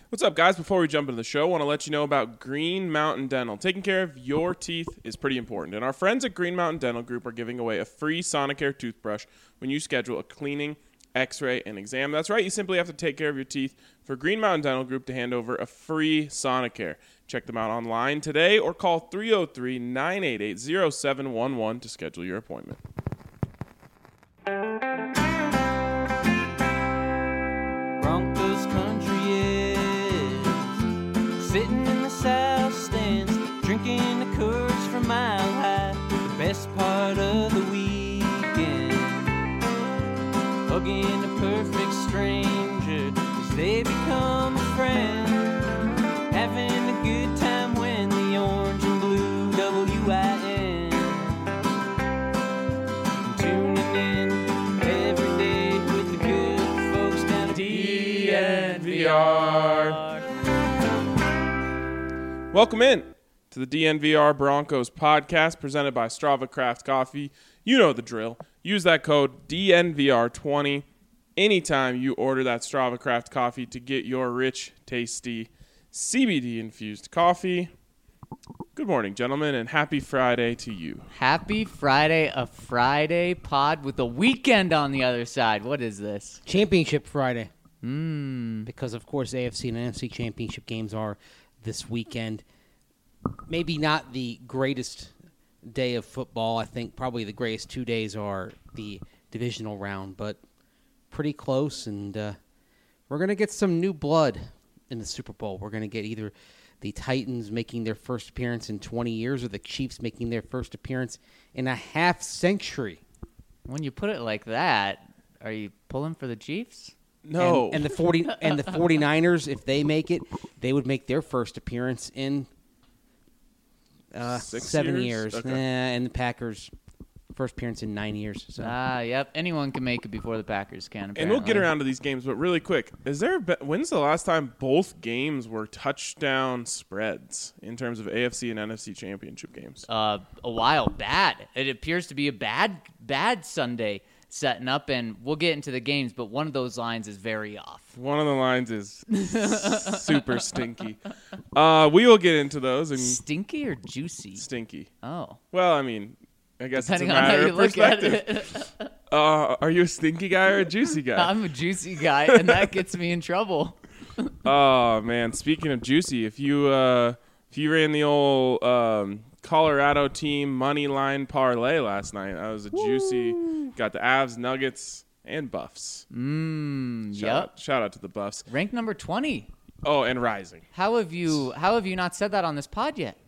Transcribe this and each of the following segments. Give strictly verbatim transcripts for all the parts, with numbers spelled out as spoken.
What's up, guys? Before we jump into the show, I want to let you know about Green Mountain Dental. Taking care of your teeth is pretty important, and our friends at Green Mountain Dental Group are giving away a free Sonicare toothbrush when you schedule a cleaning, x-ray, and exam. That's right, you simply have to take care of your teeth for Green Mountain Dental Group to hand over a free Sonicare. Check them out online today or call three oh three, nine eight eight, oh seven one one to schedule your appointment. Broncos country is sitting in the south stands, drinking the Coors from Mile High. The best part of the weekend, hugging a perfect stranger as they become a friend, having a good time when the orange and blue W I N, tuning in every day with the good folks down at D N V R. Welcome in to the D N V R Broncos podcast presented by Strava Craft Coffee. You know the drill. Use that code D N V R twenty anytime you order that Strava Craft Coffee to get your rich, tasty, C B D-infused coffee. Good morning, gentlemen, and happy Friday to you. Happy Friday, a Friday pod with a weekend on the other side. What is this? Championship Friday. Mm. Because, of course, A F C and N F C championship games are this weekend. Maybe not the greatest day of football. I think probably the greatest two days are the divisional round, but pretty close. And uh, we're going to get some new blood in the Super Bowl. We're going to get either the Titans making their first appearance in twenty years or the Chiefs making their first appearance in a half century. When you put it like that, are you pulling for the Chiefs? No. And, and the forty and the 49ers, if they make it, they would make their first appearance in uh, Six seven years? years. Okay. Nah, and the Packers' first appearance in nine years. So. Ah, yep. Anyone can make it before the Packers can, apparently. And we'll get around to these games, but really quick, is there? Be- when's the last time both games were touchdown spreads in terms of A F C and N F C championship games? Uh, a while bad. It appears to be a bad, bad Sunday setting up, and we'll get into the games, but one of those lines is very off. One of the lines is super stinky. Uh, we will get into those and Stinky or juicy? stinky. Oh. Well, I mean, I guess Depending it's a on how matter you of look at perspective. it. Uh, are you a stinky guy or a juicy guy? I'm a juicy guy, and that gets me in trouble. Oh man! Speaking of juicy, if you uh, if you ran the old um, Colorado team money line parlay last night, that was a juicy. Got the Avs, Nuggets, and Buffs. Mmm, Shout yep. out, shout out to the Buffs. Ranked number twenty. Oh, and rising. How have you How have you not said that on this pod yet?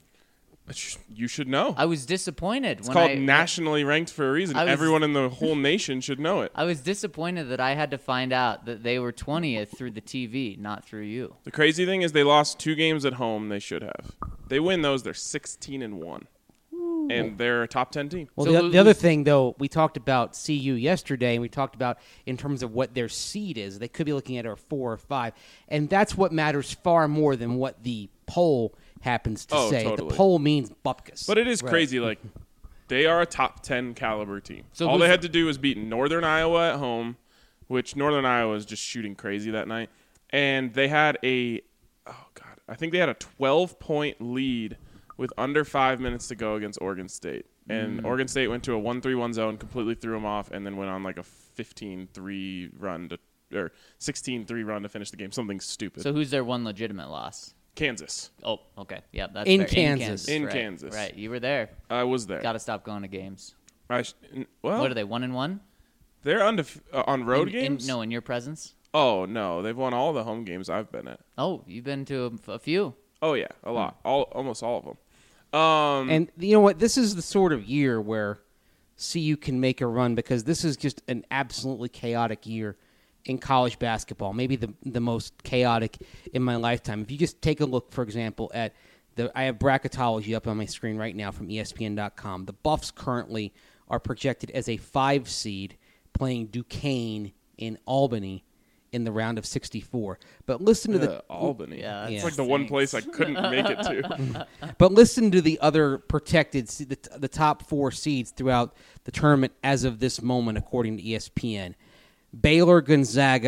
You should know. I was disappointed. It's when called I, nationally ranked for a reason. I was- Everyone in the whole nation should know it. I was disappointed that I had to find out that they were twentieth through the T V, not through you. The crazy thing is they lost two games at home they should have. They win those, they're sixteen and one. And they're a top ten team. Well, So the, who- the other who's- thing, though, we talked about C U yesterday, and we talked about in terms of what their seed is. They could be looking at a four or five, and that's what matters far more than what the poll happens to Oh, say. totally. The poll means bupkis. But it is Right. crazy. Like, they are a top ten caliber team. So All they who's- had to do was beat Northern Iowa at home, which Northern Iowa was just shooting crazy that night. And they had a, oh, God, I think they had a twelve-point lead with under five minutes to go against Oregon State. And Mm. Oregon State went to a one three one zone, completely threw them off, and then went on like a fifteen three run to, or sixteen three run to finish the game. Something stupid. So who's their one legitimate loss? Kansas. Oh, okay. Yeah, that's In fair. Kansas. In right. Kansas. Right, you were there. I was there. Got to stop going to games. I sh- n- well, What are they, one and one? they're undef- uh, on road In- in- games? no, in your presence? Oh, no. They've won all the home games I've been at. Oh, you've been to a, a few. Oh, yeah. A lot. All Almost all of them. Um, And you know what? This is the sort of year where C U can make a run because this is just an absolutely chaotic year in college basketball. Maybe the the most chaotic in my lifetime. If you just take a look, for example, at the I have bracketology up on my screen right now from E S P N dot com. The Buffs currently are projected as a five seed playing Duquesne in Albany in the round of sixty-four. But listen to uh, the Albany. Yeah, It's Yeah. like the one place I couldn't make it to. But listen to the other protected, se- the, the top four seeds throughout the tournament as of this moment, according to E S P N. Baylor, Gonzaga,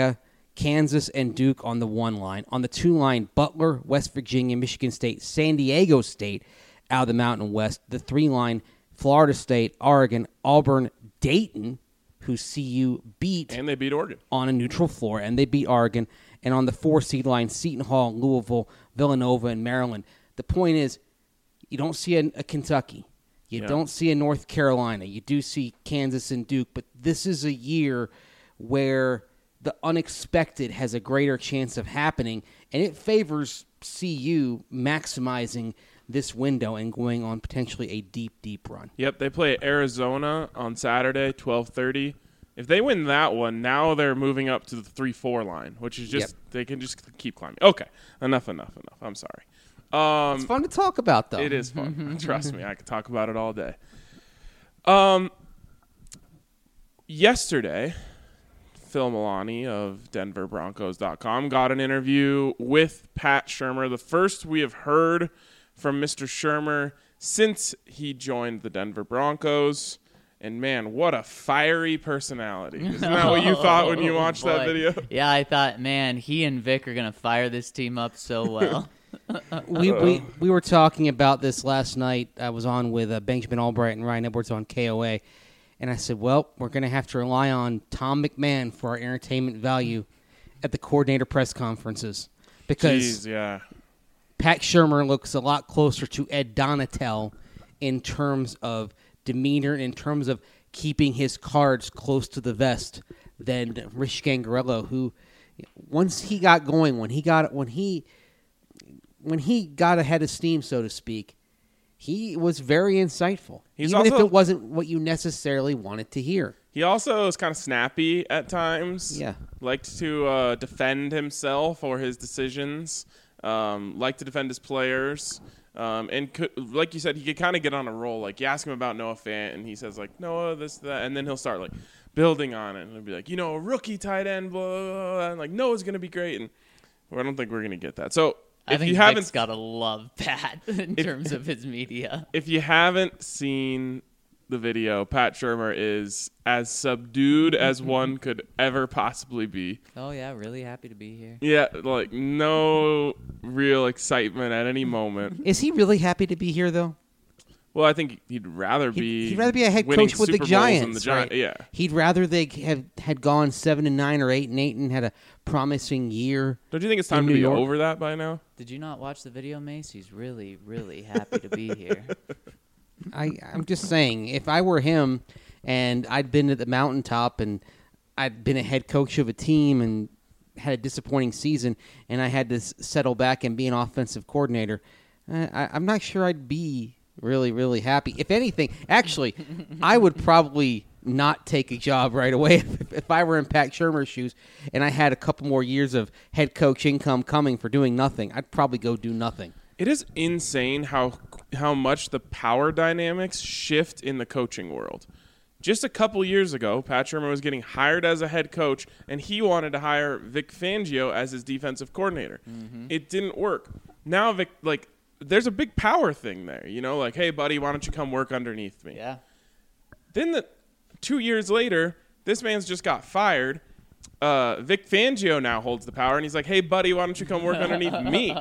Kansas and Duke on the one line. On the two line, Butler, West Virginia, Michigan State, San Diego State out of the Mountain West. The three line, Florida State, Oregon, Auburn, Dayton, who C U beat. And they beat Oregon. On a neutral floor, and they beat Oregon. And on the four seed line, Seton Hall, Louisville, Villanova, and Maryland. The point is, you don't see a, a Kentucky. You yeah. don't see a North Carolina. You do see Kansas and Duke. But this is a year where the unexpected has a greater chance of happening, and it favors C U maximizing this window and going on potentially a deep, deep run. Yep, they play Arizona on Saturday, twelve thirty. If they win that one, now they're moving up to the three four line, which is just, yep. they can just keep climbing. Okay, enough, enough, enough. I'm sorry. Um, it's fun to talk about, though. It is fun. Trust me, I could talk about it all day. Um, yesterday, Phil Milani of Denver Broncos dot com got an interview with Pat Shurmur, the first we have heard from Mister Shurmur since he joined the Denver Broncos. And, man, what a fiery personality. Isn't that what you thought when you watched oh, that video? Yeah, I thought, man, he and Vic are going to fire this team up so well. we, we we were talking about this last night. I was on with uh, Benjamin Albright and Ryan Edwards on K O A. And I said, well, we're going to have to rely on Tom McMahon for our entertainment value at the coordinator press conferences. Because Jeez, yeah. Pat Shurmur looks a lot closer to Ed Donatel in terms of demeanor, in terms of keeping his cards close to the vest than Rich Gangarello, who once he got going, when he got when he when he got ahead of steam, so to speak, he was very insightful, He's even also, if it wasn't what you necessarily wanted to hear. He also is kind of snappy at times. Yeah. Liked to uh, defend himself or his decisions. Um, liked to defend his players. Um, and could, like you said, he could kind of get on a roll. Like, you ask him about Noah Fant, and he says, like, Noah, this, that. And then he'll start, like, building on it. And he'll be like, you know, a rookie tight end, blah, blah, blah. And, like, Noah's going to be great. And well, I don't think we're going to get that. So, I if think you Vic's haven't got to love Pat in if, terms of his media. If you haven't seen the video, Pat Shurmur is as subdued as one could ever possibly be. Oh, yeah, really happy to be here. Yeah, like no real excitement at any moment. Is he really happy to be here, though? Well, I think he'd rather be. He'd rather be a head winning coach with Super the Bowls Giants. than the Gi- right? Yeah, He'd rather they have had gone seven and nine or eight and eight and had a promising year. Don't you think it's time in to New be York? over that by now? Did you not watch the video, Mace? He's really, really happy to be here. I, I'm just saying, if I were him and I'd been at the mountaintop and I'd been a head coach of a team and had a disappointing season and I had to s- settle back and be an offensive coordinator, uh, I, I'm not sure I'd be really, really happy. If anything, actually, I would probably not take a job right away if, if I were in Pat Shurmur's shoes and I had a couple more years of head coach income coming for doing nothing. I'd probably go do nothing. It is insane how how much the power dynamics shift in the coaching world. Just a couple years ago, Pat Shurmur was getting hired as a head coach, and he wanted to hire Vic Fangio as his defensive coordinator. Mm-hmm. It didn't work. Now, Vic, like, there's a big power thing there. You know, like, hey, buddy, why don't you come work underneath me? Yeah. Then the two years later, this man's just got fired. Uh, Vic Fangio now holds the power, and he's like, hey, buddy, why don't you come work underneath me?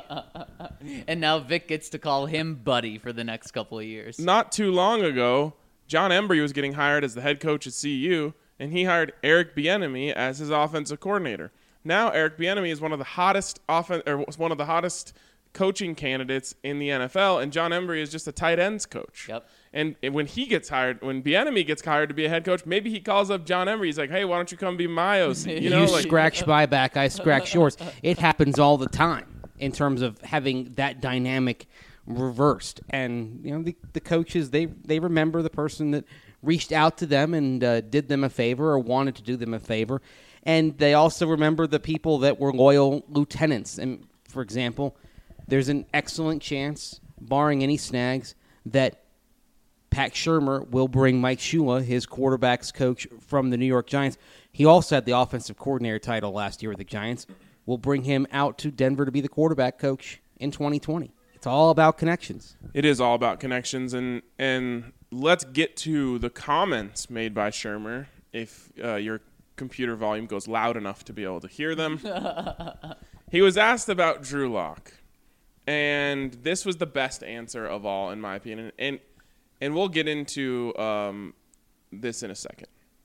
And now Vic gets to call him buddy for the next couple of years. Not too long ago, John Embry was getting hired as the head coach at C U, and he hired Eric Bieniemy as his offensive coordinator. Now Eric Bieniemy is one of the hottest offen- or one of the hottest coaching candidates in the N F L, and John Embry is just a tight ends coach. Yep. And when he gets hired, when Bieniemy gets hired to be a head coach, maybe he calls up John Embry. He's like, "Hey, why don't you come be my O C?" You know, you like, scratch my back, I scratch yours. It happens all the time in terms of having that dynamic reversed. And you know, the, the coaches they they remember the person that reached out to them and uh, did them a favor or wanted to do them a favor, and they also remember the people that were loyal lieutenants. And for example, there's an excellent chance, barring any snags, that Pat Shurmur will bring Mike Shula, his quarterbacks coach from the New York Giants. He also had the offensive coordinator title last year with the Giants. We'll bring him out to Denver to be the quarterback coach in twenty twenty. It's all about connections. it is all about connections, and and let's get to the comments made by Shurmur. If uh, you're computer volume goes loud enough to be able to hear them. He was asked about Drew Lock, and this was the best answer of all, in my opinion. And and we'll get into um, this in a second.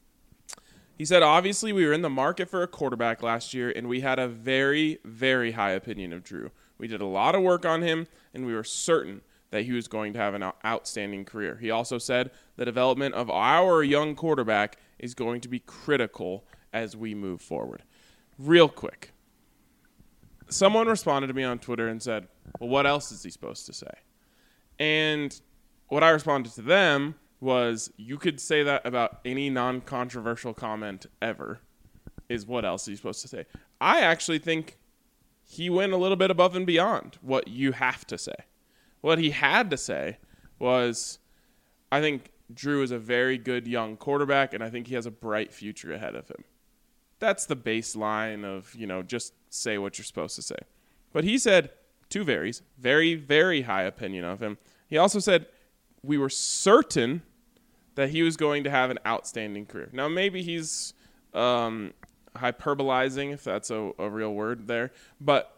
He said, obviously, we were in the market for a quarterback last year, and we had a very, very high opinion of Drew. We did a lot of work on him, and we were certain that he was going to have an outstanding career. He also said the development of our young quarterback is going to be critical as we move forward. Real quick, someone responded to me on Twitter and said, well, what else is he supposed to say? And what I responded to them was, you could say that about any non-controversial comment ever, is what else he's supposed to say. I actually think he went a little bit above and beyond what you have to say. What he had to say was, I think Drew is a very good young quarterback, and I think he has a bright future ahead of him. That's the baseline of, you know, just say what you're supposed to say. But he said two varies, very, very high opinion of him. He also said we were certain that he was going to have an outstanding career. Now, maybe he's um, hyperbolizing, if that's a, a real word there, but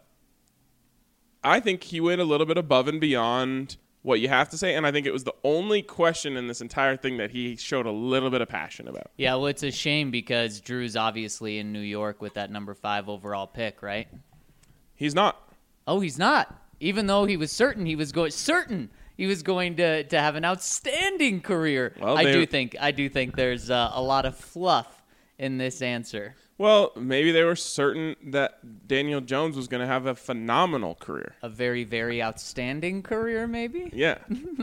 I think he went a little bit above and beyond what you have to say, and I think it was the only question in this entire thing that he showed a little bit of passion about. Yeah, well, it's a shame because Drew's obviously in New York with that number five overall pick, right? He's not. Oh, he's not. Even though he was certain he was going certain he was going to, to have an outstanding career. Well, I they- do think I do think there's uh, a lot of fluff in this answer. Well, maybe they were certain that Daniel Jones was going to have a phenomenal career. A very, very outstanding career, maybe? Yeah.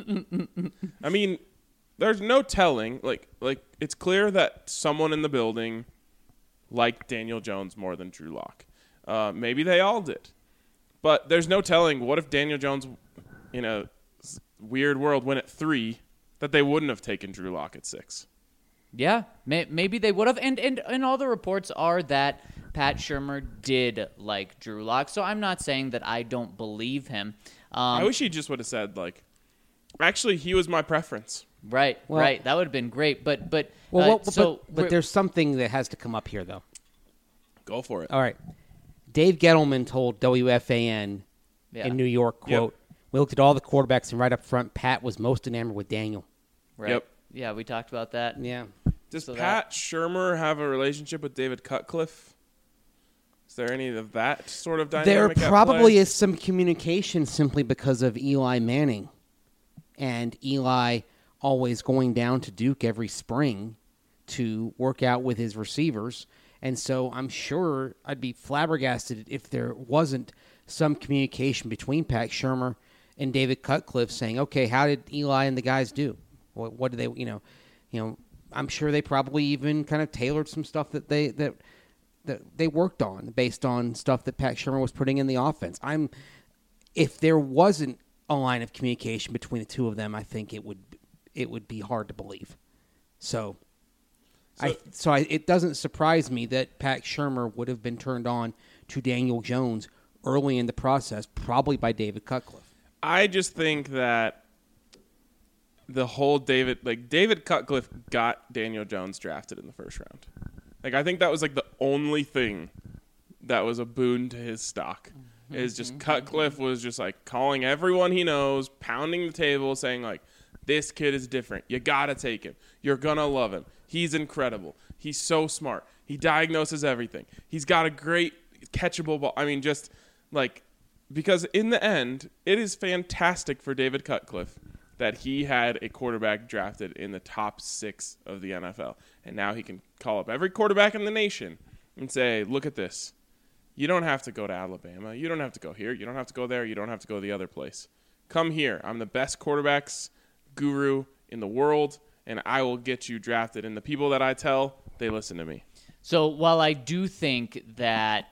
I mean, there's no telling. Like, like it's clear that someone in the building liked Daniel Jones more than Drew Lock. Uh, maybe they all did. But there's no telling. What if Daniel Jones, in a weird world, went at three, that they wouldn't have taken Drew Lock at six? Yeah, may, maybe they would have. And, and and all the reports are that Pat Shurmur did like Drew Lock. So I'm not saying that I don't believe him. Um, I wish he just would have said, like, actually, he was my preference. Right, Well- right. That would have been great. But but Well, uh, well, so but, but there's something that has to come up here, though. Go for it. All right. Dave Gettleman told W F A N Yeah. in New York, quote, we looked at all the quarterbacks, and right up front, Pat was most enamored with Daniel. right. Yep. Yeah, we talked about that. Yeah. Does So Pat Shurmur have a relationship with David Cutcliffe? Is there any of that sort of There dynamic at probably play? is some communication simply because of Eli Manning and Eli always going down to Duke every spring to work out with his receivers. And so I'm sure I'd be flabbergasted if there wasn't some communication between Pat Shurmur and David Cutcliffe saying, okay, how did Eli and the guys do? What, what did they, you know, you know, I'm sure they probably even kind of tailored some stuff that they that that they worked on based on stuff that Pat Shurmur was putting in the offense. I'm if there wasn't a line of communication between the two of them, I think it would it would be hard to believe. So, So- I so I, it doesn't surprise me that Pat Shurmur would have been turned on to Daniel Jones early in the process, probably by David Cutcliffe. I just think that the whole David, like David Cutcliffe got Daniel Jones drafted in the first round. Like, I think that was like the only thing that was a boon to his stock. Is just Cutcliffe was just like calling everyone he knows, pounding the table, saying like, this kid is different. You got to take him. You're going to love him. He's incredible. He's so smart. He diagnoses everything. He's got a great catchable ball. I mean, just like, because in the end, it is fantastic for David Cutcliffe that he had a quarterback drafted in the top six of the N F L. And now he can call up every quarterback in the nation and say, look at this. You don't have to go to Alabama. You don't have to go here. You don't have to go there. You don't have to go the other place. Come here. I'm the best quarterbacks guru in the world, and I will get you drafted. And the people that I tell, they listen to me. So while I do think that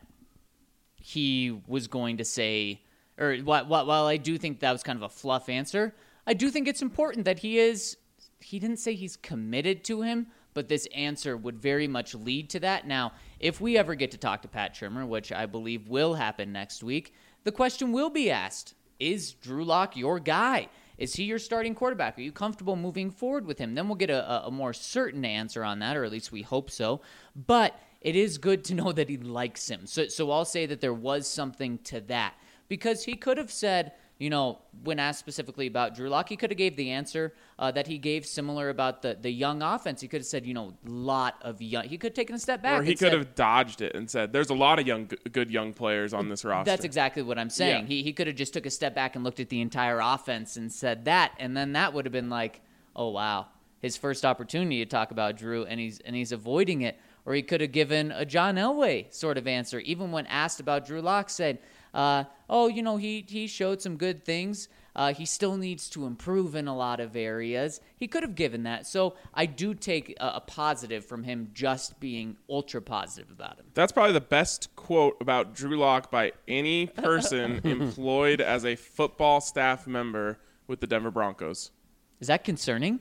he was going to say, or while, while I do think that was kind of a fluff answer, I do think it's important that he is, he didn't say he's committed to him, but this answer would very much lead to that. Now, if we ever get to talk to Pat Shurmur, which I believe will happen next week, the question will be asked, is Drew Lock your guy? Is he your starting quarterback? Are you comfortable moving forward with him? Then we'll get a, a more certain answer on that, or at least we hope so. But it is good to know that he likes him. So, so I'll say that there was something to that because he could have said, you know, when asked specifically about Drew Lock, he could have gave the answer uh, that he gave similar about the, the young offense. He could have said, you know, lot of young. He could have taken a step back. Or he and could said, have dodged it and said, "There's a lot of young, good young players on this roster." That's exactly what I'm saying. Yeah. He he could have just took a step back and looked at the entire offense and said that, and then that would have been like, oh wow, his first opportunity to talk about Drew, and he's and he's avoiding it. Or he could have given a John Elway sort of answer, even when asked about Drew Lock, said, uh, "Oh, you know, he he showed some good things. Uh, he still needs to improve in a lot of areas." He could have given that. So I do take a, a positive from him just being ultra positive about him. That's probably the best quote about Drew Lock by any person employed as a football staff member with the Denver Broncos. Is that concerning?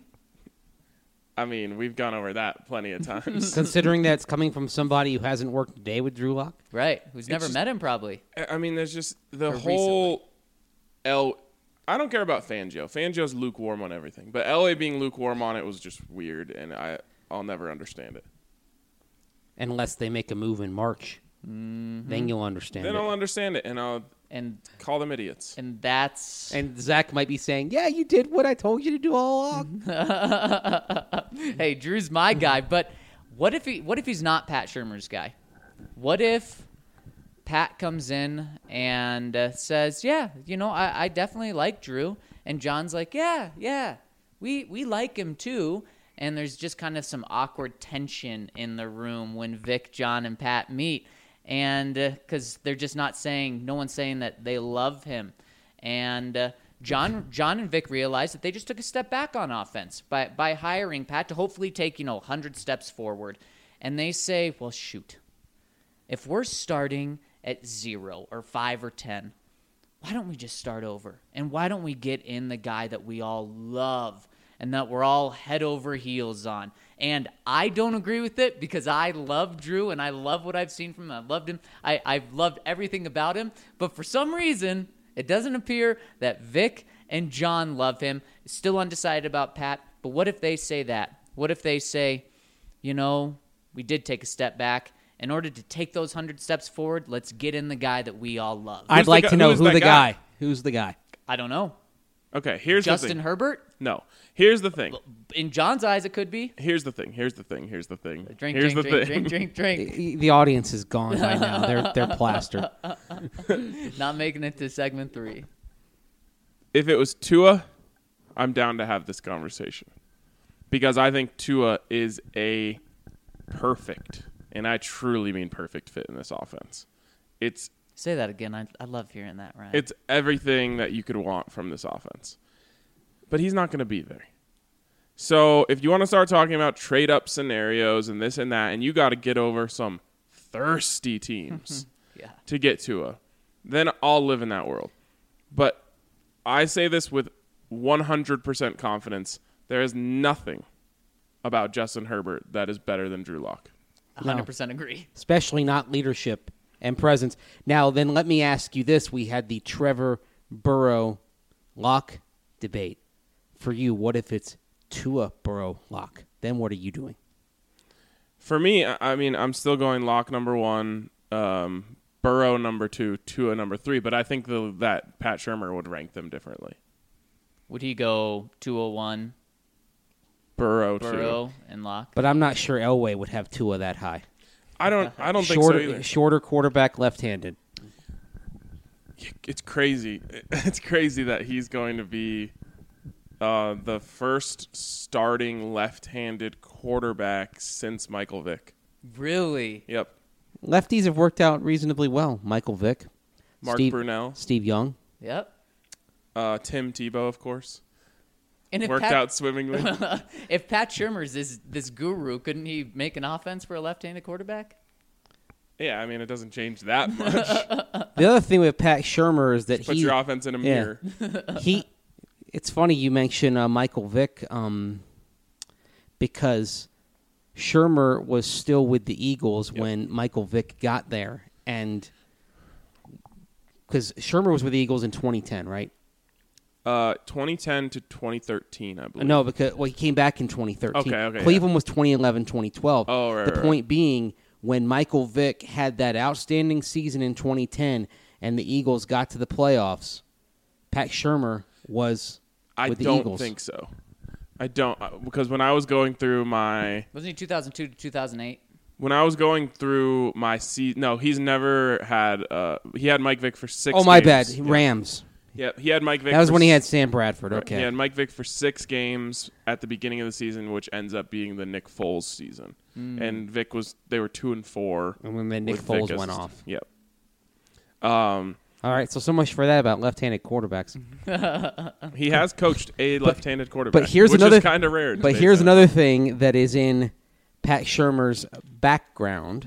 I mean, we've gone over that plenty of times. Considering that it's coming from somebody who hasn't worked a day with Drew Lock. Right. Who's never just- met him probably. I mean, there's just the Or whole L. I don't care about Fangio. Fangio's lukewarm on everything, but L A being lukewarm on it was just weird, and I I'll never understand it. Unless they make a move in March. Mm-hmm. Then you'll understand Then it. I'll understand it, and I'll And call them idiots. and that's And Zach might be saying, yeah, you did what I told you to do all along. hey, Drew's my guy, but what if he what if he's not Pat Shurmur's guy? What if Pat comes in and uh, says, "Yeah, you know, I, I definitely like Drew," and John's like, "Yeah, yeah, we we like him too." And there's just kind of some awkward tension in the room when Vic, John, and Pat meet, and because uh, they're just not saying, no one's saying that they love him, and. Uh, John, John and Vic realized that they just took a step back on offense by by hiring Pat to hopefully take, you know, one hundred steps forward. And they say, well, shoot, if we're starting at zero or five or ten, why don't we just start over? And why don't we get in the guy that we all love and that we're all head over heels on? And I don't agree with it because I love Drew and I love what I've seen from him. I loved him. I, I've loved everything about him. But for some reason, it doesn't appear that Vic and John love him. Still undecided about Pat. But what if they say that? What if they say, you know, we did take a step back. In order to take those one hundred steps forward, let's get in the guy that we all love. I'd Who's the like guy- to know who's who that the guy? guy. Who's the guy? I don't know. Okay, here's the Justin thing. Herbert? No, here's the thing. In John's eyes, it could be. Here's the thing. Here's the thing. Here's the thing. Drink, here's drink, the drink, thing. drink, drink, drink. The audience is gone by now. They're they're plastered. Not making it to segment three. If it was Tua, I'm down to have this conversation because I think Tua is a perfect, and I truly mean perfect fit in this offense. It's Say that again. I, I love hearing that, Ryan. it's everything that you could want from this offense. But he's not going to be there. So if you want to start talking about trade-up scenarios and this and that, and you got to get over some thirsty teams yeah. to get Tua, then I'll live in that world. But I say this with one hundred percent confidence. There is nothing about Justin Herbert that is better than Drew Lock. one hundred percent agree. Especially not leadership and presence. Now, then let me ask you this. We had the Trevor Burrow Lock debate. For you, what if it's Tua Burrow Lock? Then what are you doing? For me, I I mean, I'm still going Lock number one, um, Burrow number two, Tua number three, but I think the, that Pat Shurmur would rank them differently. Would he go two oh one, Burrow, Burrow, two. and Locke? But I'm not sure Elway would have Tua that high. I don't. I don't shorter, think so either. Shorter quarterback, left-handed. It's crazy. It's crazy that he's going to be uh, the first starting left-handed quarterback since Michael Vick. Really? Yep. Lefties have worked out reasonably well. Michael Vick, Mark Steve, Brunell, Steve Young. Yep. uh, Tim Tebow, of course, And if worked Pat, out swimmingly. if Pat Shurmur's this this guru, couldn't he make an offense for a left-handed quarterback? Yeah, I mean, it doesn't change that much. The other thing with Pat Shurmur is that Put he your offense in a yeah. mirror. he. It's funny you mention uh, Michael Vick um, because Shurmur was still with the Eagles Yep. when Michael Vick got there, and because Shurmur was with the Eagles in twenty ten, right? Uh, twenty ten to twenty thirteen, I believe. No, because well, he came back in twenty thirteen. Okay, okay, Cleveland was twenty eleven, twenty twelve. Oh, right, The right, point being, when Michael Vick had that outstanding season in twenty ten and the Eagles got to the playoffs, Pat Shurmur was I with the don't Eagles. think so. I don't uh, because when I was going through my Wasn't he two thousand two to two thousand eight? when I was going through my season, no, he's never had. Uh, he had Mike Vick for six. Oh, my bad. games. Yeah. Rams. Yeah, he had Mike Vick. That was for when he had s- Sam Bradford. right, Okay. He had Mike Vick for six games at the beginning of the season, which ends up being the Nick Foles season. And Vick was they were two and four. And when then Nick with Vick Foles as- went off. Yep. Um, All right, so so much for that about left-handed quarterbacks. he has coached a left-handed quarterback. here's which another is kind of rare. in But today's here's N F L. another thing that is in Pat Shurmur's background.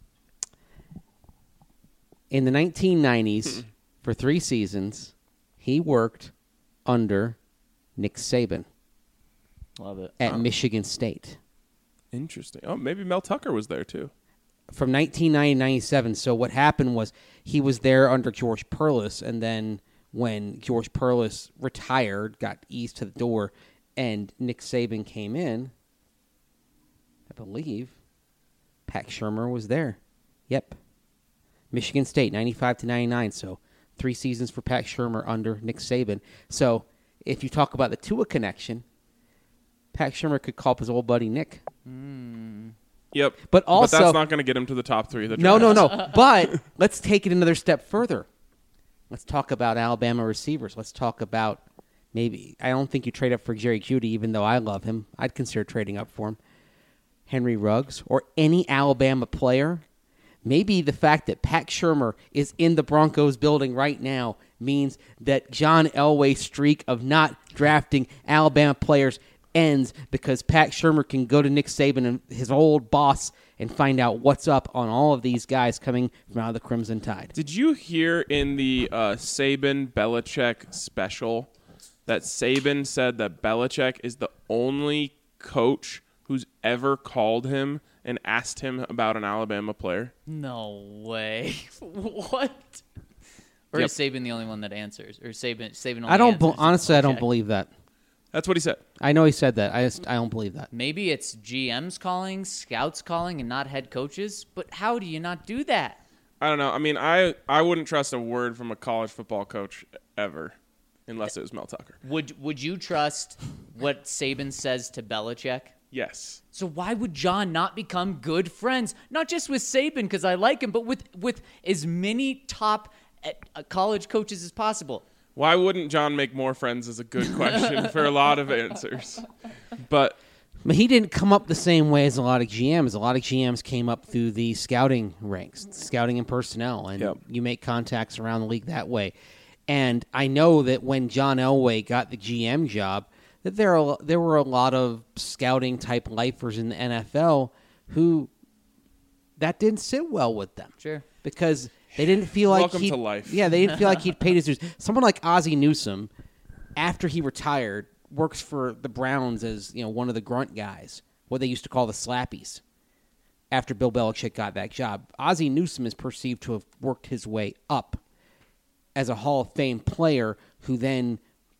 In the nineteen nineties, for three seasons, he worked under Nick Saban Love it. at Michigan State Interesting. Oh, maybe Mel Tucker was there too. from nineteen ninety to ninety-seven. So what happened was he was there under George Perlis, and then when George Perlis retired, got eased to the door, and Nick Saban came in, I believe Pat Shurmur was there. Yep. Michigan State, ninety-five to ninety-nine. So three seasons for Pat Shurmur under Nick Saban. So if you talk about the Tua connection, Pat Shurmur could call up his old buddy Nick. Yep. But also- that's not going to get him to the top three of the No, draft. no, no. But let's take it another step further. Let's talk about Alabama receivers. Let's talk about maybe, I don't think you trade up for Jerry Jeudy, even though I love him. I'd consider trading up for him. Henry Ruggs or any Alabama player. Maybe the fact that Pat Shurmur is in the Broncos building right now means that John Elway's streak of not drafting Alabama players ends because Pat Shurmur can go to Nick Saban and his old boss and find out what's up on all of these guys coming from out of the Crimson Tide. Did you hear in the uh, Saban Belichick special that Saban said that Belichick is the only coach who's ever called him and asked him about an Alabama player? No way. What? Or Yep. is Saban the only one that answers? Or Saban? Saban only I don't be- answers honestly I don't Belichick? believe that. That's what he said. I know he said that. I just I don't believe that. Maybe it's G Ms calling, scouts calling, and not head coaches. But how do you not do that? I don't know. I mean, I, I wouldn't trust a word from a college football coach ever unless it was Mel Tucker. Would Would you trust what Saban says to Belichick? Yes. So why would John not become good friends? Not just with Saban because I like him, but with with as many top uh, college coaches as possible. Why wouldn't John make more friends is a good question for a lot of answers. But But he didn't come up the same way as a lot of G Ms. A lot of G Ms came up through the scouting ranks, scouting and personnel, and Yep. you make contacts around the league that way. And I know that when John Elway got the G M job, that there are, there were a lot of scouting type lifers in the N F L who that didn't sit well with them. Sure. Because they didn't feel like Welcome he to life. Yeah, they didn't feel like he'd paid his dues. Someone like Ozzie Newsome, after he retired, works for the Browns as, you know, one of the grunt guys, what they used to call the slappies. After Bill Belichick got that job, Ozzie Newsome is perceived to have worked his way up as a Hall of Fame player who then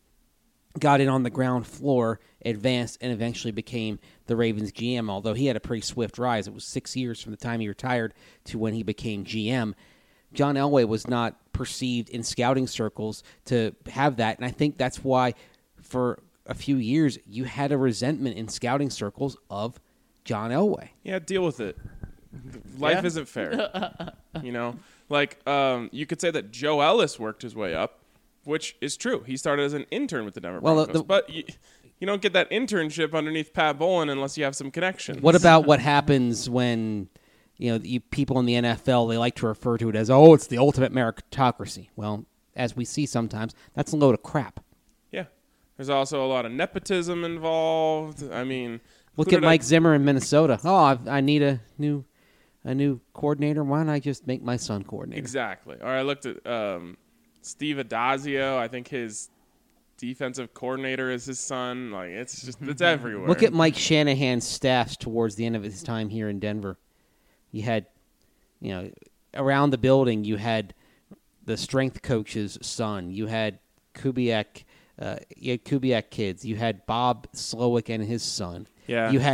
got in on the ground floor, advanced, and eventually became the Ravens G M, although he had a pretty swift rise. It was six years from the time he retired to when he became G M. John Elway was not perceived in scouting circles to have that, and I think that's why for a few years you had a resentment in scouting circles of John Elway. yeah, deal with it. Life Yeah. isn't fair. You know? Like, um, you could say that Joe Ellis worked his way up, which is true. He started as an intern with the Denver Well, Broncos. the- but you, you don't get that internship underneath Pat Bowlen unless you have some connections. What about what happens when, you know, you, people in the N F L, they like to refer to it as, oh, it's the ultimate meritocracy. Well, as we see sometimes, that's a load of crap. Yeah. There's also a lot of nepotism involved. I mean, Look who at did I- Mike Zimmer in Minnesota. Oh, I, I need a new a new coordinator. Why don't I just make my son coordinator? Exactly. Or I looked at um, Steve Adazio. I think his defensive coordinator is his son. Like, it's just, it's everywhere. Look at Mike Shanahan's staffs towards the end of his time here in Denver. You had, you know, around the building, you had the strength coach's son. You had Kubiak, uh, you had Kubiak kids. You had Bob Slowick and his son. Yeah. You had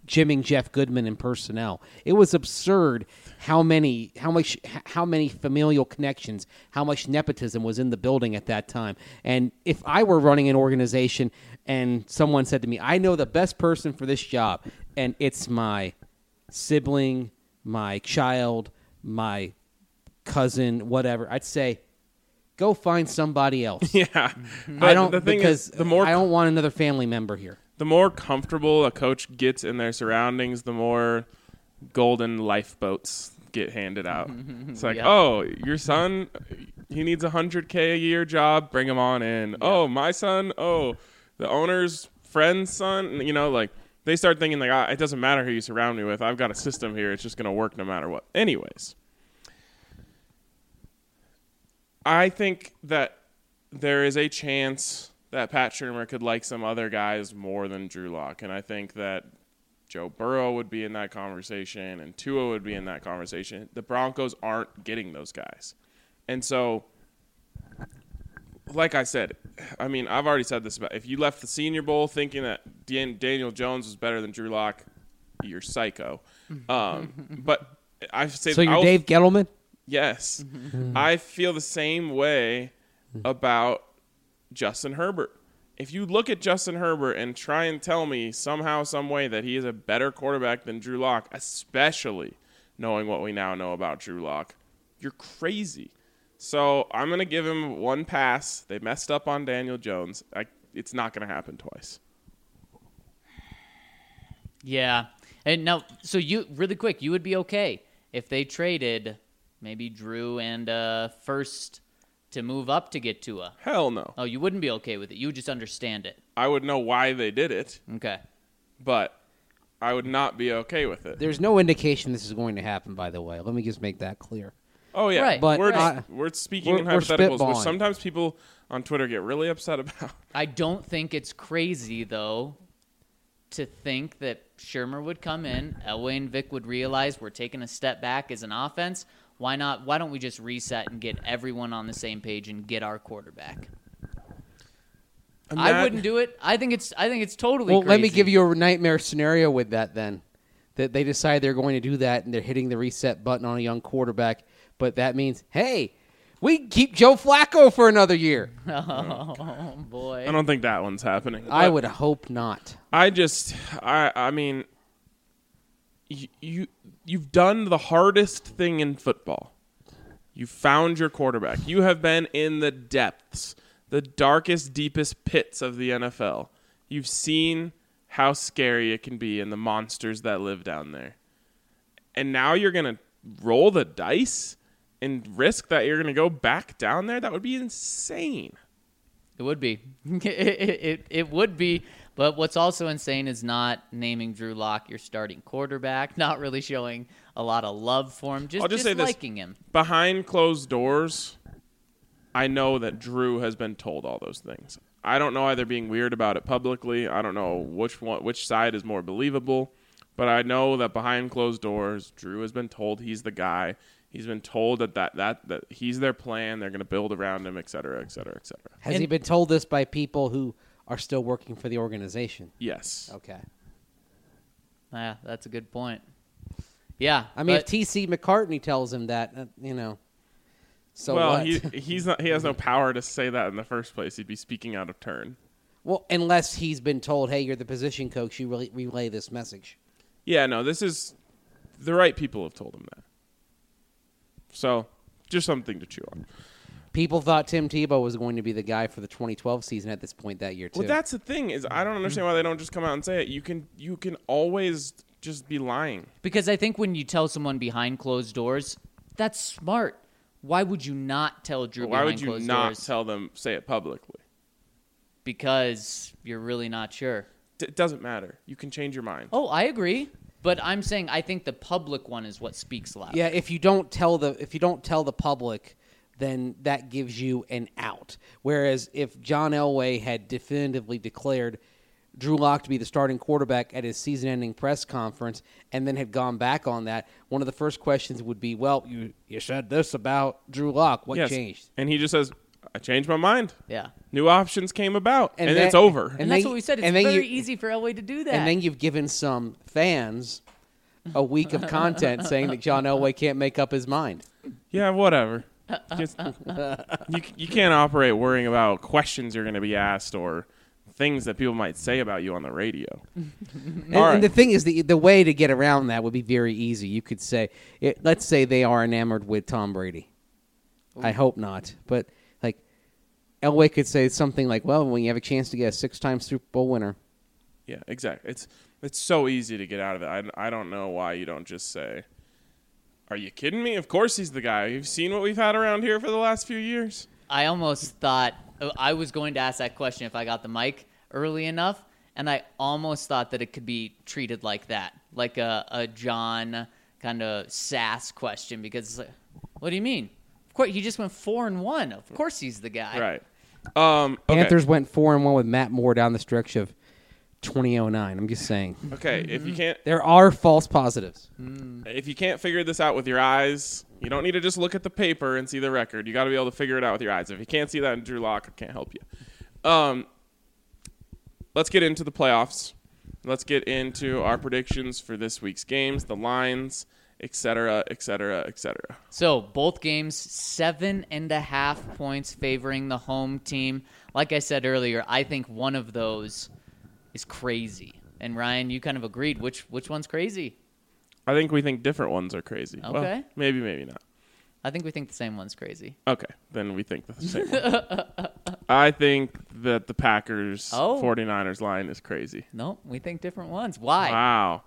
jimming Jeff Goodman in personnel. It was absurd how many how much how many familial connections, how much nepotism was in the building at that time. And if I were running an organization and someone said to me, I know the best person for this job, and it's my sibling, my child, my cousin, whatever, I'd say, go find somebody else. Yeah. I But don't the thing because is, the more I don't want another family member here. the more comfortable a coach gets in their surroundings, the more golden lifeboats get handed out. It's like, Yeah. oh, your son, he needs a hundred K a year job, bring him on in. Oh, my son, oh, the owner's friend's son, you know, like they start thinking like, ah, it doesn't matter who you surround me with. I've got a system here. It's just going to work no matter what. Anyways, I think that there is a chance that Pat Shurmur could like some other guys more than Drew Lock, and I think that Joe Burrow would be in that conversation, and Tua would be in that conversation. The Broncos aren't getting those guys. And so, like I said, I mean, I've already said this about if you left the Senior Bowl thinking that Dan- Daniel Jones was better than Drew Lock, you're psycho. Um, but I say So you're I'll- Dave Gettleman? Yes. I feel the same way about Justin Herbert. If you look at Justin Herbert and try and tell me somehow, some way that he is a better quarterback than Drew Lock, especially knowing what we now know about Drew Lock, you're crazy. So I'm going to give him one pass. They messed up on Daniel Jones. I, it's not going to happen twice. Yeah. And now, so you, really quick, you would be okay if they traded maybe Drew and uh, first to move up to get Tua. Hell no. Oh, you wouldn't be okay with it. You would just understand it. I would know why they did it, Okay. but I would not be okay with it. There's no indication this is going to happen, by the way. Let me just make that clear. Oh, yeah. Right, But we're, right. just- we're speaking We're- in we're hypotheticals, which spitballing. sometimes people on Twitter get really upset about. I don't think it's crazy, though, to think that Shurmur would come in, Elway and Vic would realize we're taking a step back as an offense. Why not? Why don't we just reset and get everyone on the same page and get our quarterback? I Imag- wouldn't do it. I think it's. I think it's totally. Well, let me crazy. give you a nightmare scenario with that then. That they decide they're going to do that and they're hitting the reset button on a young quarterback, but that means, hey, we can keep Joe Flacco for another year. Oh boy. I don't think that one's happening. I But would hope not. I just, I, I mean, you, you, you've done the hardest thing in football. You found your quarterback. You have been in the depths, the darkest, deepest pits of the N F L. You've seen how scary it can be and the monsters that live down there. And now you're going to roll the dice and risk that you're going to go back down there? That would be insane. It would be. it, it, it would be. But what's also insane is not naming Drew Lock your starting quarterback, not really showing a lot of love for him, just, I'll just just say this. liking him. Behind closed doors, I know that Drew has been told all those things. I don't know why they're being weird about it publicly. I don't know which one, which side is more believable. But I know that behind closed doors, Drew has been told he's the guy. He's been told that, that, that, that he's their plan. They're going to build around him, et cetera, et cetera, et cetera. Has And- he been told this by people who are still working for the organization? Yes. Okay. Yeah, that's a good point. Yeah. I mean, but- if T C McCartney tells him that, uh, you know, so well, what? he he's not. He has no power to say that in the first place. He'd be speaking out of turn. well, unless he's been told, hey, you're the position coach, you really relay this message. Yeah, no, this is the right people have told him that. So, just something to chew on. People thought Tim Tebow was going to be the guy for the twenty twelve season at this point that year, too. Well, that's the thing is I don't understand why they don't just come out and say it. You can you can always just be lying. Because I think when you tell someone behind closed doors, that's smart. Why would you not tell Drew Why behind would you closed not doors? tell them say it publicly? Because you're really not sure. D- it doesn't matter. You can change your mind. Oh, I agree. But I'm saying I think the public one is what speaks loud. Yeah, if you don't tell the if you don't tell the public, then that gives you an out. Whereas if John Elway had definitively declared Drew Lock to be the starting quarterback at his season-ending press conference and then had gone back on that, one of the first questions would be, well, you, you said this about Drew Lock. What Yes. changed? And he just says, I changed my mind. Yeah. new options came about, and, And it's that- over. And, And that's then- what we said. It's and then very you- easy for Elway to do that. And then you've given some fans a week of content saying that John Elway can't make up his mind. Yeah, whatever. Just, you you can't operate worrying about questions you're going to be asked or things that people might say about you on the radio. And, All right. and the thing is, the the way to get around that would be very easy. You could say, it, let's say they are enamored with Tom Brady. I hope not, but like Elway could say something like, "Well, when you have a chance to get a six-time Super Bowl winner." Yeah, exactly. It's it's so easy to get out of it. I, I don't know why you don't just say, "Are you kidding me? Of course he's the guy. You've seen what we've had around here for the last few years." I almost thought I was going to ask that question if I got the mic early enough, and I almost thought that it could be treated like that, like a, a John kind of sass question, because it's like, what do you mean? Of course, he just went four and one. Of course, he's the guy. Right. Um, okay. Panthers went four and one with Matt Moore down the stretch of twenty oh nine. I'm just saying Okay, if you can't there are false positives. if you can't figure this out with your eyes, you don't need to just look at the paper and see the record. You got to be able to figure it out with your eyes. If you can't see that in Drew Lock, I can't help you. Um, let's get into the playoffs. Let's get into our predictions for this week's games, the lines, et cetera, et cetera, et cetera. So both games, seven and a half points favoring the home team. Like I said earlier, I think one of those is crazy. And Ryan, you kind of agreed. Which which one's crazy? I think we think different ones are crazy. Well, Okay. maybe, maybe not. I think we think the same one's crazy. Okay, then we think the same one. I think that the Packers Oh. 49ers line is crazy. No, we think different ones. Why? Wow.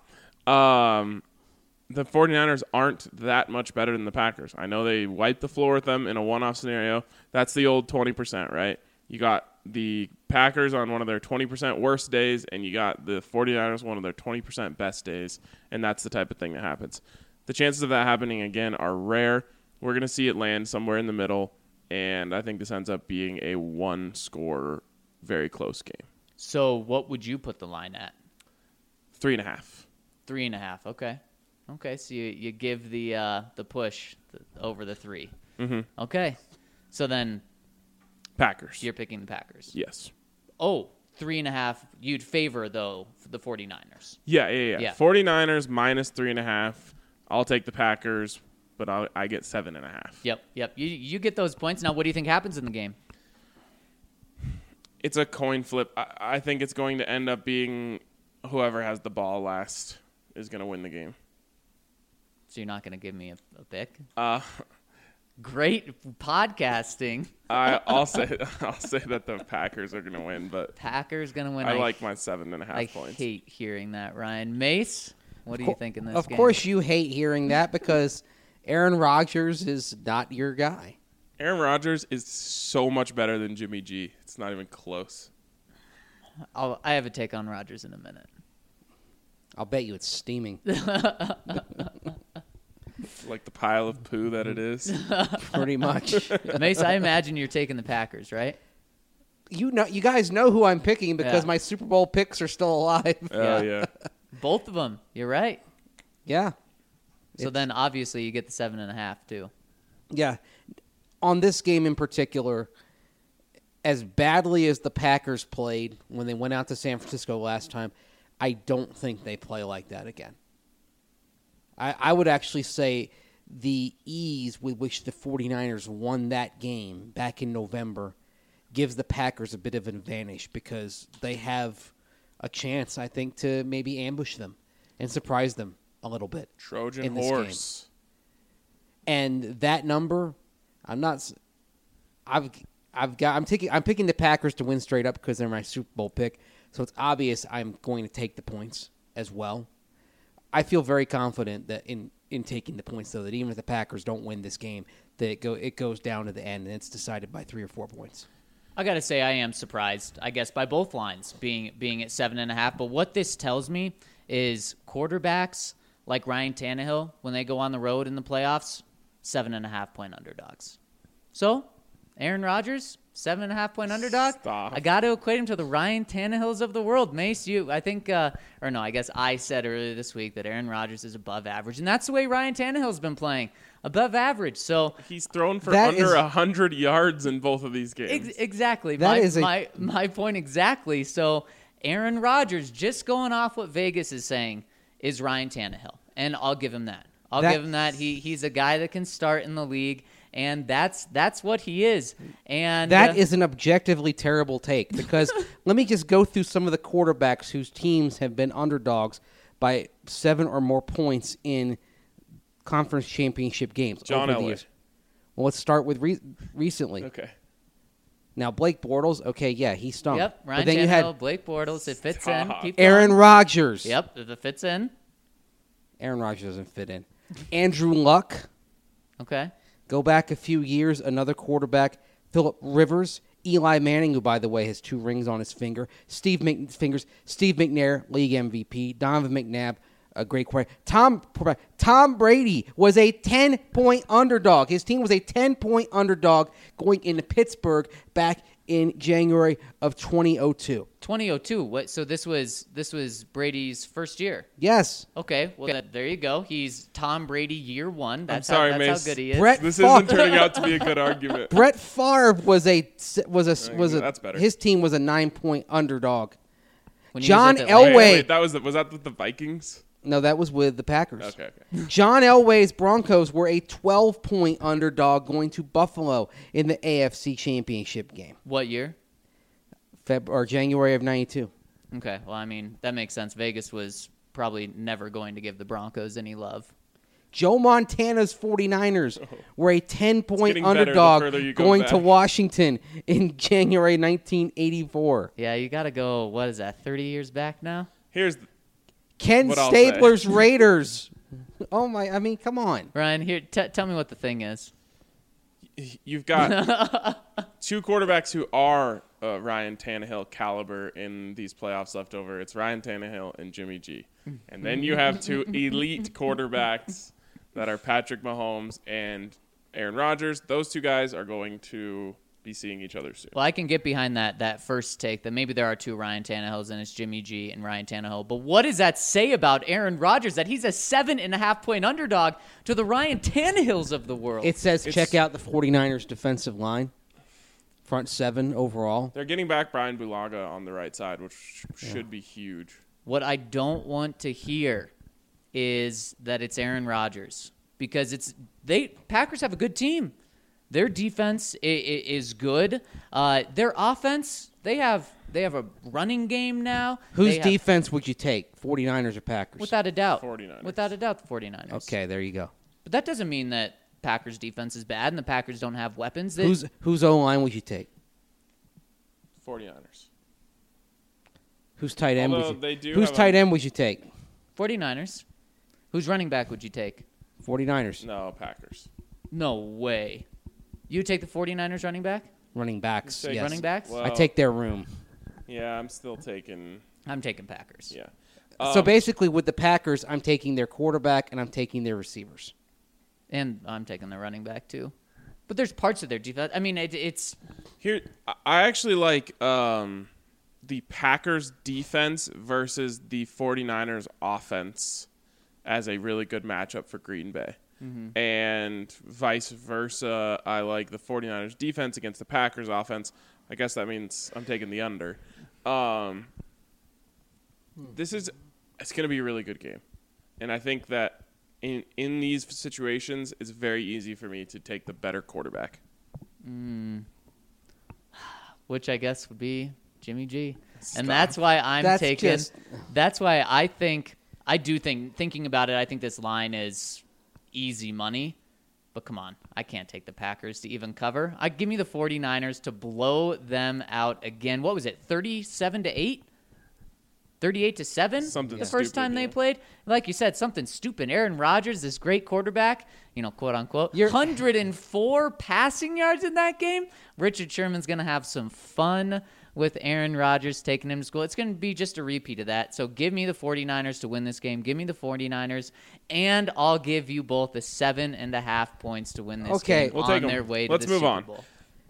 Um, the 49ers aren't that much better than the Packers. I know they wiped the floor with them in a one-off scenario. That's the old twenty percent, right? You got the Packers on one of their twenty percent worst days, and you got the 49ers one of their twenty percent best days, and that's the type of thing that happens. The chances of that happening again are rare. We're going to see it land somewhere in the middle, and I think this ends up being a one-score, very close game. So what would you put the line at? Three and a half. Three and a half. Okay. Okay, so you, you give the uh, the push th- over the three. Mm-hmm. Okay. So then Packers. you're picking the Packers. Yes. Oh, three and a half. You'd favor, though, the 49ers. Yeah, yeah, yeah, Yeah. 49ers minus three and a half. I'll take the Packers, but I'll, I get seven and a half. Yep, yep. You you get those points. Now, what do you think happens in the game? It's a coin flip. I, I think it's going to end up being whoever has the ball last is going to win the game. So you're not going to give me a, a pick? Uh, Great podcasting. I, I'll say I'll say that the Packers are going to win, but Packers going to win. I like my seven and a half I points. hate hearing that, Ryan. Mace, what do you think in this Of game? course, you hate hearing that because Aaron Rodgers is not your guy. Aaron Rodgers is so much better than Jimmy G. It's not even close. I'll, I have a take on Rodgers in a minute. I'll bet you it's steaming. Like the pile of poo that it is. Pretty much. Mace, I imagine you're taking the Packers, right? You know, you guys know who I'm picking because Yeah. my Super Bowl picks are still alive. Oh, yeah. Both of them. You're right. Yeah. So It's- then, obviously, you get the seven and a half too. Yeah. On this game in particular, as badly as the Packers played when they went out to San Francisco last time, I don't think they play like that again. I, I would actually say the ease with which the 49ers won that game back in November gives the Packers a bit of an advantage because they have a chance, I think, to maybe ambush them and surprise them a little bit. Trojan in this horse. And that number, I'm not. s- I've I've got. I'm taking. I'm picking the Packers to win straight up because they're my Super Bowl pick. So it's obvious I'm going to take the points as well. I feel very confident that in, in taking the points, though, that even if the Packers don't win this game, that it go it goes down to the end and it's decided by three or four points. I gotta say, I am surprised. I guess by both lines being being at seven and a half. But what this tells me is quarterbacks like Ryan Tannehill, when they go on the road in the playoffs, seven and a half point underdogs. So, Aaron Rodgers, Seven and a half point underdog. Stop. I got to equate him to the Ryan Tannehills of the world. Mace, you, I think, uh, or no, I guess I said earlier this week that Aaron Rodgers is above average, and that's the way Ryan Tannehill's been playing, above average. So He's thrown for That under is- a hundred yards in both of these games. ex- exactly, That my, is a- my my point exactly. So Aaron Rodgers, just going off what Vegas is saying, is Ryan Tannehill, and I'll give him that. I'll That- give him that. He he's a guy that can start in the league. And that's that's what he is. And That uh, is an objectively terrible take because let me just go through some of the quarterbacks whose teams have been underdogs by seven or more points in conference championship games. John over the Elway. years. Well, let's start with re- recently. Okay. Now, Blake Bortles, okay, yeah, he stunk. Yep, Ryan but then Tannehill, you had Blake Bortles. It fits Stop. in. Keep Aaron going. Rodgers. Yep, it fits in. Aaron Rodgers doesn't fit in. Andrew Luck. Okay. Go back a few years, another quarterback, Phillip Rivers, Eli Manning, who, by the way, has two rings on his finger, Steve Mc, fingers, Steve McNair, league M V P, Donovan McNabb, a great quarterback. Tom Tom Brady was a ten-point underdog. His team was a ten-point underdog going into Pittsburgh back in January of twenty oh two. twenty oh two. What? So this was this was Brady's first year. Yes. Okay. Well, that, there you go. He's Tom Brady year one. That's sorry, how, that's Mace. how good he is. Brett This Favre. isn't turning out to be a good argument. Brett Favre was a was a was a That's better. his team was a nine-point underdog. When he was John at Atlanta. Elway. Wait, wait, that was the, was that with the Vikings? No, that was with the Packers. Okay, okay. John Elway's Broncos were a twelve-point underdog going to Buffalo in the A F C Championship game, What year? Feb or January of ninety-two. Okay. Well, I mean that makes sense. Vegas was probably never going to give the Broncos any love. Joe Montana's 49ers were a ten-point getting better the underdog further you go going back. to Washington in January nineteen eighty-four. Yeah, you got to go. What is that? thirty years back now. Here's the, Ken What I'll say. Stabler's Raiders. Oh my! I mean, come on. Ryan, here, t- tell me what the thing is. you've got two quarterbacks who are uh, Ryan Tannehill caliber in these playoffs left over. It's Ryan Tannehill and Jimmy G. And then you have two elite quarterbacks that are Patrick Mahomes and Aaron Rodgers. Those two guys are going to be seeing each other soon. Well, I can get behind that that first take that maybe there are two Ryan Tannehills and it's Jimmy G and Ryan Tannehill. But what does that say about Aaron Rodgers that he's a seven and a half point underdog to the Ryan Tannehills of the world? It says It's- check out the 49ers defensive line, front seven overall. They're getting back Brian Bulaga on the right side, which sh- should be huge. What I don't want to hear is that it's Aaron Rodgers because it's they Packers have a good team. Their defense i- i- is good. Uh, their offense, they have they have a running game now. Whose They have- defense would you take, 49ers or Packers? Without a doubt. 49ers. Without a doubt, the 49ers. Okay, there you go. But that doesn't mean that Packers defense is bad and the Packers don't have weapons. They, Whose whose O line would you take? 49ers. Whose tight end Although would you? they do whose have tight a- end would you take? 49ers. Whose running back would you take? 49ers No, Packers. No way. You would take the 49ers running back? running backs. Take Yes. Running backs? Well, I take their room. Yeah, I'm still taking. I'm taking Packers. Yeah. so Um, basically, with the Packers, I'm taking their quarterback and I'm taking their receivers. And I'm taking the running back too. But there's parts of their defense. I mean, it, it's Here, I- I actually like um, the Packers defense versus the 49ers offense as a really good matchup for Green Bay. And vice versa, I like the 49ers defense against the Packers offense. I guess that means I'm taking the under. Um, this is it's going to be a really good game. And I think that in in these situations, it's very easy for me to take the better quarterback. which I guess would be Jimmy G. And that's why I'm That's taking just- that's why I think I do think thinking about it, I think this line is easy money. But come on, I can't take the Packers to even cover. I give me the 49ers to blow them out again. What was it? thirty-seven to eight? thirty-eight to seven? Something the first stupid, time they yeah. played. Like you said, something stupid. Aaron Rodgers, this great quarterback, you know, quote unquote, You're- one hundred four passing yards in that game. Richard Sherman's going to have some fun with Aaron Rodgers taking him to school. It's going to be just a repeat of that. So give me the 49ers to win this game. Give me the 49ers, and I'll give you both the seven and a half points to win this Okay. game We'll on take 'em. their way to Let's the move Super on. Bowl.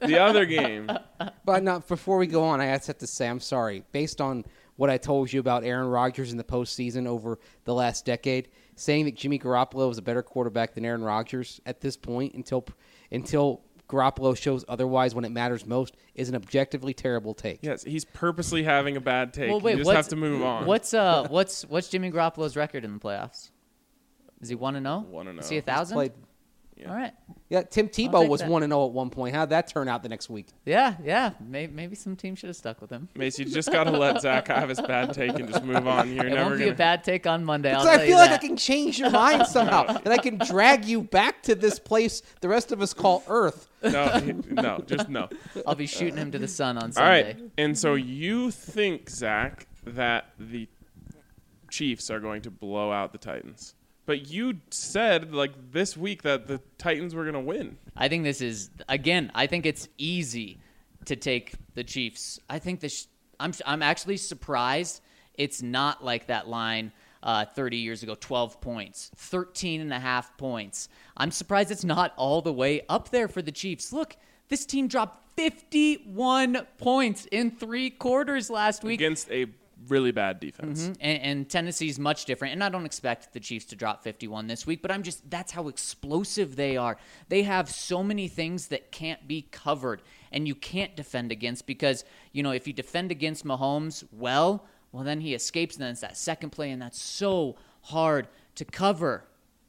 The other game. But not before we go on, I have to say I'm sorry. Based on what I told you about Aaron Rodgers in the postseason over the last decade, saying that Jimmy Garoppolo is a better quarterback than Aaron Rodgers at this point until until Garoppolo shows otherwise when it matters most is an objectively terrible take. Yes, he's purposely having a bad take. Well, wait, you just what's- have to move on. What's uh what's what's Jimmy Garoppolo's record in the playoffs? Is he one and zero? One and Is he a oh. thousand? Played, Yeah. All right. yeah, Tim I'll Tebow take was that. one and zero at one point. How'd that turn out the next week? Yeah, yeah. Maybe, maybe some team should have stuck with him. Mace, you just got to let Zach have his bad take and just move on. You're It never won't be going a bad take on Monday. I'll Because tell I you feel like that. I can change your mind somehow, and I can drag you back to this place the rest of us call Earth. No, no, just no. I'll be shooting him to the sun on All Sunday. right. And so you think, Zach, that the Chiefs are going to blow out the Titans. But you said, like, this week that the Titans were going to win. I think this is again. I think it's easy to take the Chiefs. I think this. I'm. I'm actually surprised it's not like that line uh, thirty years ago. twelve points, thirteen and a half points. I'm surprised it's not all the way up there for the Chiefs. Look, this team dropped fifty-one points in three quarters last week. Against a really bad defense. And, and Tennessee's much different. And I don't expect the Chiefs to drop fifty-one this week, but I'm just, that's how explosive they are. They have so many things that can't be covered and you can't defend against because, you know, if you defend against Mahomes well, well, then he escapes and then it's that second play and that's so hard to cover.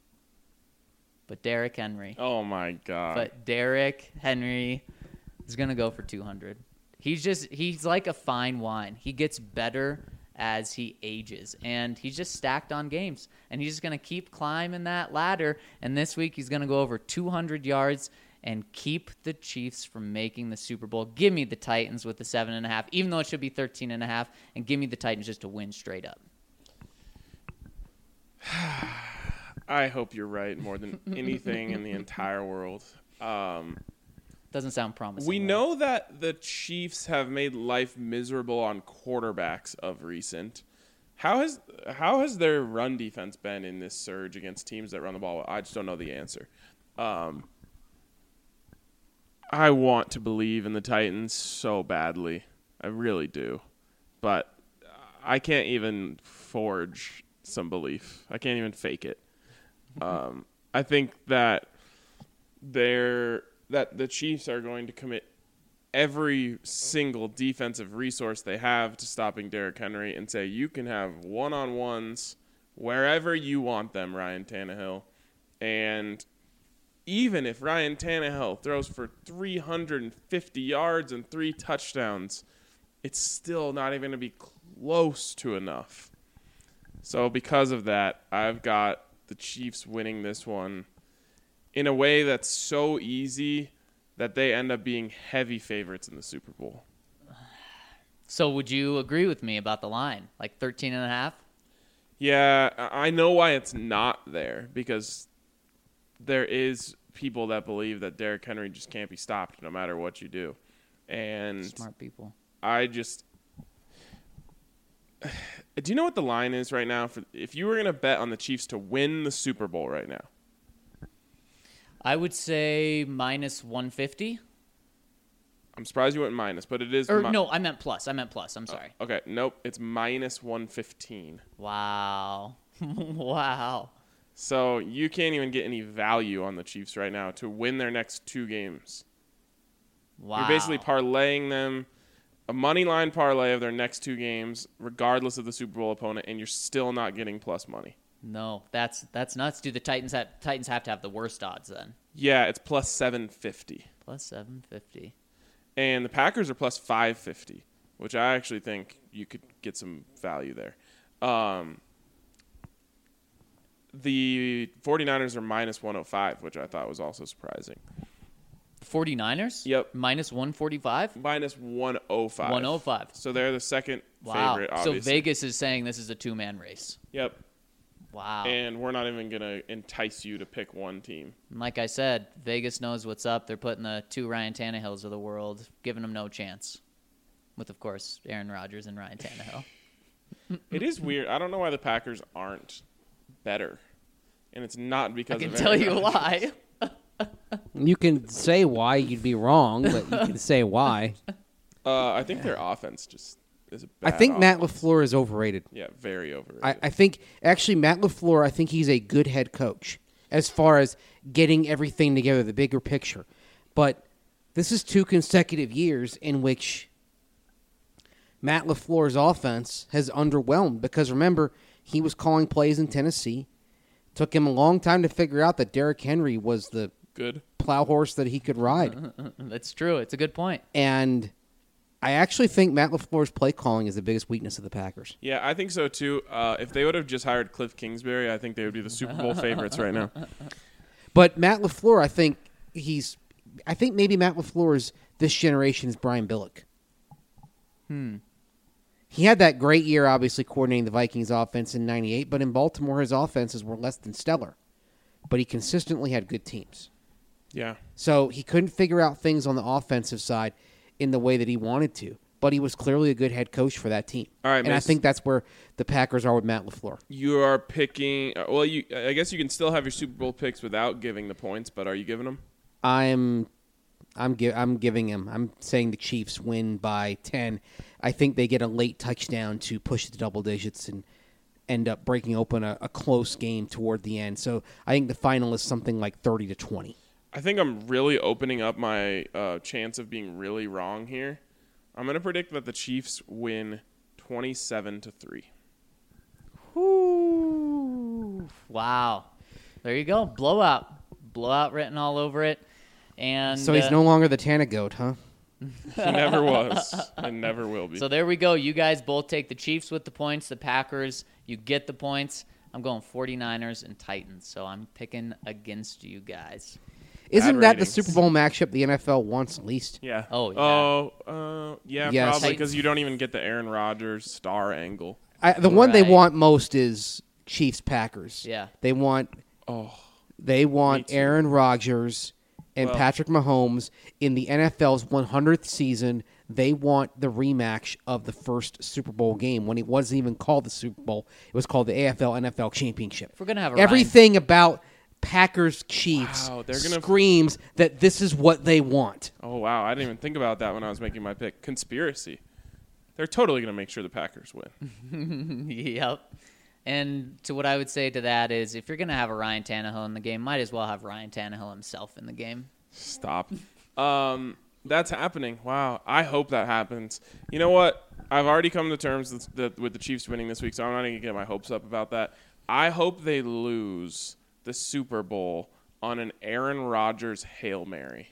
But Derrick Henry. Oh, my God. But Derrick Henry is going to go for two hundred. He's just, he's like a fine wine. He gets better as he ages, and he's just stacked on games. And he's just going to keep climbing that ladder. And this week he's going to go over two hundred yards and keep the Chiefs from making the Super Bowl. Give me the Titans with the seven and a half, even though it should be thirteen and a half, and give me the Titans just to win straight up. I hope you're right more than anything in the entire world. Um, Doesn't sound promising. we though. know that the Chiefs have made life miserable on quarterbacks of recent. How has how has their run defense been in this surge against teams that run the ball? I just don't know the answer. Um, I want to believe in the Titans so badly. I really do. But I can't even forge some belief. I can't even fake it. Um, I think that they're that the Chiefs are going to commit every single defensive resource they have to stopping Derrick Henry and say, you can have one-on-ones wherever you want them, Ryan Tannehill. And even if Ryan Tannehill throws for three hundred fifty yards and three touchdowns, it's still not even going to be close to enough. So because of that, I've got the Chiefs winning this one in a way that's so easy that they end up being heavy favorites in the Super Bowl. So would you agree with me about the line? Like thirteen and a half? Yeah, I I know why it's not there because there is people that believe that Derrick Henry just can't be stopped no matter what you do. And Smart people. I just do you know what the line is right now for if you were going to bet on the Chiefs to win the Super Bowl right now? I would say minus one fifty. I'm surprised you went minus, but it is Or mi- no, I meant plus. I meant plus. I'm sorry. Okay, nope, it's minus one fifteen. Wow. Wow. So you can't even get any value on the Chiefs right now to win their next two games. Wow. You're basically parlaying them a money line parlay of their next two games, regardless of the Super Bowl opponent, and you're still not getting plus money. No, that's that's nuts. Do the Titans have Titans have to have the worst odds then? Yeah, it's plus seven fifty. Plus seven fifty. And the Packers are plus five fifty, which I actually think you could get some value there. Um, the 49ers are minus one oh five, which I thought was also surprising. 49ers? Yep. Minus one forty-five? Minus one oh five. one oh five. So they're the second Wow. favorite, So obviously. Vegas is saying this is a two-man race. Yep. Wow. And we're not even going to entice you to pick one team. Like I said, Vegas knows what's up. They're putting the two Ryan Tannehills of the world, giving them no chance. With, of course, Aaron Rodgers and Ryan Tannehill. It is weird. I don't know why the Packers aren't better. And it's not because I can of tell Aaron you Rodgers. why. You can say why you'd be wrong, but you can say why. Uh, I think their offense just is a I bad think Matt offense. LaFleur is overrated. Yeah, very overrated. I, I think actually Matt LaFleur, I think he's a good head coach as far as getting everything together, the bigger picture. But this is two consecutive years in which Matt LaFleur's offense has underwhelmed because remember, he was calling plays in Tennessee. Took him a long time to figure out that Derrick Henry was the Good. plow horse that he could ride. That's true. It's a good point. And I actually think Matt LaFleur's play calling is the biggest weakness of the Packers. Yeah, I think so too. Uh, if they would have just hired Cliff Kingsbury, I think they would be the Super Bowl favorites right now. But Matt LaFleur, I think he's I think maybe Matt LaFleur is this generation's Brian Billick. Hmm. He had that great year, obviously, coordinating the Vikings offense in ninety-eight, but in Baltimore, his offenses were less than stellar. But he consistently had good teams. Yeah. So he couldn't figure out things on the offensive side in the way that he wanted to. But he was clearly a good head coach for that team. All right, and I Mason. think that's where the Packers are with Matt LaFleur. You are picking. uh, Well, you. I guess you can still have your Super Bowl picks without giving the points, but are you giving them? I'm I'm gi- I'm giving him. I'm saying the Chiefs win by ten. I think they get a late touchdown to push it to double digits and end up breaking open a, a close game toward the end. So I think the final is something like thirty to twenty. I think I'm really opening up my uh, chance of being really wrong here. I'm going to predict that the Chiefs win twenty-seven to three. Ooh, wow. There you go. Blowout. Blowout written all over it. And So he's uh, no longer the Tana goat, huh? He never was and never will be. So there we go. You guys both take the Chiefs with the points. The Packers, you get the points. I'm going 49ers and Titans. So I'm picking against you guys. Isn't that the ratings. Super Bowl matchup the N F L wants least? Yeah. Oh, yeah. Oh, uh, yeah, Yes. probably Titans. because you don't even get the Aaron Rodgers star angle. I, the one they Right. want most is Chiefs Packers. Yeah. They want Oh, They want Me too. Aaron Rodgers and Well- Patrick Mahomes in the N F L's one hundredth season. They want the rematch of the first Super Bowl game when it wasn't even called the Super Bowl. It was called the A F L N F L Championship. If we're going to have a Everything about Packers Chiefs Wow, they're gonna- screams that this is what they want. oh wow! I didn't even think about that when I was making my pick. Conspiracy. They're totally going to make sure the Packers win. Ryan, yep. And to what I would say to that is if you're going to have a Ryan Tannehill in the game, might as well have Ryan Tannehill himself in the game. Stop. Um, that's happening. Wow. I hope that happens. You know what? I've already come to terms with the, with the Chiefs winning this week, so I'm not going to get my hopes up about that. I hope they lose the Super Bowl on an Aaron Rodgers Hail Mary.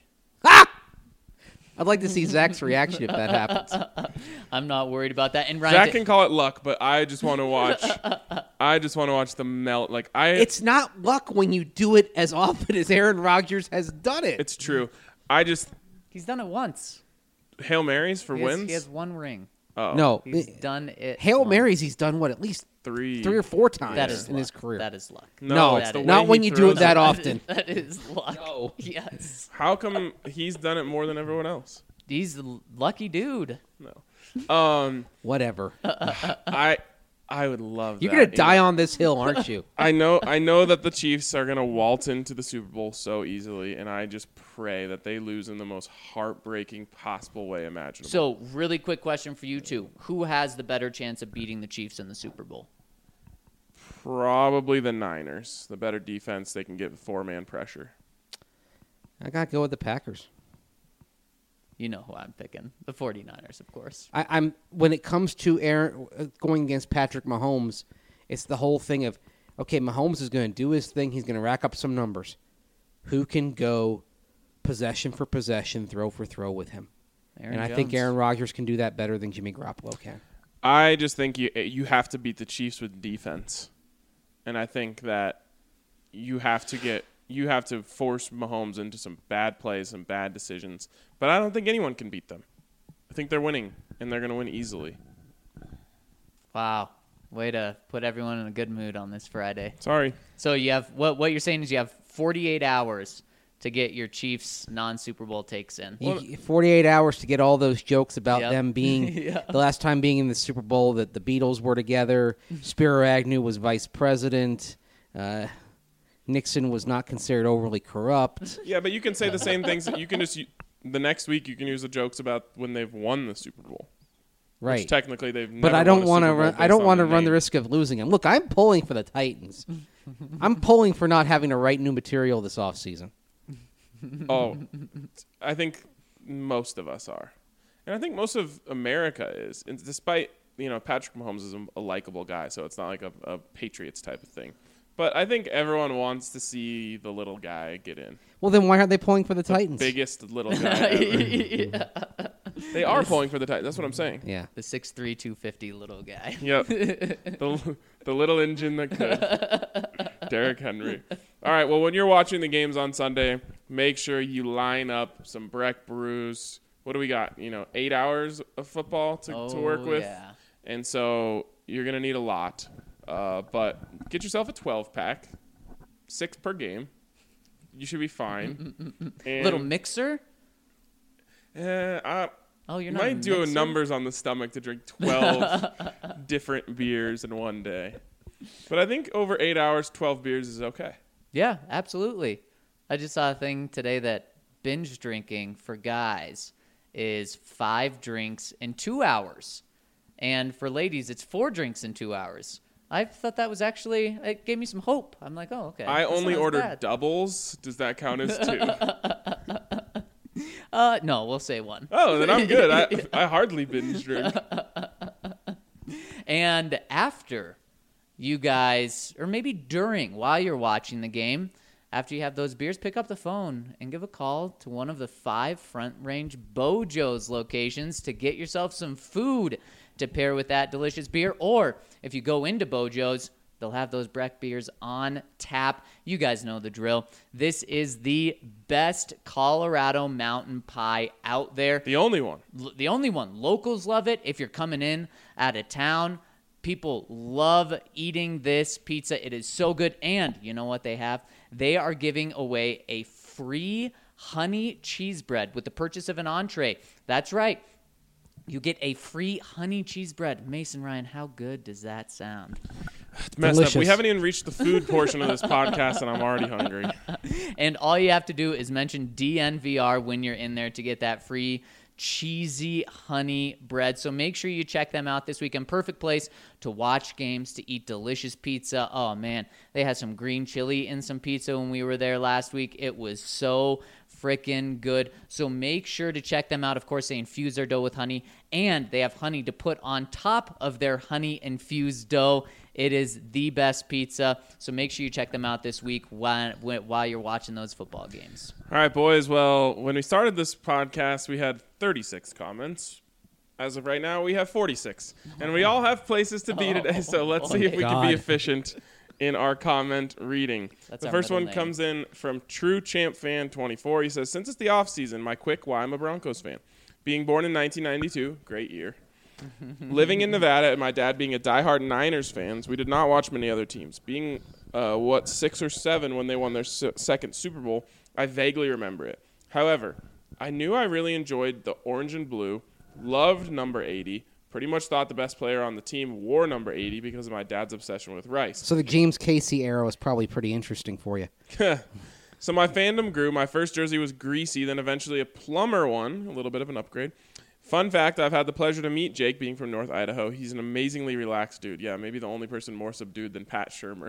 I'd like to see Zach's reaction if that happens. I'm not worried about that. And Ryan, Zach Ta- can call it luck, but I just want to watch. I just want to watch the melt. Like I, It's not luck when you do it as often as Aaron Rodgers has done it. it's true. I just he's done it once. Hail Marys for He has, wins. he has one ring. oh, no, He's it- done it. Hail once. Marys he's done what at least three, three or four times That is in luck. his career. That is luck. No, No, it's that the is- way not when he you do it throws that it. often. That is luck. No. Yes. How come he's done it more than everyone else? He's the lucky dude. No. Um, Whatever. I I would love You're that. gonna die on this hill, aren't you? I know I know that the Chiefs are gonna waltz into the Super Bowl so easily, and I just pray that they lose in the most heartbreaking possible way imaginable. So, really quick question for you two: who has the better chance of beating the Chiefs in the Super Bowl? Probably the Niners. The better defense, they can get four man pressure. I gotta go with the Packers. You know who I'm picking. The 49ers, of course. I, I'm when it comes to Aaron uh, going against Patrick Mahomes, it's the whole thing of okay, Mahomes is going to do his thing. He's going to rack up some numbers. Who can go possession for possession, throw for throw with him? Aaron and I Jones. think Aaron Rodgers can do that better than Jimmy Garoppolo can. I just think you you have to beat the Chiefs with defense, and I think that you have to get you have to force Mahomes into some bad plays and bad decisions. But I don't think anyone can beat them. I think they're winning, and they're going to win easily. Wow. Way to put everyone in a good mood on this Friday. Sorry. So you have what? What you're saying is you have forty-eight hours to get your Chiefs non-Super Bowl takes in. You, forty-eight hours to get all those jokes about Yep. them being Yeah. the last time being in the Super Bowl that the Beatles were together. Spiro Agnew was vice president. Uh, Nixon was not considered overly corrupt. Yeah, but you can say the same things. You can just the next week you can use the jokes about when they've won the Super Bowl. Right. Which technically they've never But I don't want to run. I don't want to run the risk of losing him. Look, I'm pulling for the Titans. I'm pulling for not having to write new material this offseason. Oh, I think most of us are, and I think most of America is. And despite you know Patrick Mahomes is a, a likable guy, so it's not like a, a Patriots type of thing. But I think everyone wants to see the little guy get in. Well, then why aren't they pulling for the, the Titans? Biggest little guy ever. Yeah. They are pulling for the Titans. That's what I'm saying. Yeah. The six three, two fifty little guy. Yep. the, the little engine that could. Derrick Henry. All right, well, when you're watching the games on Sunday, make sure you line up some Breck brews. What do we got? You know, eight hours of football to, oh, to work with. Yeah. And so you're going to need a lot. Uh, but get yourself a twelve-pack, six per game. You should be fine. And, Little mixer? Uh, I Oh, you're might not a do mixer? numbers on the stomach to drink twelve different beers in one day. But I think over eight hours, twelve beers is okay. Yeah, absolutely. I just saw a thing today that binge drinking for guys is five drinks in two hours. And for ladies, it's four drinks in two hours. I thought that was actually, it gave me some hope. I'm like, oh, okay. I That's only not as ordered bad. doubles. Does that count as two? Uh, no, we'll say one. Oh, then I'm good. I, I hardly binge drink. And after you guys, or maybe during, while you're watching the game, after you have those beers, pick up the phone and give a call to one of the five Front Range Bojo's locations to get yourself some food to pair with that delicious beer. Or if you go into Bojo's, they'll have those Breck beers on tap. You guys know the drill. This is the best Colorado mountain pie out there. The only one. L- the only one. Locals love it. If you're coming in out of town, people love eating this pizza. It is so good. And you know what they have? They are giving away a free honey cheese bread with the purchase of an entree. That's right. You get a free honey cheese bread. Mason, Ryan, how good does that sound? It's messed Delicious. up. We haven't even reached the food portion of this podcast, and I'm already hungry. And all you have to do is mention D N V R when you're in there to get that free cheesy honey bread. So make sure you check them out this weekend. Perfect place to watch games, to eat delicious pizza. Oh, man. They had some green chili in some pizza when we were there last week. It was so freaking good. So make sure to check them out. Of course, they infuse their dough with honey, and they have honey to put on top of their honey-infused dough. It is the best pizza. So make sure you check them out this week while, while you're watching those football games. All right, boys. Well, when we started this podcast, we had thirty-six comments. As of right now, we have forty-six. And we all have places to be today, so let's see if we can God. be efficient in our comment reading. That's the our first middle one name. comes in from True Champ Fan twenty-four. He says, since it's the off season, my quick why I'm a Broncos fan. Being born in nineteen ninety-two, great year. Living in Nevada and my dad being a diehard Niners fans, we did not watch many other teams. Being, uh, what, six or seven when they won their se- second Super Bowl, I vaguely remember it. However, I knew I really enjoyed the orange and blue, loved number eighty, pretty much thought the best player on the team wore number eighty because of my dad's obsession with Rice. So the James Casey era was probably pretty interesting for you. So my fandom grew. My first jersey was greasy, then eventually a plumber one, a little bit of an upgrade. Fun fact, I've had the pleasure to meet Jake, being from North Idaho. He's an amazingly relaxed dude. Yeah, maybe the only person more subdued than Pat Shurmur.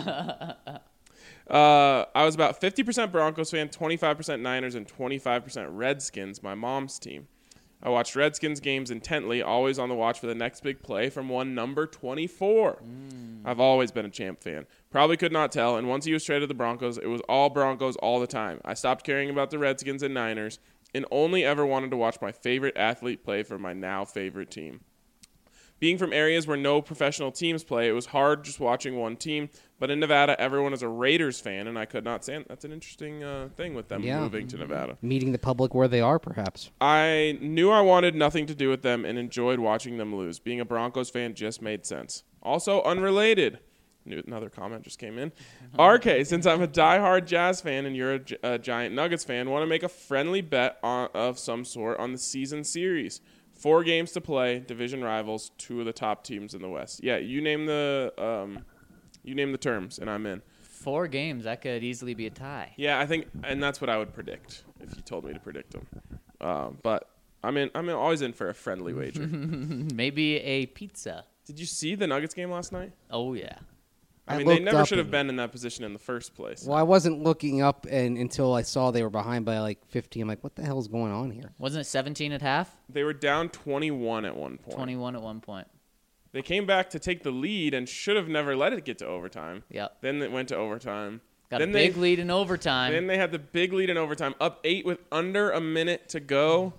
uh, I was about fifty percent Broncos fan, twenty-five percent Niners, and twenty-five percent Redskins, my mom's team. I watched Redskins games intently, always on the watch for the next big play from one number twenty-four. Mm. I've always been a Champ fan. Probably could not tell, and once he was traded to the Broncos, it was all Broncos all the time. I stopped caring about the Redskins and Niners and only ever wanted to watch my favorite athlete play for my now favorite team. Being from areas where no professional teams play, it was hard just watching one team. But in Nevada, everyone is a Raiders fan, and I could not stand. That's an interesting uh, thing with them Yeah. moving to Nevada. Meeting the public where they are, perhaps. I knew I wanted nothing to do with them and enjoyed watching them lose. Being a Broncos fan just made sense. Also, unrelated. Another comment just came in. R K, since I'm a diehard Jazz fan and you're a, gi- a giant Nuggets fan, want to make a friendly bet on, of some sort on the season series. Four games to play, division rivals, two of the top teams in the West. Yeah, you name the um, you name the terms, and I'm in. four games, that could easily be a tie. Yeah, I think, and that's what I would predict if you told me to predict them. Um, but I'm in. I'm always in for a friendly wager. Maybe a pizza. Did you see the Nuggets game last night? Oh, yeah. I, I mean, they looked never up should have and- been in that position in the first place. Well, I wasn't looking up and until I saw they were behind by like fifteen. I'm like, what the hell is going on here? Wasn't it seventeen at half? They were down twenty-one at one point. twenty-one at one point. They came back to take the lead and should have never let it get to overtime. Yep. Then it went to overtime. Got then a big they, lead in overtime. Then they had the big lead in overtime, up eight with under a minute to go.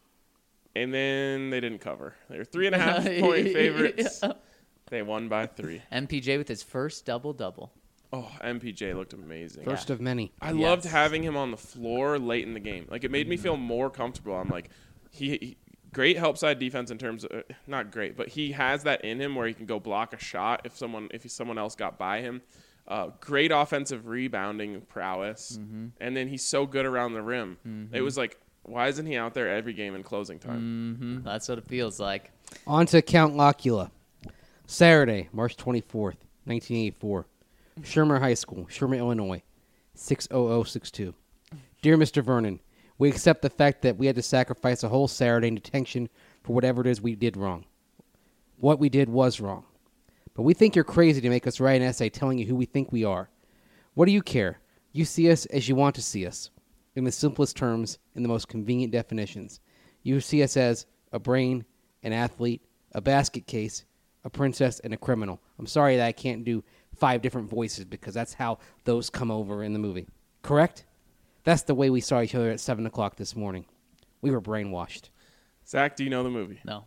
And then they didn't cover. They were three and a half point favorites. Yeah. They won by three. M P J with his first double-double. Oh, M P J looked amazing. First of many. I Yes. loved having him on the floor late in the game. Like, it made me feel more comfortable. I'm like, he, he great help side defense in terms of uh, not great, but he has that in him where he can go block a shot if someone if someone else got by him. Uh, great offensive rebounding prowess, Mm-hmm. and then he's so good around the rim. Mm-hmm. It was like, why isn't he out there every game in closing time? hmm That's what it feels like. On to Count Locula. Saturday, March twenty-fourth, nineteen eighty-four. Shermer High School, Shermer, Illinois, six oh oh six two. Dear Mister Vernon, we accept the fact that we had to sacrifice a whole Saturday in detention for whatever it is we did wrong. What we did was wrong. But we think you're crazy to make us write an essay telling you who we think we are. What do you care? You see us as you want to see us. In the simplest terms, in the most convenient definitions. You see us as a brain, an athlete, a basket case, a princess, and a criminal. I'm sorry that I can't do five different voices because that's how those come over in the movie. Correct? That's the way we saw each other at seven o'clock this morning. We were brainwashed. Zach, do you know the movie? No.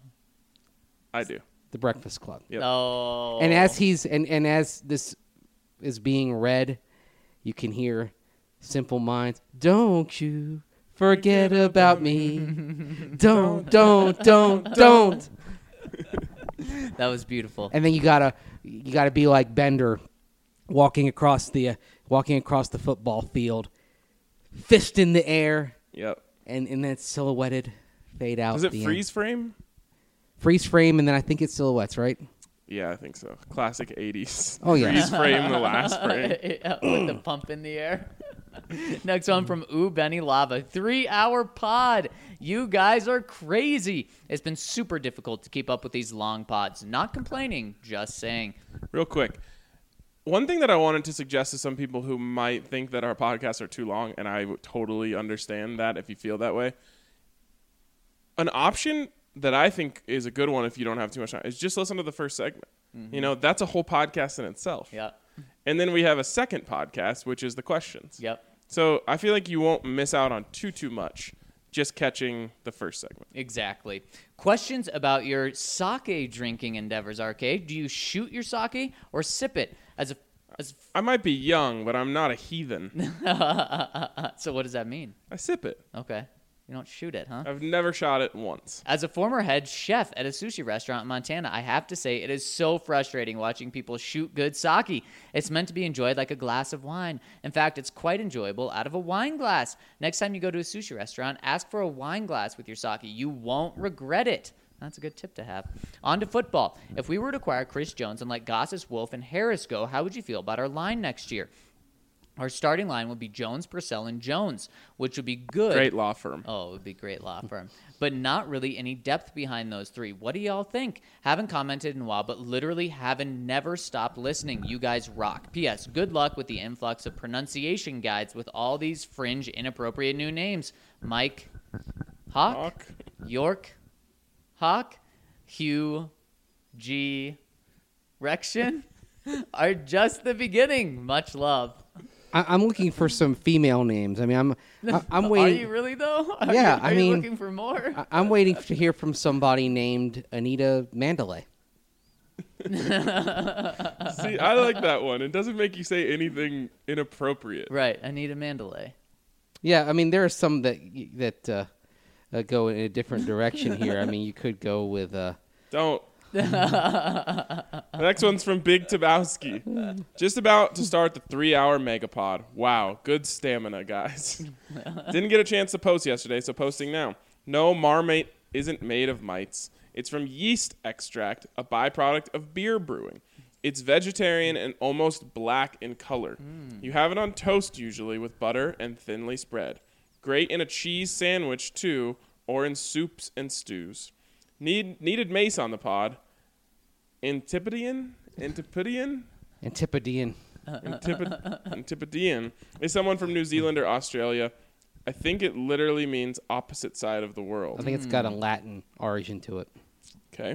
I do. The Breakfast Club. Yep. No. And as he's and, and as this is being read, you can hear Simple Minds. Don't you forget about me. Don't, don't, don't, don't. That was beautiful. And then you gotta you gotta be like Bender, walking across the uh, walking across the football field, fist in the air, Yep. and and then it's silhouetted, fade out. Was at it the freeze end. frame? Freeze frame, and then I think it's silhouettes, right? Yeah, I think so. Classic eighties. Oh, yeah. Freeze frame, the last frame. Yeah, with the pump in the air. Next one from Ooh Benny Lava. Three-hour pod. You guys are crazy. It's been super difficult to keep up with these long pods. Not complaining, just saying. Real quick. One thing that I wanted to suggest to some people who might think that our podcasts are too long, and I would totally understand that if you feel that way. An option that I think is a good one if you don't have too much time is just listen to the first segment. Mm-hmm. You know, that's a whole podcast in itself. Yep. And then we have a second podcast, which is the questions. Yep. So I feel like you won't miss out on too, too much just catching the first segment. Exactly. Questions about your sake drinking endeavors, Arcade. Do you shoot your sake or sip it as a as I might be young, but I'm not a heathen. a, So what does that mean? I sip it. Okay. You don't shoot it, huh? I've never shot it once. As a former head chef at a sushi restaurant in Montana, I have to say it is so frustrating watching people shoot good sake. It's meant to be enjoyed like a glass of wine. In fact, it's quite enjoyable out of a wine glass. Next time you go to a sushi restaurant, ask for a wine glass with your sake. You won't regret it. That's a good tip to have. On to football. If we were to acquire Chris Jones and let Goss's, Wolf, and Harris go, how would you feel about our line next year? Our starting line would be Jones, Purcell, and Jones, which would be good. Great law firm. Oh, it would be a great law firm. But not really any depth behind those three. What do y'all think? Haven't commented in a while, but literally haven't never stopped listening. You guys rock. P S. Good luck with the influx of pronunciation guides with all these fringe, inappropriate new names. Mike, Hawk, Hawk. York, Hawk, Hugh, G, Rection are just the beginning. Much love. I, I'm looking for some female names. I mean, I'm I, I'm Are waiting. you really, though? Are Yeah, you, are I you mean- looking for more? I- I'm waiting to hear from somebody named Anita Mandalay. See, I like that one. It doesn't make you say anything inappropriate. Right, Anita Mandalay. Yeah, I mean, there are some that y- that uh, uh, go in a different direction here. I mean, you could go with. Uh, Don't. The next one's from Big Tabowski. Just about to start the three-hour megapod. Wow, good stamina, guys. Didn't get a chance to post yesterday, so posting now. No, Marmite isn't made of mites. It's from yeast extract, a byproduct of beer brewing. It's vegetarian and almost black in color. Mm. You have it on toast usually with butter and thinly spread. Great in a cheese sandwich too, or in soups and stews. Need needed mace on the pod. Antipodean? Antipodean? Antipodean. Antipod- Antipodean is someone from New Zealand or Australia. I think it literally means opposite side of the I world. think it's got a Latin origin to it. Okay.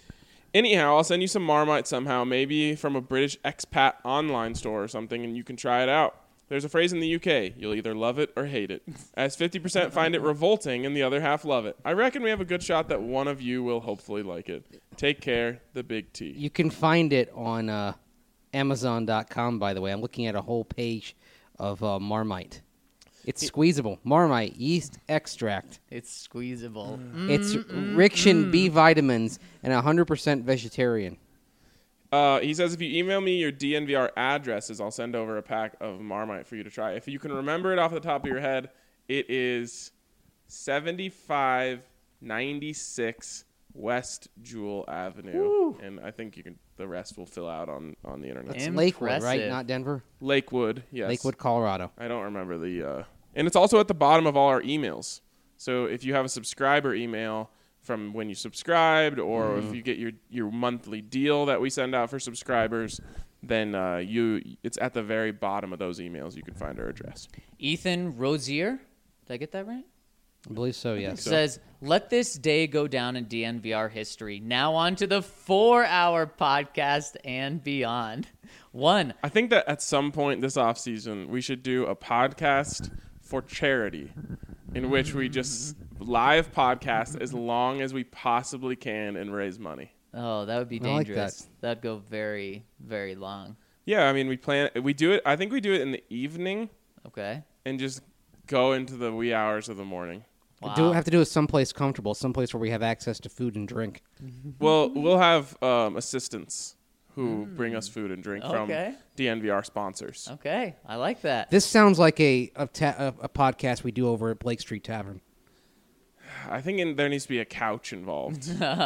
Anyhow, I'll send you some Marmite somehow, maybe from a British expat online store or something, and you can try it out. There's a phrase in the U K, you'll either love it or hate it. As fifty percent find it revolting and the other half love it. I reckon we have a good shot that one of you will hopefully like it. Take care, the Big T. You can find it on uh, Amazon dot com, by the way. I'm looking at a whole page of uh, Marmite. It's squeezable. Marmite yeast extract. It's squeezable. It's rich in B vitamins and one hundred percent vegetarian. Uh, he says if you email me your D N V R addresses, I'll send over a pack of Marmite for you to try. If you can remember it off the top of your head, it is seventy-five ninety-six West Jewel Avenue. Woo. And I think you can. The rest will fill out on, on the internet. It's Lakewood, right? Impressive. Not Denver? Lakewood, yes. Lakewood, Colorado. I don't remember the... Uh, and it's also at the bottom of all our emails. So if you have a subscriber email from when you subscribed, or Mm. if you get your, your monthly deal that we send out for subscribers, then uh, you it's at the very bottom of those emails. You can find our address. Ethan Rosier, did I get that right? I believe so, yes. so. Says, let this day go down in D N V R history. Now on to the four-hour podcast and beyond. One, I think that at some point this offseason, we should do a podcast for charity in which we just live podcast as long as we possibly can and raise money. oh, that would be I like dangerous. That'd go very, very long. Yeah, I mean, we plan, we do it, I think we do it in the evening Okay. and just go into the wee hours of the morning. Wow. Do have to do it someplace comfortable, someplace where we have access to food and drink. Well, we'll have um, assistants who bring us food and drink Okay. from D N V R sponsors. Okay, I like that. This sounds like a a, ta- a a podcast we do over at Blake Street Tavern. I think in, there needs to be a couch involved.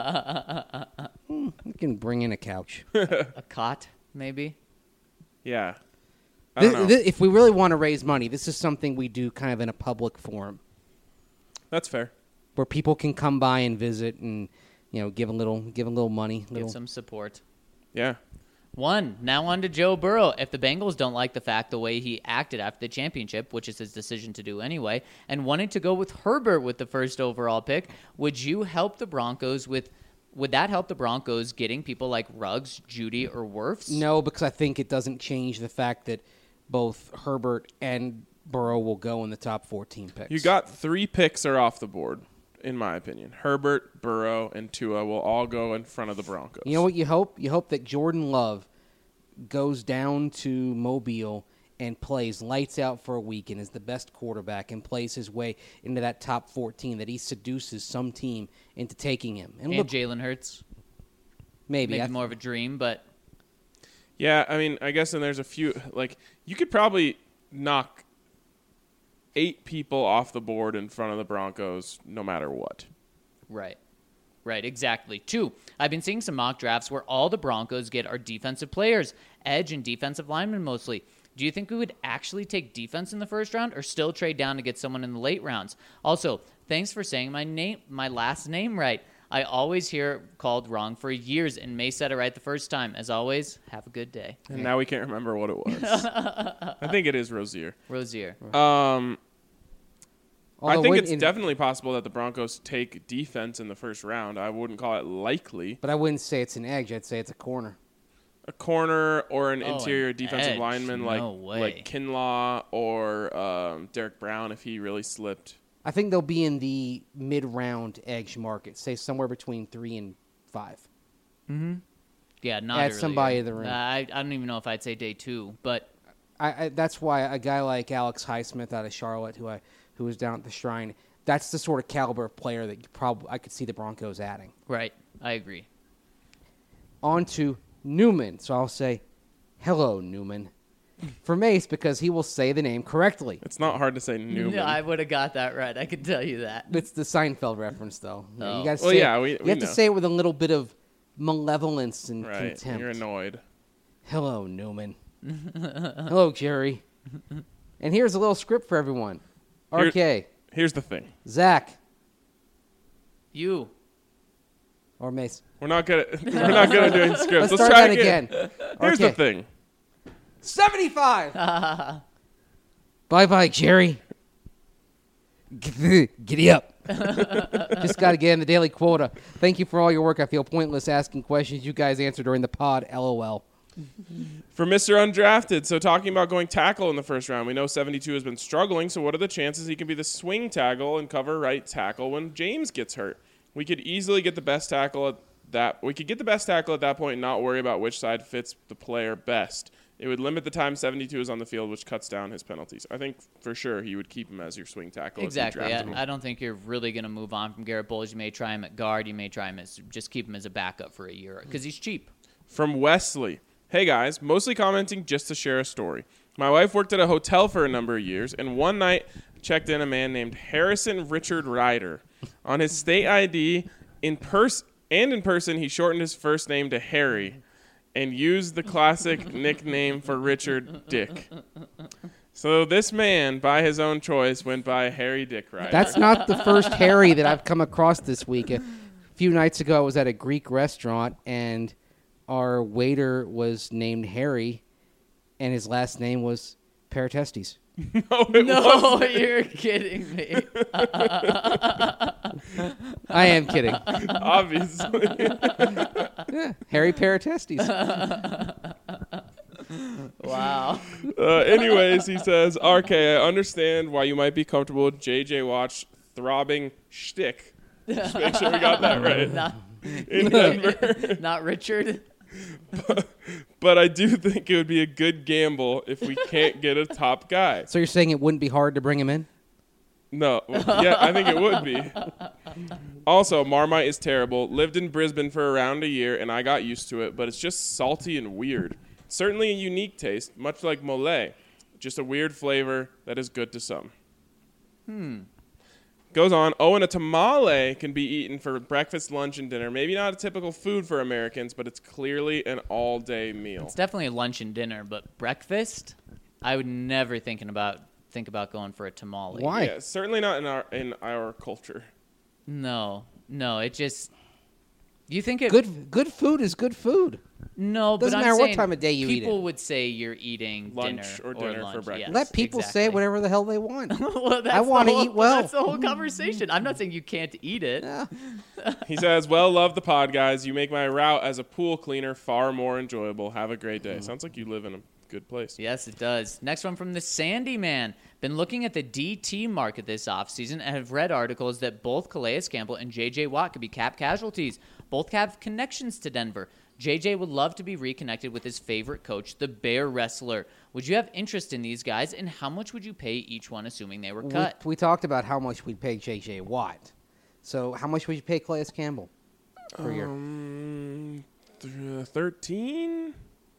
We can bring in a couch. A cot, maybe? Yeah. I don't Thi- know. thi- if we really want to raise money, this is something we do kind of in a public forum That's fair. where people can come by and visit and you know give a little give a little money. Give Little, some support. Yeah. One, now on to Joe Burrow. If the Bengals don't like the fact the way he acted after the championship, which is his decision to do anyway, and wanting to go with Herbert with the first overall pick, would you help the Broncos with would that help the Broncos getting people like Ruggs, Judy, or Wirfs? no, because I think it doesn't change the fact that both Herbert and Burrow will go in the top fourteen picks. You got three picks are off the board, in my opinion. Herbert, Burrow, and Tua will all go in front of the Broncos. You know what you hope? You hope that Jordan Love goes down to Mobile and plays lights out for a week and is the best quarterback and plays his way into that top fourteen, that he seduces some team into taking him. And, And look, Jalen Hurts. maybe. Maybe I- more of a dream, but Yeah, I mean, I guess and there's a few, like, you could probably knock eight people off the board in front of the Broncos no matter what. right. Right, exactly. Two, I've been seeing some mock drafts where all the Broncos get are defensive players, edge and defensive linemen mostly. Do you think we would actually take defense in the first round or still trade down to get someone in the late rounds? Also, thanks for saying my name, my last name right. I always hear it called wrong for years and May said it right the first time. As always, have a good day. And now we can't remember what it was. I think it is Rozier. Rosier. Um, I although think when- it's in- definitely possible that the Broncos take defense in the first round. I wouldn't call it likely. But I wouldn't say it's an edge. I'd say it's a corner. A corner or an Oh, interior an defensive edge. lineman like No way. like Kinlaw or um, Derek Brown if he really slipped. I think they'll be in the mid-round edge market, say somewhere between three and five. Yeah, not Add earlier. somebody to the ring. Uh, I, I don't even know if I'd say day two, but I, I, that's why a guy like Alex Highsmith out of Charlotte, who I who was down at the Shrine, that's the sort of caliber of player that you probably I could see the Broncos adding. right, I agree. On to Newman. So I'll say, hello, Newman. For Mace, because he will say the name correctly. It's not hard to say Newman. Yeah, I would have got that right. I can tell you that. It's the Seinfeld reference, though. You, know, Oh. you gotta Well, say yeah, it- we- you we have know. to say it with a little bit of malevolence and right. contempt. You're annoyed. Hello, Newman. Hello, Jerry. And here's a little script for everyone. R K, Here's the thing. Zach, You. or Mace. We're not good at, we're not good at doing scripts. Let's Let's start try that again. again. Here's R K. the thing. seventy-five. Bye-bye, Jerry. Giddy up. Just got to get in the daily quota. Thank you for all your work. I feel pointless asking questions you guys answer during the pod. LOL. For Mister Undrafted, so talking about going tackle in the first round, we know seventy-two has been struggling, so what are the chances he can be the swing tackle and cover right tackle when James gets hurt? We could easily get the best tackle at that. We could get the best tackle at that point and not worry about which side fits the player best. It would limit the time seventy-two is on the field, which cuts down his penalties. I think for sure he would keep him as your swing tackle. Exactly. If you drafted I, him. I don't think you're really going to move on from Garrett Bowles. You may try him at guard. You may try him as just keep him as a backup for a year because he's cheap. From Wesley. Hey guys, mostly commenting just to share a story. My wife worked at a hotel for a number of years, and one night checked in a man named Harrison Richard Ryder. On his state I D in pers- and in person, he shortened his first name to Harry and used the classic nickname for Richard, Dick. So this man, by his own choice, went by Harry Dick Ryder. That's not the first Harry that I've come across this week. A few nights ago, I was at a Greek restaurant, and our waiter was named Harry, and his last name was Paratestes. no, it No, wasn't. you're kidding me. I am kidding. Obviously. Yeah, Harry Paratestes. Wow. Uh, anyways, he says, R K, I understand why you might be comfortable with J J Watt's throbbing shtick. Just make sure we got that right. Not, In Denver. not Richard. But I do think it would be a good gamble if we can't get a top guy. So you're saying it wouldn't be hard to bring him in? No. Yeah, I think it would be. Also, Marmite is terrible. Lived in Brisbane for around a year, and I got used to it, but it's just salty and weird. Certainly a unique taste, much like mole. Just a weird flavor that is good to some. Hmm. Goes on, oh, and a tamale can be eaten for breakfast, lunch, and dinner. Maybe not a typical food for Americans, but it's clearly an all-day meal. It's definitely a lunch and dinner, but breakfast, I would never thinking about think about going for a tamale. Why? Yeah, certainly not in our in our culture. No, no, it just. You think it? Good good food is good food. No, Doesn't but I'm matter what saying time of day you eat People it. would say you're eating Lunch dinner or dinner for lunch. breakfast. Yes, Let people say exactly. whatever the hell they want. Well, that's I the wanna whole- eat well. That's the whole conversation. I'm not saying you can't eat it. Yeah. He says, well, love the pod, guys. You make my route as a pool cleaner far more enjoyable. Have a great day. Sounds like you live in a good place. Yes, it does. Next one from the Sandy Man. Been looking at the D T market this offseason and have read articles that both Calais Campbell and J J Watt could be cap casualties. Both have connections to Denver. J J would love to be reconnected with his favorite coach, the Bear Wrestler. Would you have interest in these guys, and how much would you pay each one, assuming they were We, cut? we talked about how much we'd pay J J Watt. So how much would you pay Calais Campbell per year? Um, th- thirteen?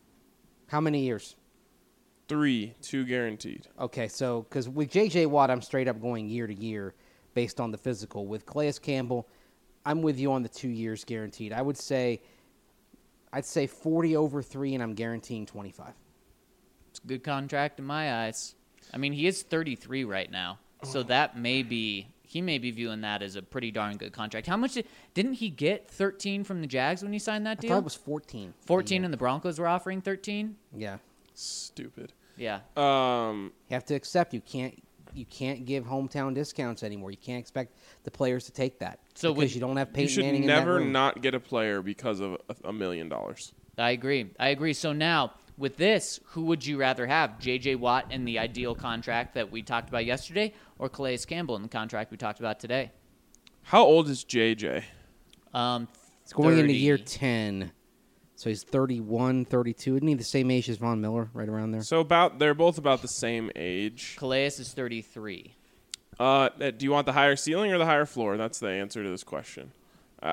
How many years? Three. Two guaranteed. Okay, so because with J J Watt, I'm straight up going year to year based on the physical. With Calais Campbell, I'm with you on the two years guaranteed. I would say, I'd say forty over three, and I'm guaranteeing twenty-five. It's a good contract in my eyes. I mean, he is thirty-three right now, so that may be he may be viewing that as a pretty darn good contract. How much did, didn't he get? thirteen from the Jags when he signed that I deal. thought it was fourteen. fourteen, and the Broncos were offering thirteen. Yeah, Stupid. Yeah. Um, you have to accept you can't you can't give hometown discounts anymore. You can't expect the players to take that So because would- you don't have you Peyton should Manning in never that room. not get a player because of a, a million dollars. I agree. I agree. So now, with this, who would you rather have? J J Watt in the ideal contract that we talked about yesterday, or Calais Campbell in the contract we talked about today? How old is J J? Um, It's going into thirty. year ten, so he's thirty-one, thirty-two. Isn't he the same age as Von Miller, right around there? So about they're both about the same age. Calais is thirty-three. Uh, do you want the higher ceiling or the higher floor? That's the answer to this question. Uh,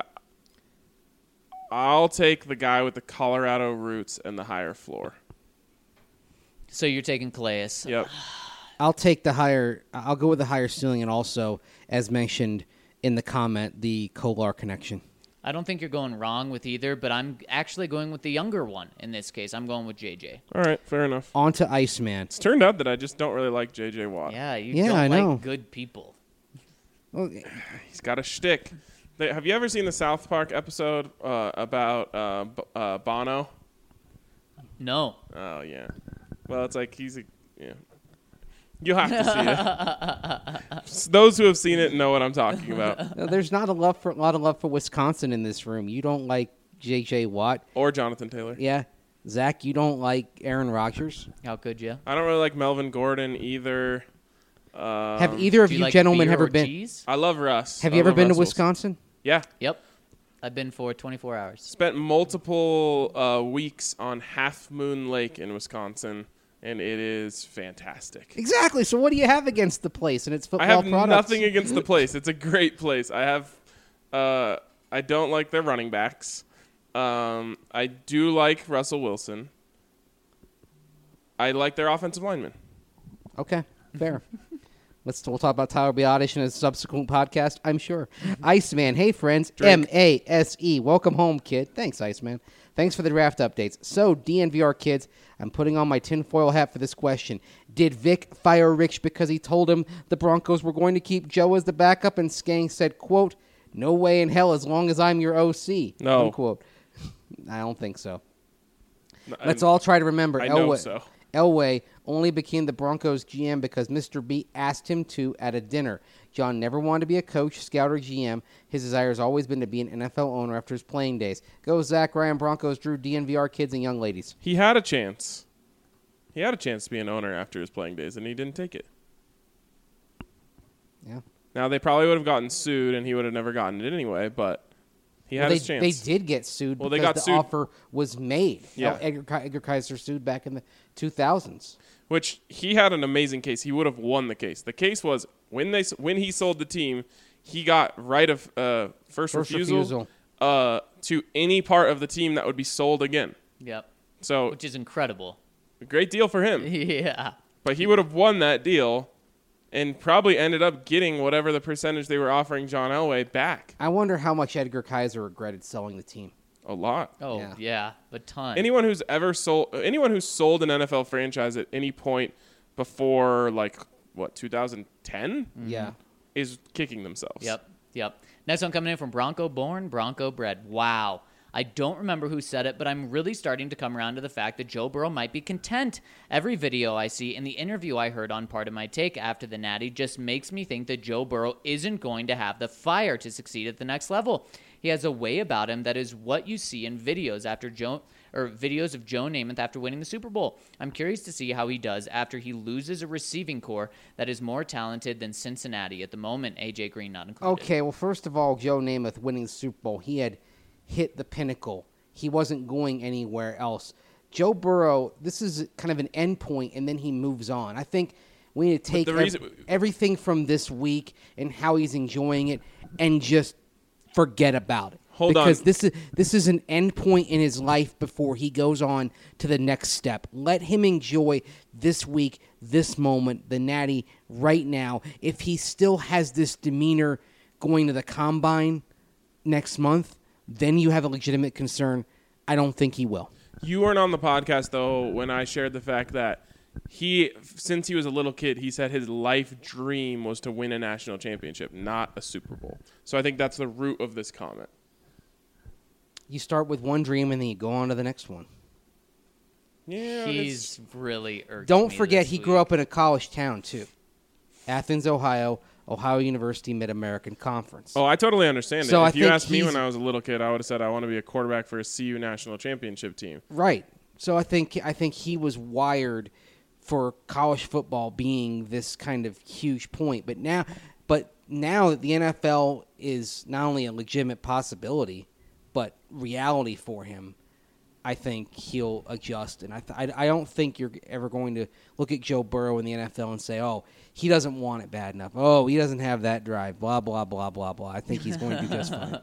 I'll take the guy with the Colorado roots and the higher floor. So you're taking Calais. Yep. I'll take the higher. I'll go with the higher ceiling, and also, as mentioned in the comment, the Kolar connection. I don't think you're going wrong with either, but I'm actually going with the younger one in this case. I'm going with J J. All right, fair enough. On to Iceman. It's turned out that I just don't really like J J Watt. Yeah, you Yeah, don't I like know. good people. Well, He's got a shtick. They, have you ever seen the South Park episode uh, about uh, B- uh, Bono? No. Oh, yeah. Well, it's like he's a... Yeah. You'll have to see it. S- Those who have seen it know what I'm talking about. no, there's not a love for a lot of love for Wisconsin in this room. You don't like J J Watt. Or Jonathan Taylor. Yeah. Zach, you don't like Aaron Rodgers. How could you? I don't really like Melvin Gordon either. Um, Have either of Do you, you like gentlemen beer ever or been? cheese? I love Russ. Have I you ever love been Russ to Wilson. Wisconsin? Yeah. Yep. I've been for twenty-four hours. Spent multiple uh, weeks on Half Moon Lake in Wisconsin, and it is fantastic. Exactly. So what do you have against the place and its I football have products? nothing against the place. It's a great place. I have. Uh, I don't like their running backs. Um, I do like Russell Wilson. I like their offensive linemen. Okay, fair. Let's we'll talk about Tyler Biadasz in a subsequent podcast, I'm sure. Iceman, hey friends, Drink. M A S E. Welcome home, kid. Thanks, Iceman. Thanks for the draft updates. So, D N V R kids, I'm putting on my tinfoil hat for this question. Did Vic fire Rich because he told him the Broncos were going to keep Joe as the backup, and Skang said, quote, "No way in hell as long as I'm your O C." No. Unquote. I don't think so. I- Let's all try to remember. I know Elway, so. Elway only became the Broncos G M because Mister B asked him to at a dinner. John never wanted to be a coach, scout, or G M. His desire has always been to be an N F L owner after his playing days. Go Zach Ryan, Broncos, Drew, D N V R kids, and young ladies. He had a chance. He had a chance to be an owner after his playing days, and he didn't take it. Yeah. Now, they probably would have gotten sued, and he would have never gotten it anyway, but he had Well, they, his chance. they did get sued Well, they because got the sued. offer was made. Yeah. How Edgar, Ki- Edgar Kaiser sued back in the two thousands. Which he had an amazing case. He would have won the case. The case was when they when he sold the team, he got right of uh, first, First refusal, refusal. Uh, to any part of the team that would be sold again. Yep. So Which is incredible. a great deal for him. Yeah. But he would have won that deal and probably ended up getting whatever the percentage they were offering John Elway back. I wonder how much Edgar Kaiser regretted selling the team. A lot. Oh, Yeah. yeah. A ton. Anyone who's ever sold anyone who's sold an N F L franchise at any point before like what two thousand ten Yeah. is kicking themselves. Yep, yep. Next one coming in from Bronco Born, Bronco Bred. Wow. I don't remember who said it, but I'm really starting to come around to the fact that Joe Burrow might be content. Every video I see and the interview I heard on Part of My Take after the Natty just makes me think that Joe Burrow isn't going to have the fire to succeed at the next level. He has a way about him that is what you see in videos after Joe or videos of Joe Namath after winning the Super Bowl. I'm curious to see how he does after he loses a receiving core that is more talented than Cincinnati at the moment. A J Green not included. Okay, well, first of all, Joe Namath winning the Super Bowl, he had hit the pinnacle. He wasn't going anywhere else. Joe Burrow, this is kind of an end point, and then he moves on. I think we need to take the ev- reason- everything from this week and how he's enjoying it and just forget about it. Hold on. because this is this is an end point in his life before he goes on to the next step. Let him enjoy this week, this moment, the Natty right now. If he still has this demeanor going to the combine next month, then you have a legitimate concern. I don't think he will. You weren't on the podcast though when I shared the fact that he, since he was a little kid, he said his life dream was to win a national championship, not a Super Bowl. So I think that's the root of this comment. You start with one dream and then you go on to the next one. Yeah, He's really irked Don't me forget this he week. grew up in a college town too. Athens, Ohio, Ohio University Mid-American Conference. Oh, I totally understand So it. I If you think asked me he's- when I was a little kid, I would have said I want to be a quarterback for a C U national championship team. Right. So I think I think he was wired for college football being this kind of huge point. But now but now that the N F L is not only a legitimate possibility, but reality for him, I think he'll adjust. And I th- I, I don't think you're ever going to look at Joe Burrow in the N F L and say, oh, he doesn't want it bad enough. Oh, he doesn't have that drive. Blah, blah, blah, blah, blah. I think he's going to do just fine.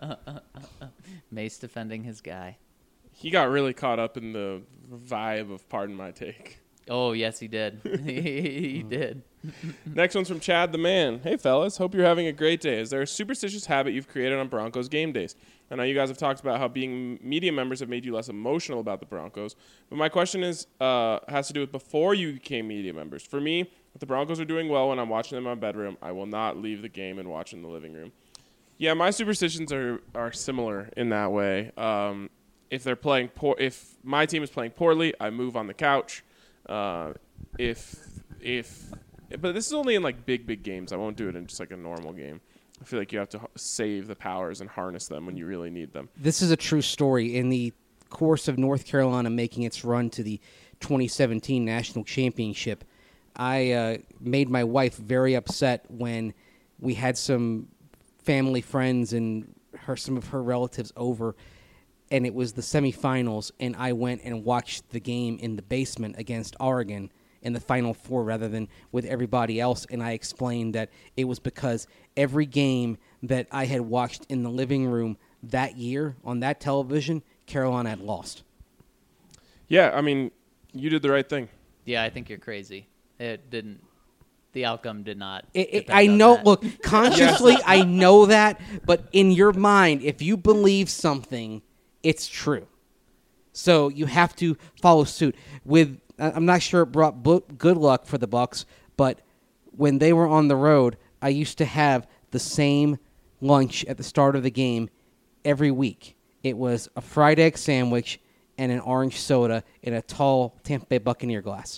Mace defending his guy. He got really caught up in the vibe of Pardon My Take. Oh, yes, he did. He did. Next one's from Chad the Man. Hey, fellas. Hope you're having a great day. Is there a superstitious habit you've created on Broncos game days? I know you guys have talked about how being media members have made you less emotional about the Broncos. But my question is uh, has to do with before you became media members. For me, if the Broncos are doing well when I'm watching them in my bedroom, I will not leave the game and watch in the living room. Yeah, my superstitions are, are similar in that way. Um, if they're playing poor, if my team is playing poorly, I move on the couch. Uh, if if, but this is only in like big big games. I won't do it in just like a normal game. I feel like you have to h- save the powers and harness them when you really need them. This is a true story. In the course of North Carolina making its run to the twenty seventeen National Championship, I uh, made my wife very upset when we had some family friends and her some of her relatives over, and it was the semifinals, and I went and watched the game in the basement against Oregon in the Final Four rather than with everybody else, and I explained that it was because every game that I had watched in the living room that year on that television, Carolina had lost. Yeah, I mean, you did the right thing. Yeah, I think you're crazy. It didn't. The outcome did not. It, it, depend I on know. that. Look, consciously, I know that, but in your mind, if you believe something, it's true. So you have to follow suit. With I'm not sure it brought bo- good luck for the Bucs, but when they were on the road, I used to have the same lunch at the start of the game every week. It was a fried egg sandwich and an orange soda in a tall Tampa Bay Buccaneer glass.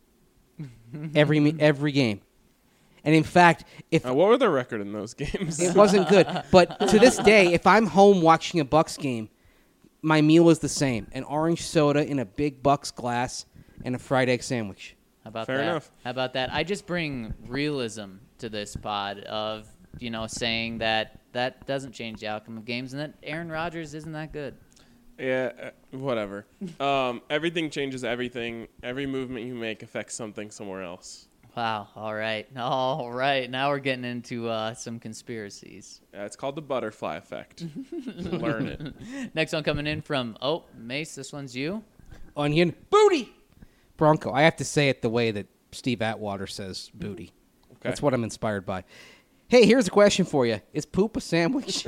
every me- every game. And in fact, if Uh, what were their record in those games? it wasn't good, but to this day, if I'm home watching a Bucs game, my meal is the same: an orange soda in a big Bucs glass and a fried egg sandwich. How about Fair that? enough. How about that? I just bring realism to this pod of, you know, saying that that doesn't change the outcome of games and that Aaron Rodgers isn't that good. Yeah, uh, whatever. Um, everything changes everything. Every movement you make affects something somewhere else. Wow. All right. All right. Now we're getting into uh, some conspiracies. Uh, it's called the butterfly effect. Learn it. Next one coming in from, oh, Mace, this one's you. Onion booty. Bronco. I have to say it the way that Steve Atwater says booty. Okay. That's what I'm inspired by. Hey, here's a question for you: is poop a sandwich?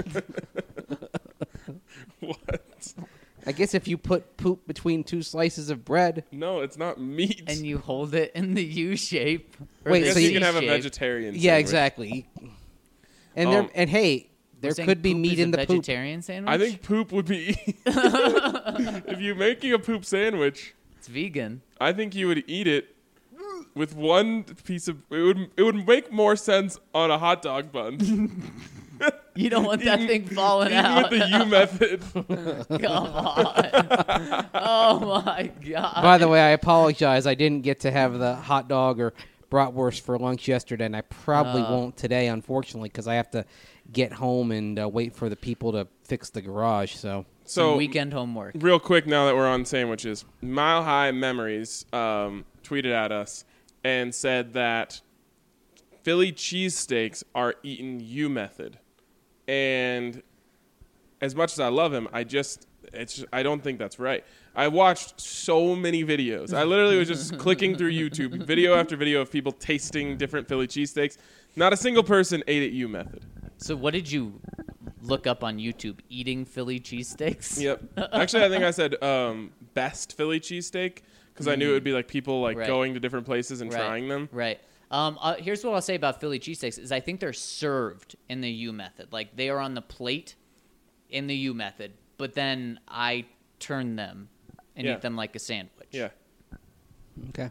What? I guess if you put poop between two slices of bread. No, it's not meat. And you hold it in the U shape. or Wait, the I guess so you C can have a shape. vegetarian. Yeah, sandwich. exactly. And Um, there, and hey, there We're saying could be poop meat is in a the poop. vegetarian sandwich? I think poop would be. If you're making a poop sandwich, it's vegan. I think you would eat it with one piece of. It would. It would make more sense on a hot dog bun. You don't want that Eaten- thing falling Eaten out. with the U method. Come on. Oh, my God. By the way, I apologize. I didn't get to have the hot dog or bratwurst for lunch yesterday, and I probably Oh. won't today, unfortunately, because I have to get home and uh, wait for the people to fix the garage. So Some So weekend homework. real quick, now that we're on sandwiches, Mile High Memories um, tweeted at us and said that Philly cheesesteaks are eaten U method, and as much as I love him, I just it's just, I don't think that's right. I watched so many videos. I literally was just clicking through YouTube, video after video of people tasting different Philly cheesesteaks. Not a single person ate it U method. So what did you look up on YouTube? Eating Philly cheesesteaks? Yep. Actually, I think I said um, best Philly cheesesteak because I knew it would be like people like Right. going to different places and Right. trying them. Right. Um, uh, here's what I'll say about Philly cheesesteaks is I think they're served in the U method. Like they are on the plate in the U method, but then I turn them and Yeah. eat them like a sandwich. Yeah. okay.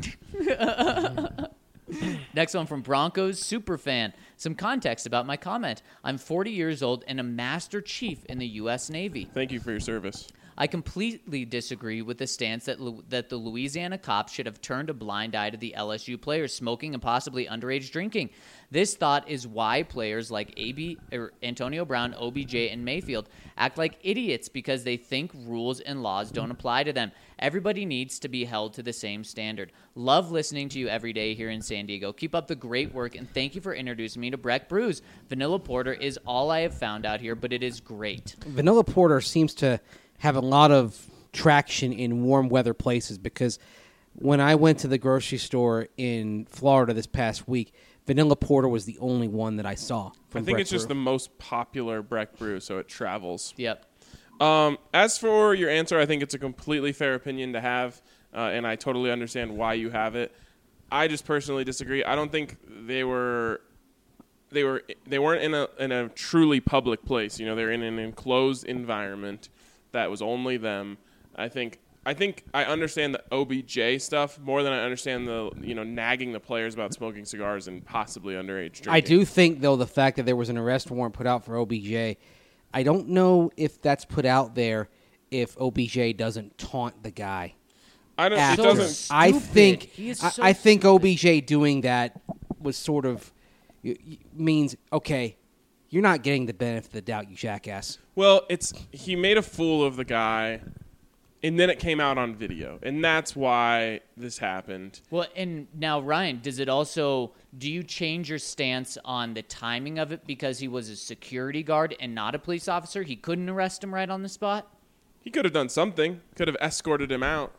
Next one from Broncos Superfan. Some context about my comment. I'm forty years old and a Master Chief in the U S Navy. Thank you for your service. I completely disagree with the stance that Lu- that the Louisiana cops should have turned a blind eye to the L S U players smoking and possibly underage drinking. This thought is why players like A B, or Antonio Brown, O B J, and Mayfield act like idiots because they think rules and laws don't apply to them. Everybody needs to be held to the same standard. Love listening to you every day here in San Diego. Keep up the great work, and thank you for introducing me to Breck Brews. Vanilla Porter is all I have found out here, but it is great. Vanilla Porter seems to have a lot of traction in warm weather places because when I went to the grocery store in Florida this past week, vanilla porter was the only one that I saw. I From think Breck it's just the Brew. most popular Breck brew, so it travels. Yep. Um, as for your answer, I think it's a completely fair opinion to have, uh, and I totally understand why you have it. I just personally disagree. I don't think they were they were they weren't in a in a truly public place. You know, they're in an enclosed environment that was only them. I think I think I understand the O B J stuff more than I understand the you know nagging the players about smoking cigars and possibly underage drinking. I do think, though, the fact that there was an arrest warrant put out for O B J, I don't know if that's put out there if O B J doesn't taunt the guy. I don't. after. It doesn't. I Stupid. think He is I, so I think stupid. O B J doing that was sort of y- y- means okay, you're not getting the benefit of the doubt, you jackass. Well, it's he made a fool of the guy, and then it came out on video, and that's why this happened. Well, and now, Ryan, does it also, do you change your stance on the timing of it because he was a security guard and not a police officer? He couldn't arrest him right on the spot? He could have done something. Could have escorted him out.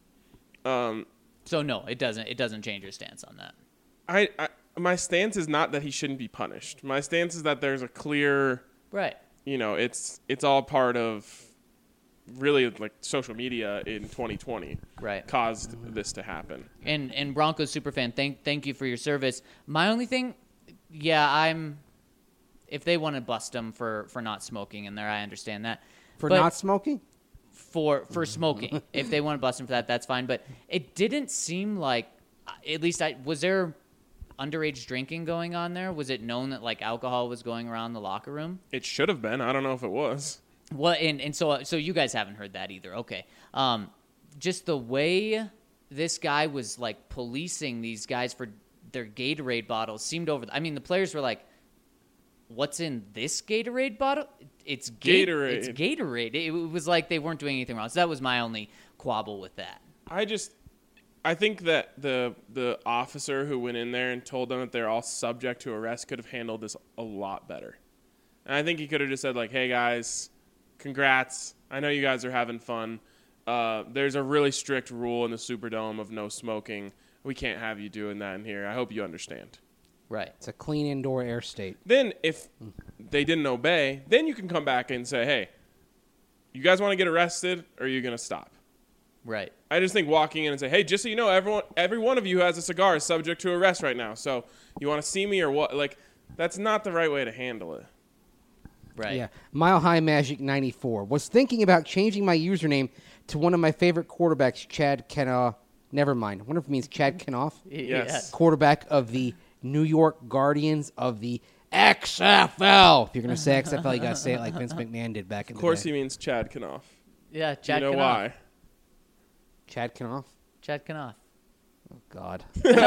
Um, So, no, it doesn't. It doesn't change your stance on that. I, I my stance is not that he shouldn't be punished. My stance is that there's a clear, Right. you know, it's it's all part of really like social media in twenty twenty Right. caused this to happen. And and Broncos superfan, thank thank you for your service. My only thing, yeah, I'm. If they want to bust him for, for not smoking in there, I understand that. For But not smoking? for for smoking, if they want to bust him for that, that's fine. But it didn't seem like, at least I was there, underage drinking going on there. Was it known that like alcohol was going around the locker room? It should have been. I don't know if it was. Well, and, and so so you guys haven't heard that either. Okay. Um, just the way this guy was like policing these guys for their Gatorade bottles seemed over. I mean, the players were like, "What's in this Gatorade bottle? It's Ga- Gatorade." It's Gatorade." It, it was like they weren't doing anything wrong. So that was my only quabble with that. I just, I think that the the officer who went in there and told them that they're all subject to arrest could have handled this a lot better. And I think he could have just said like, "Hey guys, congrats! I know you guys are having fun. Uh, there's a really strict rule in the Superdome of no smoking. We can't have you doing that in here. I hope you understand." Right. It's a clean indoor air state. Then if they didn't obey, then you can come back and say, "Hey, you guys want to get arrested, or are you going to stop?" Right. I just think walking in and say, "Hey, just so you know, everyone, every one of you who has a cigar is subject to arrest right now. So you want to see me or what?" Like, that's not the right way to handle it. Right. Yeah. Mile High Magic ninety-four. Was thinking about changing my username to one of my favorite quarterbacks, Chad Kenoff. Never mind. I wonder if it means Chad Kenoff. Yes. Quarterback of the New York Guardians of the X F L. If you're going to say X F L, you got to say it like Vince McMahon did back in Of the course, day. he means Chad Kanoff. Yeah. Do Chad you know Kanoff. why? Chad Kenoff? Chad Kanoff. Oh, God.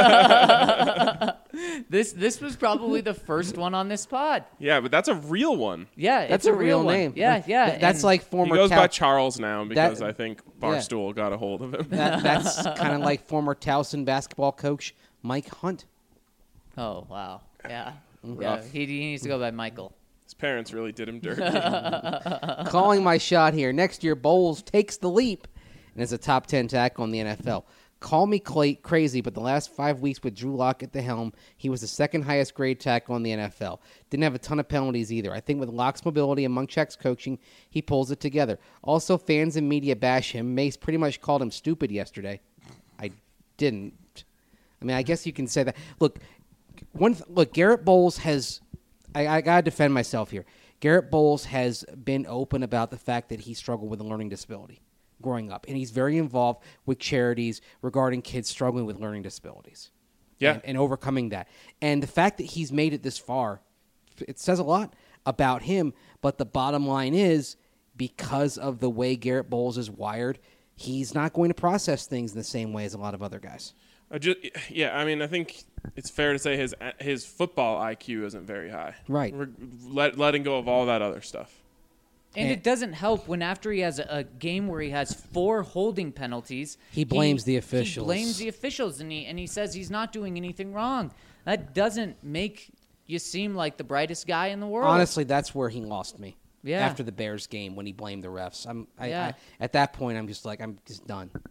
This this was probably the first one on this pod. Yeah, but that's a real one. Yeah, That's it's a real one. name. Yeah, yeah. Th- That's and- like He former goes Tal- by Charles now because That- I think Barstool got a hold of him. that, That's kind of like former Towson basketball coach Mike Hunt. Oh wow. Yeah. Yeah. Rough. He, he needs to go by Michael. His parents really did him dirty. Calling my shot here. Next year, Bowles takes the leap and is a top ten tackle in the N F L. Call me cla crazy, but the last five weeks with Drew Lock at the helm, he was the second highest grade tackle in the N F L. Didn't have a ton of penalties either. I think with Lock's mobility and Munchak's coaching, he pulls it together. Also, fans and media bash him. Mace pretty much called him stupid yesterday. I didn't. I mean, I guess you can say that. Look, one th- look. Garrett Bowles has. I, I gotta defend myself here. Garrett Bowles has been open about the fact that he struggled with a learning disability growing up, and he's very involved with charities regarding kids struggling with learning disabilities. Yeah. and, and overcoming that. And the fact that he's made it this far, it says a lot about him. But the bottom line is, because of the way Garrett Bowles is wired, he's not going to process things in the same way as a lot of other guys. I just, yeah, I mean, I think it's fair to say his his football I Q isn't very high. Right. We're let, letting go of all that other stuff. And And- it doesn't help when after he has a, a game where he has four holding penalties, He blames the officials. He blames the officials, and he and he says he's not doing anything wrong. That doesn't make you seem like the brightest guy in the world. Honestly, that's where he lost me. Yeah. After the Bears game, when he blamed the refs, I'm I, Yeah. I, at that point, I'm just like, I'm just done.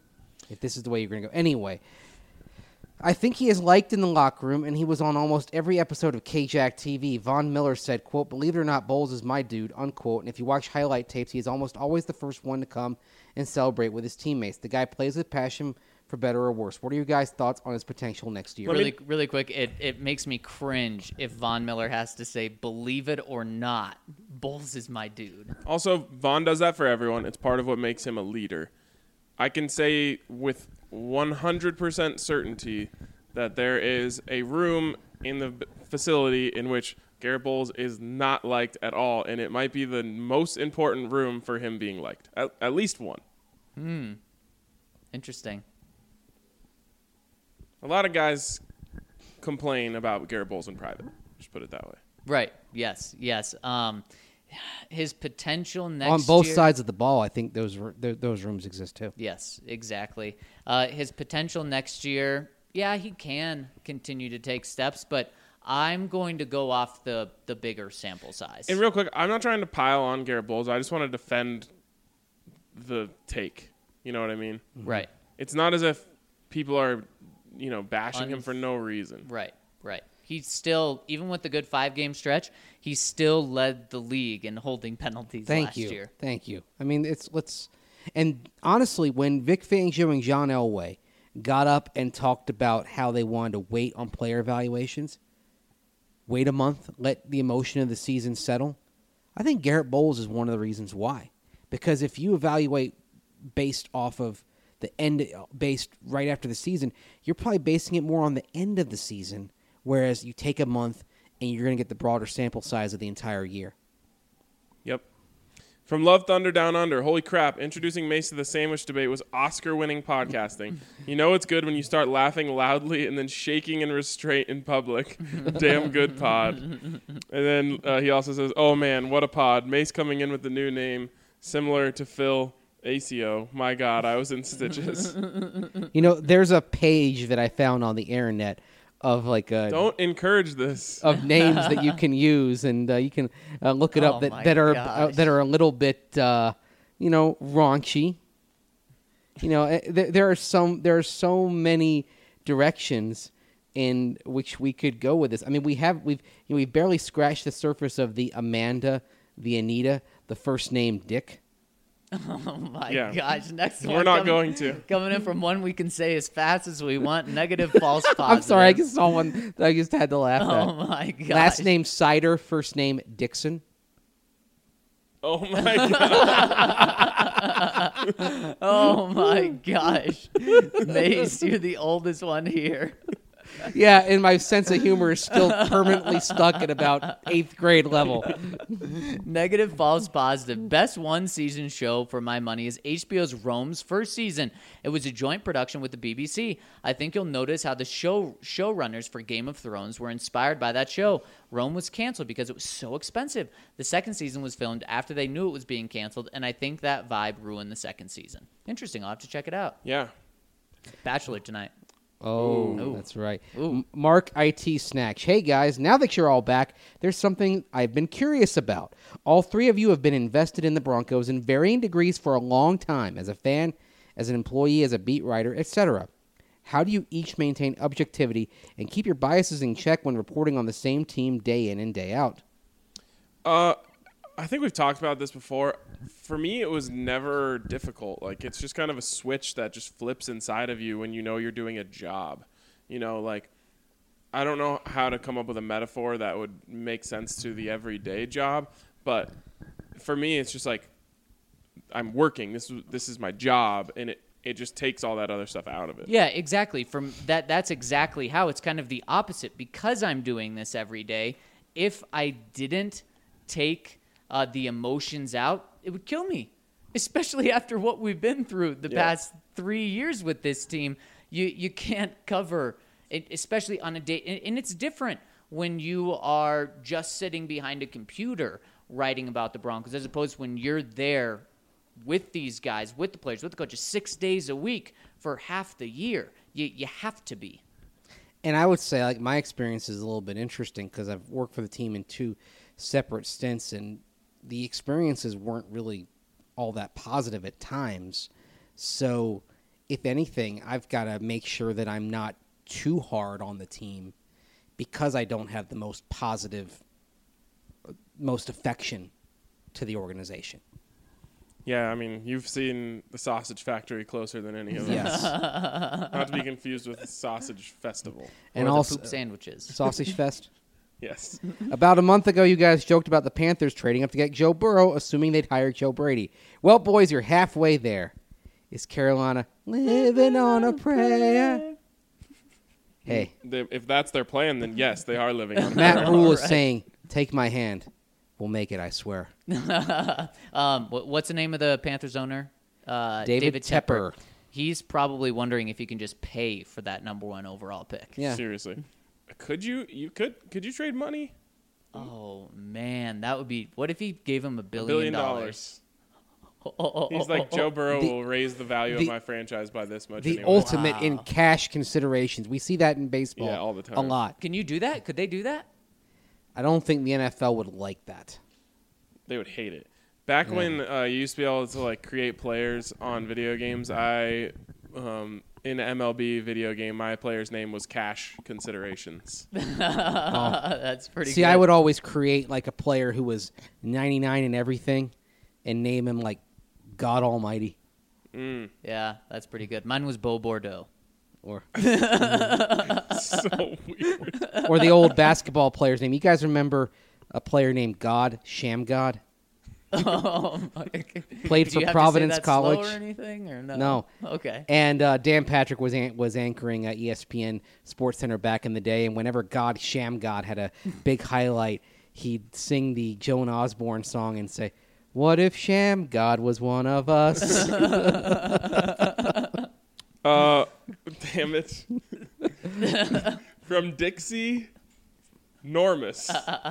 if this is the way you're going to go. Anyway, I think he is liked in the locker room, and he was on almost every episode of K-Jack T V. Von Miller said, quote, "Believe it or not, Bowles is my dude," unquote. And if you watch highlight tapes, he is almost always the first one to come and celebrate with his teammates. The guy plays with passion, for better or worse. What are your guys' thoughts on his potential next year? Really, really quick, it, it makes me cringe if Von Miller has to say, "Believe it or not, Bowles is my dude." Also, Vaughn does that for everyone. It's part of what makes him a leader. I can say with one hundred percent certainty that there is a room in the b- facility in which Garrett Bowles is not liked at all, and it might be the most important room for him being liked. At, at least one. Hmm. Interesting. A lot of guys complain about Garrett Bowles in private. Just put it that way. Right. Yes. Yes. Um, his potential next on both year, sides of the ball, I think those r- th- those rooms exist too. Yes, exactly. Uh, his potential next year, yeah, he can continue to take steps, but I'm going to go off the, the bigger sample size. And real quick, I'm not trying to pile on Garrett Bowles. I just want to defend the take. You know what I mean? Right. It's not as if people are, you know, bashing Un- him for no reason. Right, right. He's still, even with the good five-game stretch, he still led the league in holding penalties Thank last you, year. thank you. I mean, it's let's and honestly, when Vic Fangio and John Elway got up and talked about how they wanted to wait on player evaluations, wait a month, let the emotion of the season settle, I think Garrett Bowles is one of the reasons why. Because if you evaluate based off of the end, based right after the season, you're probably basing it more on the end of the season, whereas you take a month and you're going to get the broader sample size of the entire year. Yep. From Love Thunder Down Under, holy crap, introducing Mace to the sandwich debate was Oscar-winning podcasting. You know it's good when you start laughing loudly and then shaking in restraint in public. Damn good pod. And then uh, he also says, oh man, what a pod. Mace coming in with the new name, similar to Phil A C O. My God, I was in stitches. You know, there's a page that I found on the internet of like a, Don't encourage this. of names that you can use, and uh, you can uh, look it Oh up that, my that are uh, gosh. that are a little bit, uh, you know, raunchy. You know, uh, there, there are some there are so many directions in which we could go with this. I mean, we have we've you know, we've barely scratched the surface of the Amanda, the Anita, the first name Dick. Oh, my Yeah. gosh. Next one. We're not coming, going to. Coming in from one we can say as fast as we want. Negative, false, positive. I'm sorry, I just saw one that I just had to laugh Oh, at. my gosh. Last name Cider, first name Dixon. Oh my God. Oh, my gosh. Mace, you're the oldest one here. Yeah, and my sense of humor is still permanently stuck at about eighth grade level. Negative, false, positive. Best one season show for my money is H B O's Rome's first season. It was a joint production with the B B C. I think you'll notice how the show showrunners for Game of Thrones were inspired by that show. Rome was canceled because it was so expensive. The second season was filmed after they knew it was being canceled, and I think that vibe ruined the second season. Interesting. I'll have to check it out. Yeah. Bachelor tonight. Oh, Ooh. that's right. Ooh. M- Mark I T Snacks. Hey, guys, now that you're all back, there's something I've been curious about. All three of you have been invested in the Broncos in varying degrees for a long time, as a fan, as an employee, as a beat writer, et cetera. How do you each maintain objectivity and keep your biases in check when reporting on the same team day in and day out? Uh, I think we've talked about this before. For me, it was never difficult. Like, it's just kind of a switch that just flips inside of you when you know you're doing a job. You know, like, I don't know how to come up with a metaphor that would make sense to the everyday job, but for me, it's just like, I'm working. This is this is my job, and it, it just takes all that other stuff out of it. Yeah, exactly. From that, that's exactly how it's kind of the opposite. Because I'm doing this every day, if I didn't take uh, the emotions out, it would kill me. Especially after what we've been through the Yeah. past three years with this team, you you can't cover it, especially on a day. And, and it's different when you are just sitting behind a computer writing about the Broncos, as opposed to when you're there with these guys, with the players, with the coaches, six days a week for half the year. You you have to be. And I would say, like, my experience is a little bit interesting because I've worked for the team in two separate stints, and the experiences weren't really all that positive at times. So if anything, I've got to make sure that I'm not too hard on the team because I don't have the most positive, most affection to the organization. Yeah, I mean, you've seen the Sausage Factory closer than any of us. Yes. Not to be confused with the Sausage Festival. And or the also poop sandwiches. Sausage Fest. Yes. About a month ago, you guys joked about the Panthers trading up to get Joe Burrow, assuming they'd hire Joe Brady. Well, boys, you're halfway there. Is Carolina living on a prayer? Hey, They, if that's their plan, then yes, they are living on Matt prayer. Rule is saying, take my hand. We'll make it, I swear. um, what, what's the name of the Panthers owner? Uh, David Tepper. He's probably wondering if he can just pay for that number one overall pick. Yeah. Seriously. Could you you could could you trade money? Oh man, that would be. What if he gave him a A billion, billion dollars? dollars. He's like, Joe Burrow The- will raise the value the- of my franchise by this much The anyway. ultimate in Wow. cash considerations. We see that in baseball Yeah, all the time. a lot. Can you do that? Could they do that? I don't think the N F L would like that. They would hate it. Back Yeah. when uh, you used to be able to like create players on video games, I um, in M L B video game, my player's name was Cash Considerations. That's pretty. See, good. I would always create like a player who was ninety-nine in everything and name him like God Almighty. Mm, Yeah, that's pretty good. Mine was Bo Bordeaux. Or so weird. or the old basketball player's name. You guys remember a player named God, Sham God? Oh, my- Played Did for you have to say Providence that slow College. or anything, or no? No. Okay. And uh, Dan Patrick was an- was anchoring at E S P N Sports Center back in the day, and whenever God, Sham God, had a big highlight, he'd sing the Joan Osborne song and say, "What if Sham God was one of us?" Uh, damn it. From Dixie, Normus.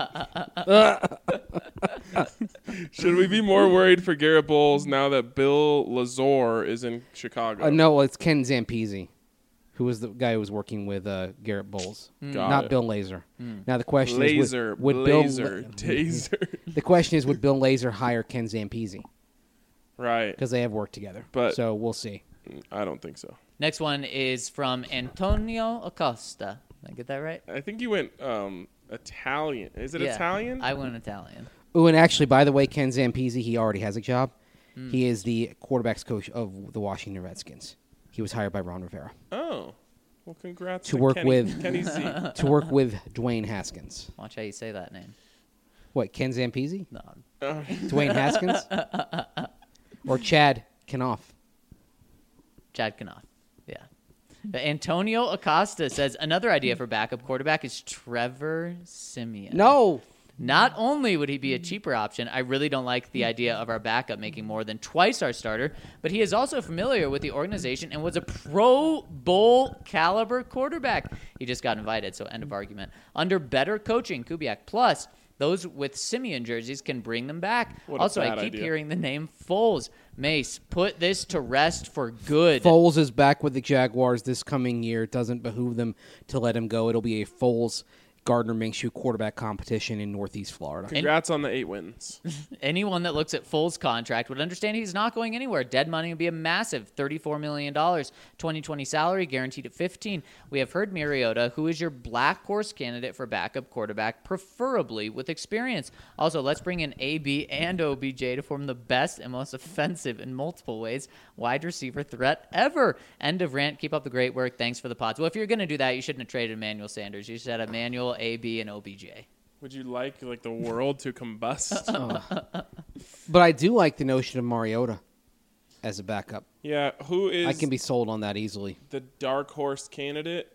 Should we be more worried for Garrett Bowles now that Bill Lazor is in Chicago? uh, no, it's Ken Zampese, who was the guy who was working with uh, Garrett Bowles, Got not it. Bill Lazor. Now the question Laser, is, would, would blazer, Bill taser. the question is, would Bill Lazor hire Ken Zampese? Right. Because they have worked together. But- so we'll see. I don't think so. Next one is from Antonio Acosta. Did I get that right? I think you went um, Italian. Is it Yeah, Italian? I went Italian. Oh, and actually, by the way, Ken Zampese, he already has a job. He is the quarterbacks coach of the Washington Redskins. He was hired by Ron Rivera Oh. Well, congrats To to, work Kenny, with- Kenny Z. to work with Dwayne Haskins. Watch how you say that name. What, Ken Zampese? No, Uh, Dwayne Haskins? Or Chad Kanoff? Chad Kanoff. Yeah. But Antonio Acosta says another idea for backup quarterback is Trevor Simeon. No. Not only would he be a cheaper option, I really don't like the idea of our backup making more than twice our starter, but he is also familiar with the organization and was a Pro Bowl caliber quarterback. He just got invited, so end of argument. Under better coaching, Kubiak, plus those with Simeon jerseys can bring them back. What a Also, I bad keep idea. hearing the name Foles. Mace, put this to rest for good. Foles is back with the Jaguars this coming year. It doesn't behoove them to let him go. It'll be a Foles Gardner Minshew quarterback competition in Northeast Florida. congrats on the eight wins. Anyone that looks at Foles' contract would understand he's not going anywhere. Dead money would be a massive thirty-four million dollars. twenty twenty salary guaranteed at fifteen. We have heard Mariota, who is your black horse candidate for backup quarterback, preferably with experience. Also, let's bring in A B and O B J to form the best and most offensive in multiple ways wide receiver threat ever. End of rant. Keep up the great work. Thanks for the pods. Well, if you're going to do that, you shouldn't have traded Emmanuel Sanders. You should have Emmanuel, A B, and O B J. Would you like like the world to combust? But I do like the notion of Mariota as a backup. Yeah, who is I can be sold on that easily. the dark horse candidate?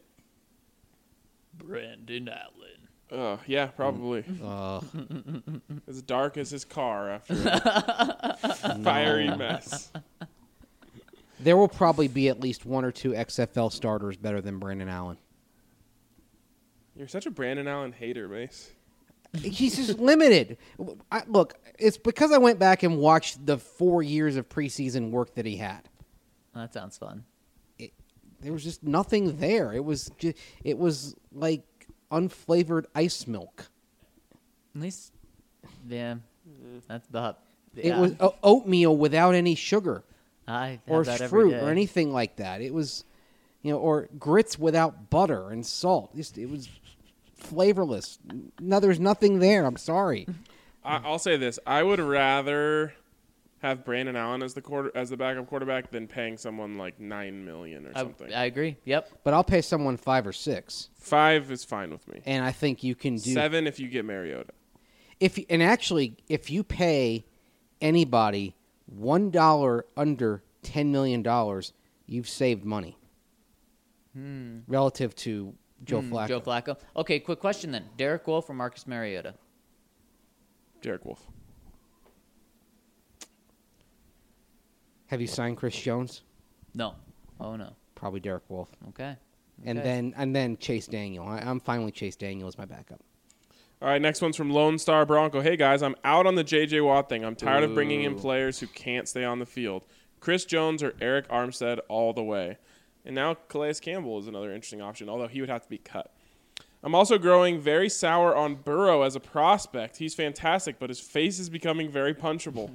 Brandon Allen. Uh, yeah, probably. Uh, As dark as his car after a fiery mess. there will probably be at least one or two X F L starters better than Brandon Allen. You're such a Brandon Allen hater, Mace. He's just limited. I, look, it's because I went back and watched the four years of preseason work that he had. That sounds fun. There was just nothing there. It was just, it was like unflavored ice milk. At least, yeah, that's about. It yeah. was o- oatmeal without any sugar. I have or that every fruit day. or anything like that. It was, you know, or grits without butter and salt. Just, it was flavorless. No, there's nothing there. I'm sorry. I, I'll say this: I would rather have Brandon Allen as the quarter as the backup quarterback than paying someone like nine million or I, something. I agree. Yep. But I'll pay someone five or six, Five is fine with me. and I think you can do Seven if you get Mariota. if you- and actually if you pay anybody one dollar under ten million dollars, you've saved money relative to Joe Hmm, Flacco. Joe Flacco. Okay, quick question then. Derek Wolf or Marcus Mariota? Derek Wolf. Have you signed Chris Jones? No. Oh no. Probably Derek Wolf. Okay. And Okay. then and then Chase Daniel. I, I'm fine with Chase Daniel as my backup. All right, next one's from Lone Star Bronco. Hey, guys, I'm out on the J J. Watt thing. I'm tired of bringing in players who can't stay on the field. Chris Jones or Eric Armstead all the way. And now Calais Campbell is another interesting option, although he would have to be cut. I'm also growing very sour on Burrow as a prospect. He's fantastic, but his face is becoming very punchable.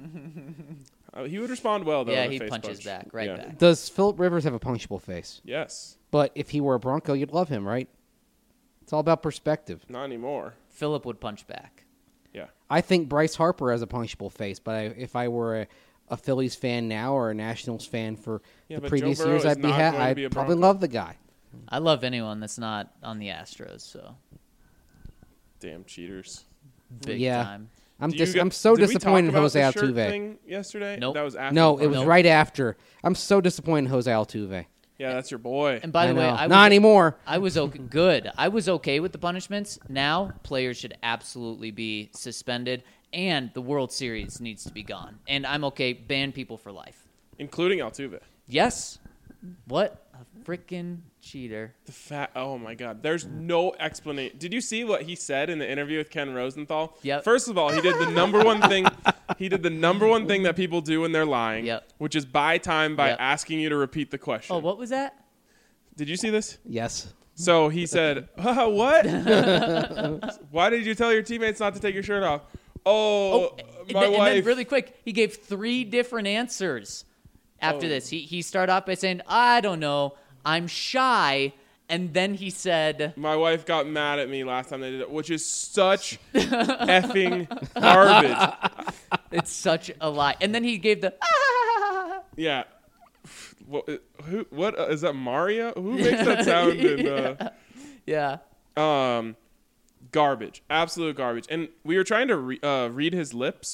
uh, he would respond well, though. Yeah, in a he face punches punch. back, right Yeah. back. Does Philip Rivers have a punchable face? Yes. But if he were a Bronco, you'd love him, right? It's all about perspective. Not anymore. Philip would punch back. Yeah. I think Bryce Harper has a punchable face, but I, if I were a, a Phillies fan now or a Nationals fan for Yeah, the but previous Joe Burrow years, is I'd be not ha- going to I'd be a probably Bronco. love the guy. I love anyone that's not on the Astros, so Damn cheaters. big Yeah. time. I'm Do you dis- get- I'm so did we talk disappointed in about Jose the shirt Altuve. thing yesterday? Nope. That was after. No, the it was podcast. right after. I'm so disappointed in Jose Altuve. Yeah, that's your boy. And by I the way, know. I was, not anymore. I was okay, good. I was okay with the punishments. Now players should absolutely be suspended, and the World Series needs to be gone. And I'm okay. Ban people for life. Including Altuve. Yes. What a freaking cheater. The fat. Oh my God. There's no explanation. Did you see what he said in the interview with Ken Rosenthal? Yep. First of all, he did the number one thing. He did the number one thing that people do when they're lying, Yep. which is buy time by Yep. asking you to repeat the question. Oh, what was that? Did you see this? Yes. So he said, uh, "What? Why did you tell your teammates not to take your shirt off?" Oh, Oh, and, my then, and wife. then really quick, he gave three different answers after Oh. this. He he started off by saying, "I don't know, I'm shy," and then he said, My wife got mad at me last time they did it, which is such effing garbage. "It's such a lie," and then he gave the. Yeah. What, who, what uh, is that? Mario? Who makes that sound? In, uh, Yeah. um, garbage, absolute garbage. And we were trying to re- uh, read his lips.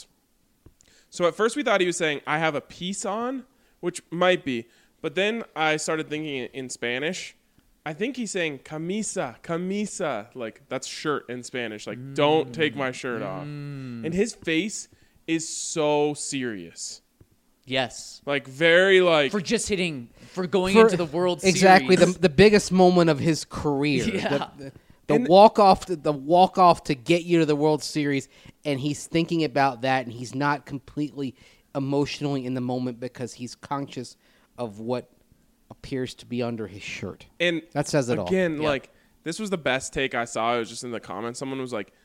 So at first we thought he was saying, "I have a piece on," which might be. But then I started thinking in, in Spanish. I think he's saying camisa, camisa. Like, that's shirt in Spanish. Like, don't take my shirt off. And his face is so serious. Yes. Like, very, like... For just hitting, for going For- into the World Exactly, the Series. the biggest moment of his career. Yeah. The, the, the And- walk off, to, the walk off to get you to the World Series, and he's thinking about that, and he's not completely emotionally in the moment because he's conscious of what appears to be under his shirt. And That says it all. Again, Yeah. like, this was the best take I saw. It was just in the comments. Someone was like,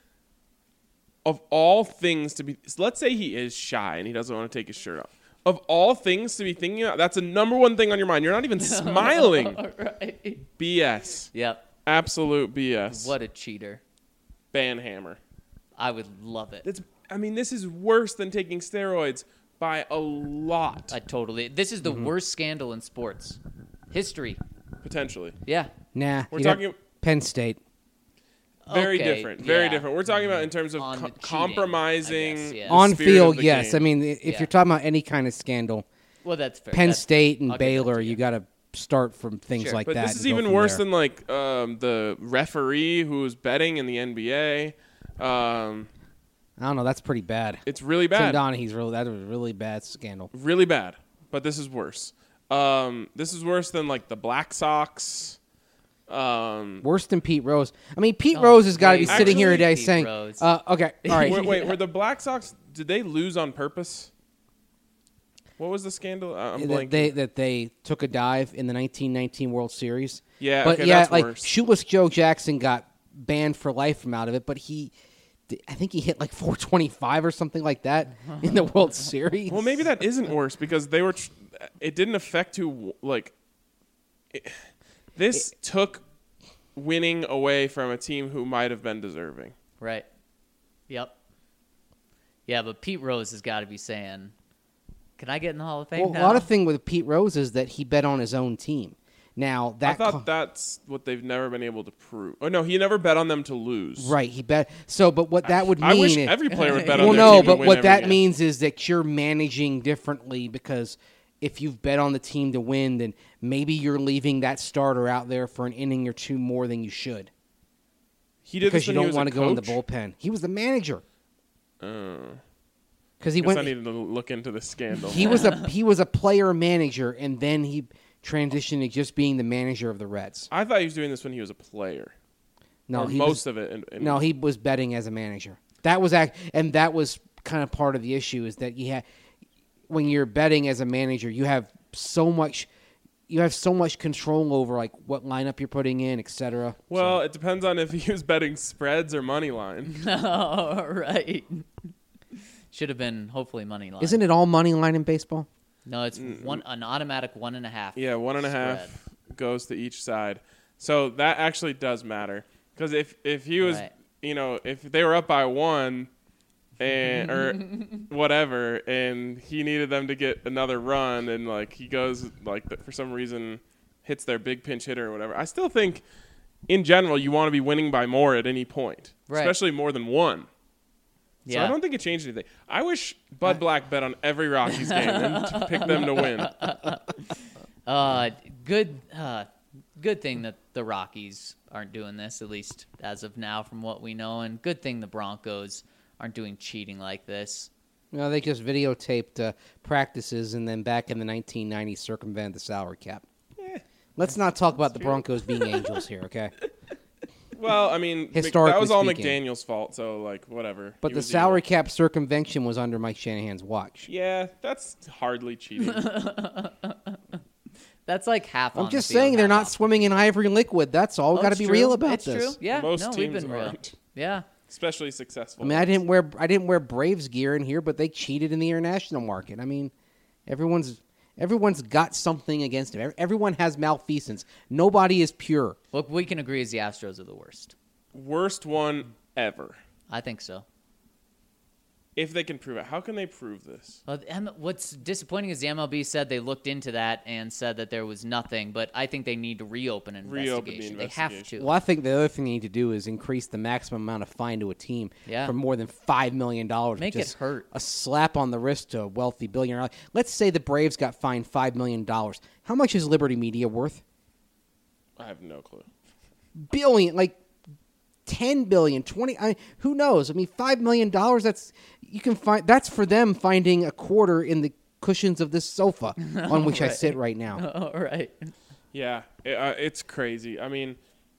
of all things to be, let's say he is shy and he doesn't want to take his shirt off. Of all things to be thinking about, that's the number one thing on your mind. You're not even smiling. All right. B S. Yep. Absolute B S. What a cheater. Banhammer. I would love it. That's, I mean, this is worse than taking steroids by a lot, I totally. This is the Mm-hmm. worst scandal in sports history. potentially. Yeah. Nah, We're you don't- talking- Penn State. Very Okay, different. Very yeah. different. We're talking about in terms of On co- the cheating, compromising I guess, yeah. the On spirit of field, the yes. game. I mean, if Yeah. you're talking about any kind of scandal, Well, that's fair. Penn That's- State and I'll give that to Baylor, you. you got to start from things Sure. like But that. this is and go even from worse there. than like um, the referee who was betting in the N B A. Um, I don't know. That's pretty bad. it's really Tim bad, Donaghy's really that was a really bad scandal. really bad. But this is worse. Um, this is worse than like the Black Sox. Um, Worse than Pete Rose. I mean, Pete Oh, Rose has got to be wait. sitting here Actually, today Pete saying, Rose. uh, "Okay, all right." wait, wait, were the Black Sox? Did they lose on purpose? What was the scandal? Uh, I'm that blanking. they that they took a dive in the nineteen nineteen World Series. Yeah, but okay, yeah, that's like worse. Shoeless Joe Jackson got banned for life from out of it, but he I think he hit like four twenty-five or something like that in the World Series. Well, maybe that isn't worse because they were. Tr- it didn't affect who like. It, this it, took winning away from a team who might have been deserving. Right. Yep. Yeah, but Pete Rose has got to be saying, "Can I get in the Hall of Fame?" Well, now? a lot of thing with Pete Rose is that he bet on his own team. Now that I thought co- that's what they've never been able to prove. Oh no, he never bet on them to lose. right, he bet. So, but what that would mean? I wish is, every player would bet well, on their no, team to but win what every that game. means is that you're managing differently because if you've bet on the team to win, then maybe you're leaving that starter out there for an inning or two more than you should. He did Because this you when he don't was want a to go in the coach? bullpen. He was the manager. Uh, Because he guess went. I needed to look into the scandal. He was a he was a player manager, and then he transitioned to just being the manager of the Reds. I thought he was doing this when he was a player. No, or he most was, of it. In, in No, he was betting as a manager. That was act, and that was kind of part of the issue is that you had when you're betting as a manager, you have so much. You have so much control over like what lineup you're putting in, et cetera. Well, So- it depends on if he was betting spreads or money line. Oh, right. Should have been hopefully money line. isn't it all money line in baseball? No, it's one an automatic one and a half. Yeah, one and a half spread. goes to each side. So that actually does matter because if if he was, Right. you know, if they were up by one, and or whatever, and he needed them to get another run, and like he goes like the, for some reason hits their big pinch hitter or whatever. I still think, in general, you want to be winning by more at any point, Right. especially more than one. So Yeah. I don't think it changed anything. I wish Bud Black bet on every Rockies game and to pick them to win. Uh, good, uh, good thing that the Rockies aren't doing this, at least as of now, from what we know, and good thing the Broncos aren't doing cheating like this. No, they just videotaped uh, practices and then back in the nineteen nineties circumvented the salary cap. Eh, Let's not talk about the Broncos being angels here, okay? well, I mean, Mc- Historically that was all speaking. McDaniel's fault, so like whatever. But He the was salary evil. cap circumvention was under Mike Shanahan's watch. Yeah, that's hardly cheating. That's like half. I'm on just the field, saying they're half not off. swimming in ivory liquid. That's all. We Oh, got to it's be true. real about it's this. True. Yeah, Most no, teams we've been real. aren't, Yeah. especially successful. I mean, I didn't wear I didn't wear Braves gear in here, but they cheated in the international market. I mean, everyone's everyone's got something against them. Everyone has malfeasance. Nobody is pure. Look, we can agree is the Astros are the worst. Worst one ever. I think so. If they can prove it, how can they prove this? Well, the M- what's disappointing is the M L B said they looked into that and said that there was nothing, but I think they need to reopen an Reopen the investigation. They have investigation. to. Well, I think the other thing they need to do is increase the maximum amount of fine to a team Yeah. for more than five million dollars. Make which is it hurt. A slap on the wrist to a wealthy billionaire. Let's say the Braves got fined five million dollars. How much is Liberty Media worth? I have no clue. Billion, like ten billion, twenty. I, who knows? I mean, five million dollars. That's you can find. That's for them finding a quarter in the cushions of this sofa on which I Right. sit right now. All right. Yeah, it, uh, it's crazy. I mean,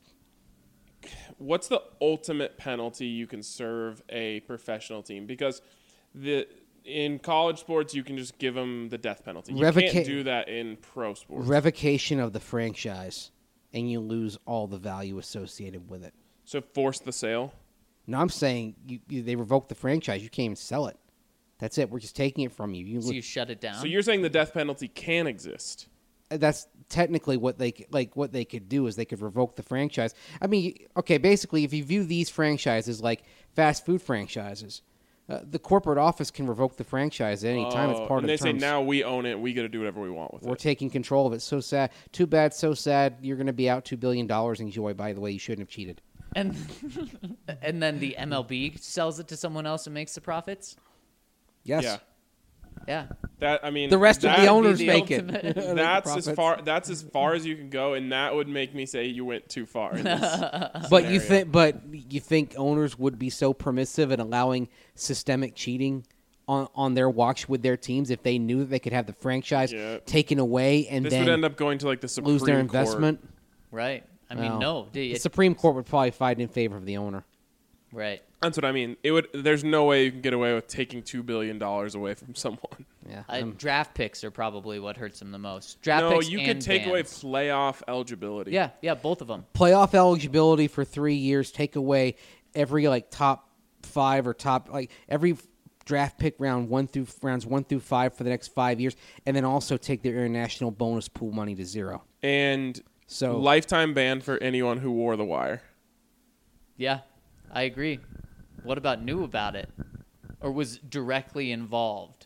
what's the ultimate penalty you can serve a professional team? Because the in college sports, you can just give them the death penalty. You Revoca- can't do that in pro sports. Revocation of the franchise, and you lose all the value associated with it. so force the sale. No, I'm saying you, you, they revoke the franchise. You can't even sell it. That's it. We're just taking it from you. You So lo- you shut it down. So you're saying the death penalty can exist? that's technically what they c- like. What they could do is they could revoke the franchise. I mean, you- okay, basically, if you view these franchises like fast food franchises, uh, the corporate office can revoke the franchise at any time. It's Oh, part and of they the say terms. now we own it. We got to do whatever we want with We're it. taking control of it. So sad. Too bad. So sad. You're going to be out two billion dollars. Enjoy. By the way, you shouldn't have cheated. and and then the M L B sells it to someone else and makes the profits. Yes. Yeah, Yeah. that I mean The rest of that- the owners the make ultimate- it. That's Profits. as far. That's as far as you can go, and that would make me say you went too far. In this But you scenario. think, but you think owners would be so permissive in allowing systemic cheating on, on their watch with their teams if they knew that they could have the franchise Yeah. taken away and this then would end up going to like the Supreme lose their Court. investment? Right. I mean, Well, no. The It, Supreme Court would probably fight in favor of the owner. right. That's what I mean. It would. There's no way you can get away with taking two billion dollars away from someone. Yeah. I, um, draft picks are probably what hurts them the most. Draft no, picks you and could take away bans. playoff eligibility. Yeah, yeah, both of them. playoff eligibility for three years. Take away every like top five or top like every draft pick round one through rounds one through five for the next five years, and then also take their international bonus pool money to zero. And So lifetime ban for anyone who wore the wire. Yeah, I agree. What about knew about it or was directly involved?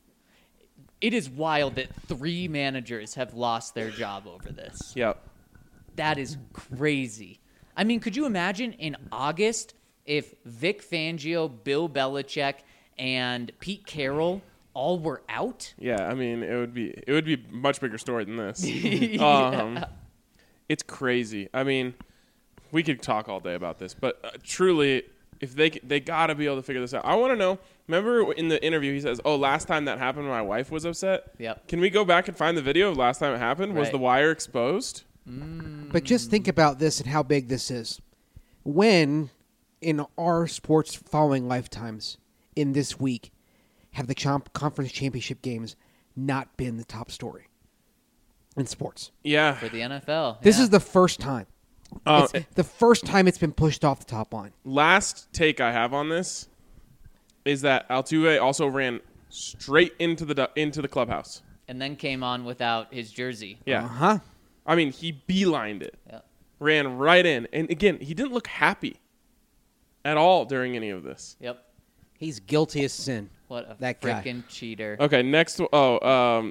It is wild that three managers have lost their job over this. Yep. That is crazy. I mean, could you imagine in August if Vic Fangio, Bill Belichick, and Pete Carroll all were out? Yeah, I mean, it would be it would be a much bigger story than this. Yeah. um, it's crazy. I mean, we could talk all day about this, but uh, truly, if they they got to be able to figure this out. I want to know. Remember in the interview, he says, "Oh, last time that happened, my wife was upset." Yep. Can we go back and find the video of last time it happened? Was Right. the wire exposed? But just think about this and how big this is. When, in our sports following lifetimes, in this week, have the champ- conference championship games not been the top story in sports? Yeah. For the N F L. This yeah. is the first time. Uh, It's the first time it's been pushed off the top line. last take I have on this is that Altuve also ran straight into the du- into the clubhouse. And then came on without his jersey. Yeah. Uh huh. I mean, he beelined it. Yeah. Ran right in. And again, he didn't look happy at all during any of this. Yep. He's guilty as sin. What a That guy. freaking cheater. Okay, next. Oh, um,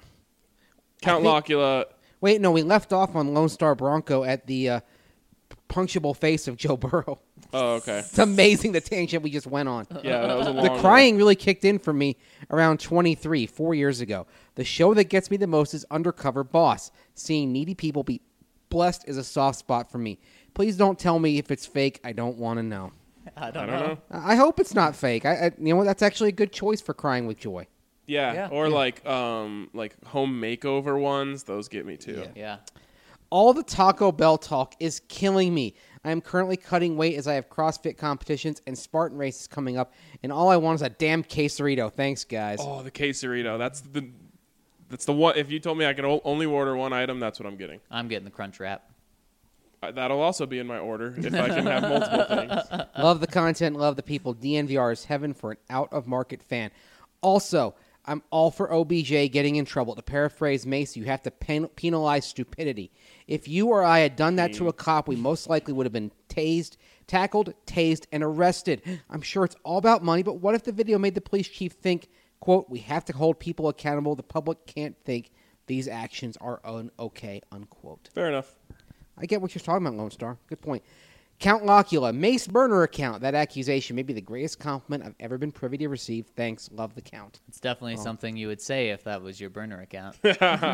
Count I think- Locula. Wait, no, we left off on Lone Star Bronco at the uh, punctuable face of Joe Burrow. Oh, okay. It's amazing the tangent we just went on. Yeah, that was a long The one. crying really kicked in for me around twenty-three, four years ago. The show that gets me the most is Undercover Boss. Seeing needy people be blessed is a soft spot for me. Please don't tell me if it's fake. I don't want to know. I I don't, don't know. know. I hope it's not fake. I, I, you know what? That's actually a good choice for crying with joy. Yeah, Yeah. or like um like home makeover ones. Those get me too. Yeah. All the Taco Bell talk is killing me. I am currently cutting weight as I have CrossFit competitions and Spartan races coming up, and all I want is a damn quesarito. Thanks, guys. Oh, the quesarito. That's the that's the one. If you told me I could o- only order one item, that's what I'm getting. I'm getting the crunch wrap. Uh, that'll also be in my order if I can have multiple things. Love the content, love the people. D N V R is heaven for an out-of-market fan. Also, I'm all for O B J getting in trouble. To paraphrase Mace, you have to pen- penalize stupidity. If you or I had done that to a cop, we most likely would have been tased, tackled, tased, and arrested. I'm sure it's all about money, but what if the video made the police chief think, quote, we have to hold people accountable. The public can't think these actions are un-okay, unquote. Fair enough. I get what you're talking about, Lone Star. Good point. Count Locula, Mace burner account. That accusation may be the greatest compliment I've ever been privy to receive. Thanks. Love the count. It's definitely something you would say if that was your burner account. Thick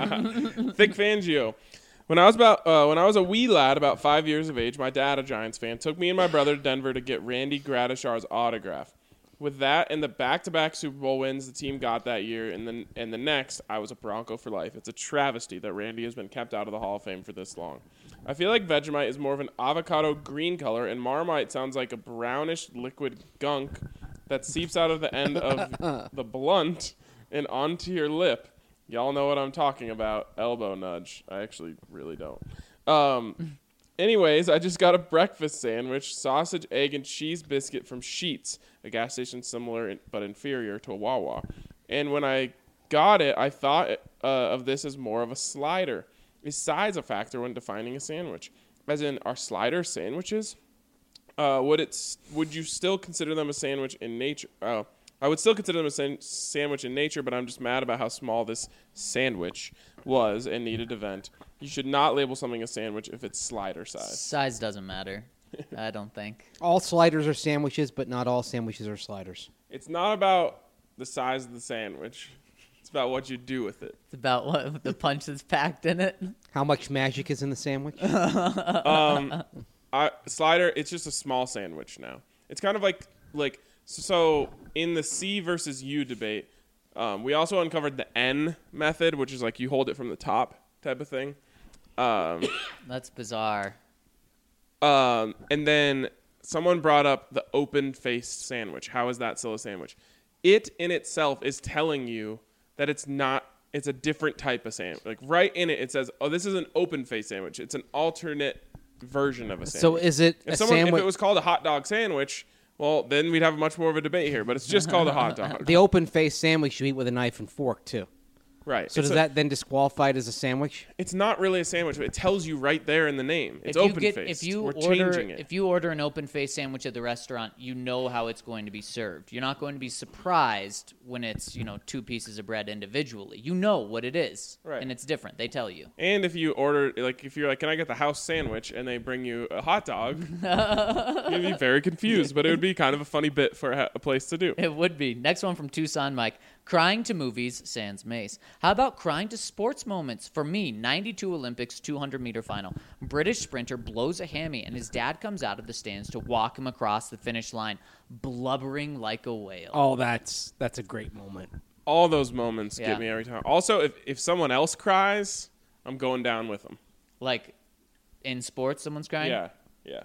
Fangio. When I was about uh, when I was a wee lad, about five years of age, my dad, a Giants fan, took me and my brother to Denver to get Randy Gradishar's autograph. With that and the back-to-back Super Bowl wins the team got that year, and then and the next, I was a Bronco for life. It's a travesty that Randy has been kept out of the Hall of Fame for this long. I feel like Vegemite is more of an avocado green color, and Marmite sounds like a brownish liquid gunk that seeps out of the end of the blunt and onto your lip. Y'all know what I'm talking about. Elbow nudge. I actually really don't. Um, anyways, I just got a breakfast sandwich, sausage, egg, and cheese biscuit from Sheetz, a gas station similar in, but inferior to a Wawa. And when I got it, I thought uh, of this as more of a slider. Is size a factor when defining a sandwich? As in, are sliders sandwiches? Uh, would it? s- Would you still consider them a sandwich in nature? Oh, I would still consider them a san- sandwich in nature, but I'm just mad about how small this sandwich was and needed to vent. You should not label something a sandwich if it's slider size. Size doesn't matter. I don't think. All sliders are sandwiches, but not all sandwiches are sliders. It's not about the size of the sandwich. It's about what you do with it. It's about what the punch that's packed in it. How much magic is in the sandwich? Um, I, slider, it's just a small sandwich now. It's kind of like like so in the C versus U debate. Um, we also uncovered the N method, which is like you hold it from the top type of thing. Um, That's bizarre. um, and then someone brought up the open-faced sandwich. How is that still a sandwich? It in itself is telling you that it's not. It's a different type of sandwich. Like right in it, it says, "Oh, this is an open-faced sandwich. It's an alternate version of a sandwich." So is it If a someone, if sandwich? it was called a hot dog sandwich, Well, then we'd have much more of a debate here, but it's just called a hot dog. The open face sandwich you eat with a knife and fork too. Right. So It's does a- that then disqualify it as a sandwich? It's not really a sandwich, but it tells you right there in the name. It's if you open get, faced. if you We're order, changing it. if you order an open face sandwich at the restaurant, you know how it's going to be served. You're not going to be surprised when it's, you know, two pieces of bread individually. You know what it is, Right. and it's different. They tell you. And if you order, like, if you're like, can I get the house sandwich, and they bring you a hot dog, you'd be very confused. But it would be kind of a funny bit for a, a place to do. It would be. Next one from Tucson Mike. Crying to movies, sans Mace. How about crying to sports moments? For me, ninety-two Olympics two hundred meter final. British sprinter blows a hammy, and his dad comes out of the stands to walk him across the finish line, blubbering like a whale. Oh, that's that's a great moment. All those moments Yeah. get me every time. Also, if if someone else cries, I'm going down with them. Like in sports, someone's crying? Yeah, yeah.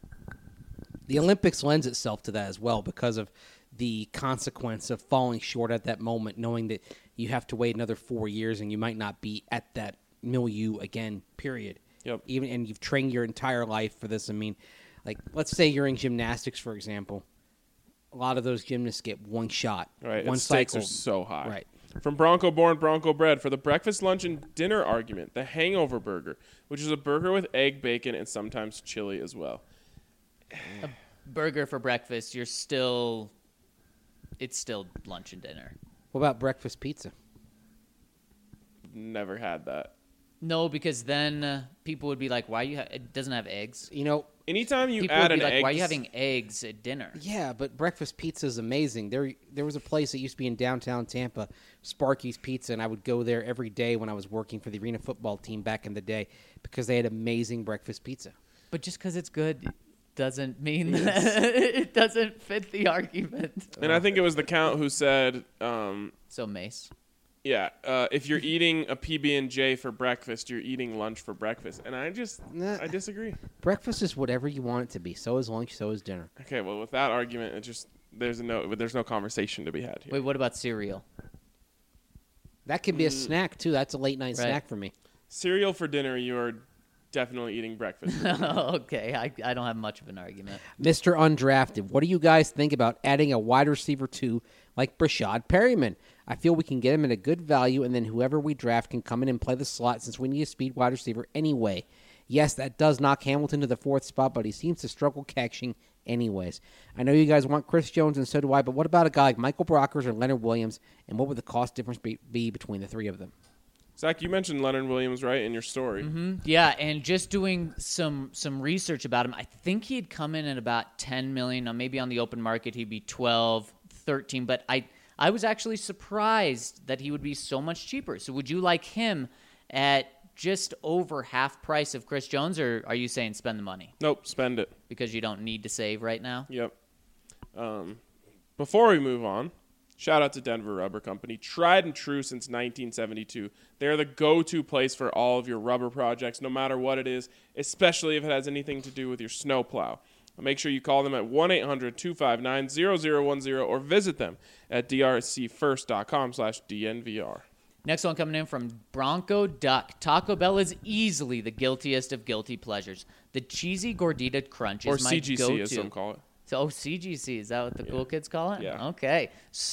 The Olympics lends itself to that as well because of the consequence of falling short at that moment, knowing that you have to wait another four years and you might not be at that milieu again, period. Yep. Even and you've trained your entire life for this. I mean, like let's say you're in gymnastics, for example. A lot of those gymnasts get one shot, Right. one and stakes cycle. are so high. Right. From Bronco Born, Bronco Bread, for the breakfast, lunch, and dinner argument, the Hangover Burger, which is a burger with egg, bacon, and sometimes chili as well. Burger for breakfast, you're still... It's still lunch and dinner. What about breakfast pizza? Never had that. No, because then uh, people would be like, why you ha- it doesn't have eggs? You know, Anytime you People add would an be like, egg, why are you having eggs at dinner? yeah, but breakfast pizza is amazing. There, there was a place that used to be in downtown Tampa, Sparky's Pizza, and I would go there every day when I was working for the arena football team back in the day because they had amazing breakfast pizza. But just because it's good doesn't mean that it doesn't fit the argument. and I think it was the Count who said, um, So, Mace. yeah, uh, if you're eating a P B and J for breakfast, you're eating lunch for breakfast. And I just, Nah. I disagree. Breakfast is whatever you want it to be. So is lunch. So is dinner. Okay, well, with that argument, it just, there's no, there's no conversation to be had here. Wait, what about cereal? That can be a snack too. That's a late night Right. snack for me. Cereal for dinner, you are definitely eating breakfast. Okay, I, I don't have much of an argument. Mister Undrafted, what do you guys think about adding a wide receiver too, like Brashad Perryman? I feel we can get him at a good value, and then whoever we draft can come in and play the slot since we need a speed wide receiver anyway. Yes, that does knock Hamilton to the fourth spot, but he seems to struggle catching anyways. I know you guys want Chris Jones, and so do I, but what about a guy like Michael Brockers or Leonard Williams, and what would the cost difference be, be between the three of them? Zach, you mentioned Leonard Williams, right, in your story. Mm-hmm. Yeah, and just doing some some research about him, I think he'd come in at about ten million dollars. Now, maybe on the open market he'd be twelve, thirteen, but I I was actually surprised that he would be so much cheaper. So would you like him at just over half price of Chris Jones, or are you saying spend the money Nope, spend it. because you don't need to save right now? Yep. Um, before we move on, shout out to Denver Rubber Company. Tried and true since nineteen seventy-two. They're the go-to place for all of your rubber projects, no matter what it is, especially if it has anything to do with your snowplow. Make sure you call them at one eight hundred two five nine zero zero one zero or visit them at d r c first dot com slash d n v r. Next one coming in from Bronco Duck. Taco Bell is easily the guiltiest of guilty pleasures. The cheesy gordita crunch Or is my C G C, go-to. as some call it. So, oh, C G C, is that what the cool kids call it? Yeah. Okay.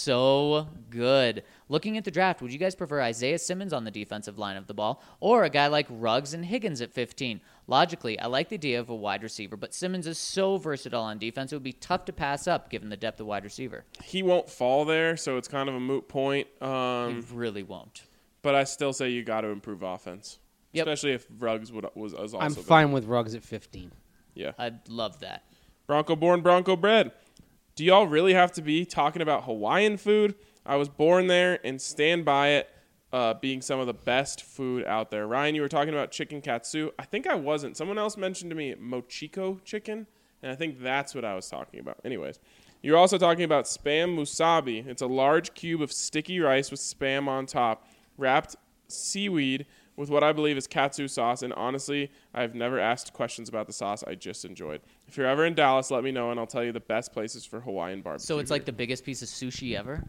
So good. Looking at the draft, would you guys prefer Isaiah Simmons on the defensive line of the ball or a guy like Ruggs and Higgins at fifteen? Logically, I like the idea of a wide receiver, but Simmons is so versatile on defense, it would be tough to pass up given the depth of wide receiver. He won't fall there, so it's kind of a moot point. He Um, really won't. but I still say you got to improve offense, Yep. especially if Ruggs would, was, was also I'm good. fine with Ruggs at fifteen. Yeah. I'd love that. Bronco born, Bronco bred. Do y'all really have to be talking about Hawaiian food? I was born there and stand by it uh, being some of the best food out there. Ryan, you were talking about chicken katsu. I think I wasn't. Someone else mentioned to me mochiko chicken, and I think that's what I was talking about. Anyways, you're also talking about Spam musabi. It's a large cube of sticky rice with Spam on top, wrapped seaweed with what I believe is katsu sauce, and honestly, I've never asked questions about the sauce. I just enjoyed. If you're ever in Dallas, let me know, and I'll tell you the best places for Hawaiian barbecue. So it's here. like the biggest piece of sushi ever?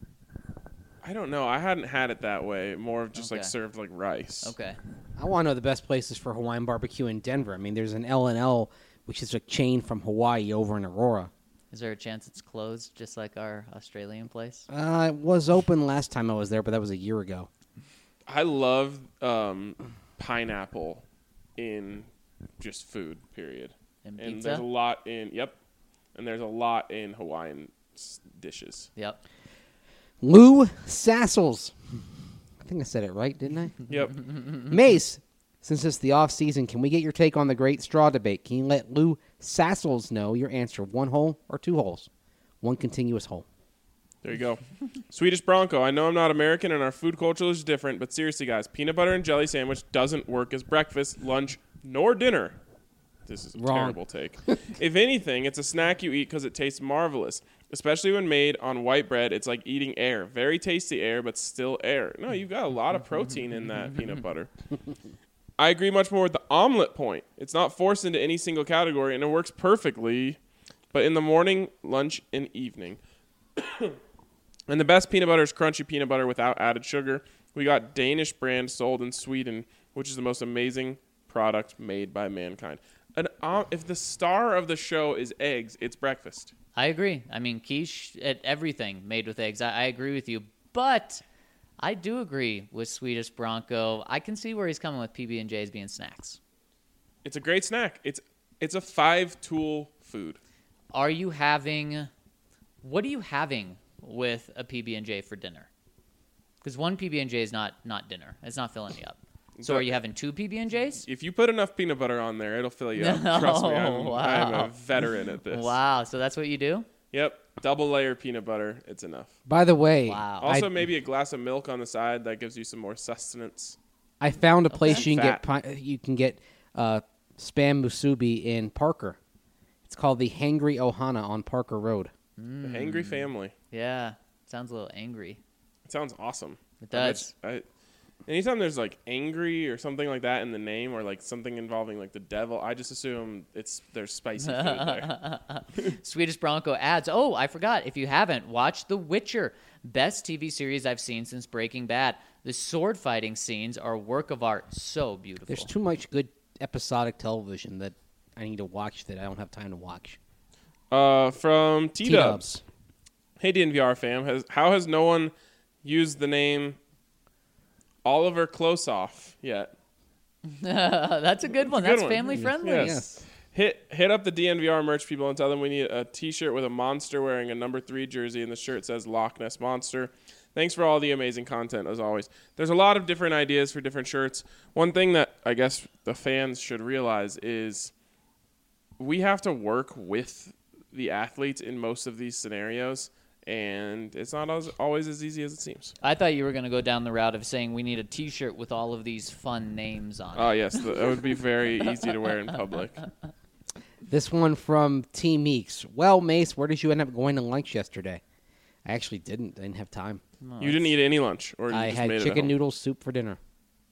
I don't know. I hadn't had it that way. More of just like Okay. served like rice. Okay. I want to know the best places for Hawaiian barbecue in Denver. I mean, there's an L and L, which is a chain from Hawaii over in Aurora. Is there a chance it's closed, just like our Australian place? Uh, it was open last time I was there, but that was a year ago. I love um, pineapple in just food, period. And And pizza? there's a lot in, yep. And there's a lot in Hawaiian s- dishes. Yep. Lou Sassels. I think I said it right, didn't I? Yep. Mace, since it's the off season, can we get your take on the great straw debate? Can you let Lou Sassels know your answer? One hole or two holes? One continuous hole. There you go. Swedish Bronco. I know I'm not American and our food culture is different, but seriously, guys, peanut butter and jelly sandwich doesn't work as breakfast, lunch, nor dinner. This is a Wrong. terrible take. If anything, it's a snack you eat because it tastes marvelous, especially when made on white bread. It's like eating air. Very tasty air, but still air. No, you've got a lot of protein in that peanut butter. I agree much more with the omelet point. It's not forced into any single category, and it works perfectly, but in the morning, lunch, and evening. And the best peanut butter is crunchy peanut butter without added sugar. We got Danish brand sold in Sweden, which is the most amazing product made by mankind. An, um, if the star of the show is eggs, it's breakfast. I agree. I mean, quiche, at everything made with eggs. I, I agree with you, but I do agree with Swedish Bronco. I can see where he's coming with P B and J's being snacks. It's a great snack. It's it's a five-tool food. Are you having? What are you having with a P B and J for dinner? Because one P B and J is not not dinner. It's not filling you up. So are you having two P B and J's? If you put enough peanut butter on there, it'll fill you up. Trust me, I'm, wow. I'm a veteran at this. Wow. So that's what you do? Yep, double layer peanut butter. It's enough. By the way, Wow. Also, I, maybe a glass of milk on the side that gives you some more sustenance. I found a place you can Fat. get pi- you can get uh, spam musubi in Parker. It's called the Hangry Ohana on Parker Road. The Hangry Family. Yeah. Sounds a little angry. It sounds awesome. It I bet does. you- I, anytime there's like angry or something like that in the name, or like something involving like the devil, I just assume it's there's spicy food there. Swedish Bronco adds, oh, I forgot. If you haven't, watch The Witcher. Best T V series I've seen since Breaking Bad. The sword fighting scenes are a work of art. So beautiful. There's too much good episodic television that I need to watch that I don't have time to watch. Uh, from T Dubs. T-dubs. Hey D N V R fam, has how has no one used the name Oliver Klosoff yet? That's a good one. a good That's one. family friendly. Yes. Yes. Hit hit up the D N V R merch people and tell them we need a T-shirt with a monster wearing a number three jersey, and the shirt says Loch Ness Monster. Thanks for all the amazing content as always. There's a lot of different ideas for different shirts. One thing that I guess the fans should realize is we have to work with the athletes in most of these scenarios, and it's not as, always as easy as it seems. I thought you were going to go down the route of saying we need a T-shirt with all of these fun names on it. Oh yes, the, it would be very easy to wear in public. This one from T Meeks. Well, Mace, where did you end up going to lunch yesterday? I actually didn't. I didn't have time. You didn't eat any lunch, or you I just had made it at chicken home? noodle soup for dinner.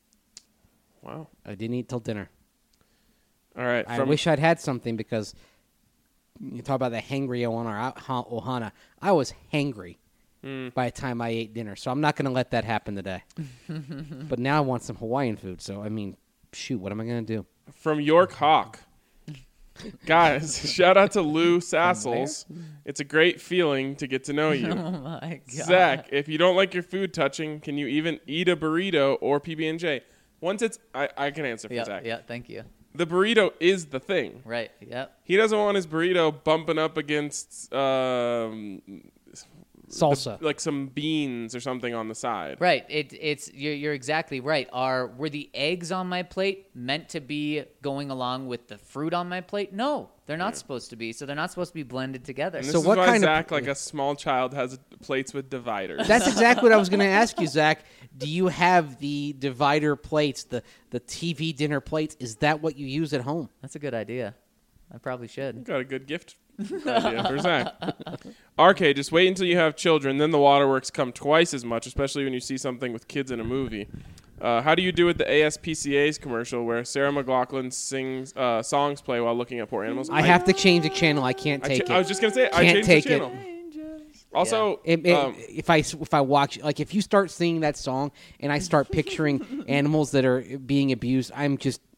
Wow. I didn't eat till dinner. All right. I From, wish I'd had something because you talk about the hangry Ohana. Ohana. I was hangry Mm. by the time I ate dinner, so I'm not going to let that happen today. But now I want some Hawaiian food, so I mean, shoot, what am I going to do? from York Hawk. Guys, shout out to Lou Sassels. It's a great feeling to get to know you. Oh my god. Zach, if you don't like your food touching, can you even eat a burrito or P B and J? Once it's, I, I can answer for Yeah, Zach. yeah, thank you. The burrito is the thing. Right, yep. He doesn't want his burrito bumping up against um, Salsa. the- like some beans or something on the side. Right. It, it's you're, you're exactly right. Are were the eggs on my plate meant to be going along with the fruit on my plate? No, they're not supposed to be. So they're not supposed to be blended together. And So this is what why kind of- Zach, like a small child, has plates with dividers. That's exactly what I was going to ask you, Zach. Do you have the divider plates, the, the T V dinner plates? Is that what you use at home? That's a good idea. I probably should. Got a good gift idea for Zach. R K, just wait until you have children, then the waterworks come twice as much, especially when you see something with kids in a movie. Uh, how do you do with the A S P C A's commercial where Sarah McLachlan sings uh, songs play while looking at poor animals? I have to change the channel. I can't I, take cha- it. I was just gonna say I Can't changed take the it. channel. Also, It- it- um, if I if I watch like if you start singing that song and I start picturing animals that are being abused, I'm just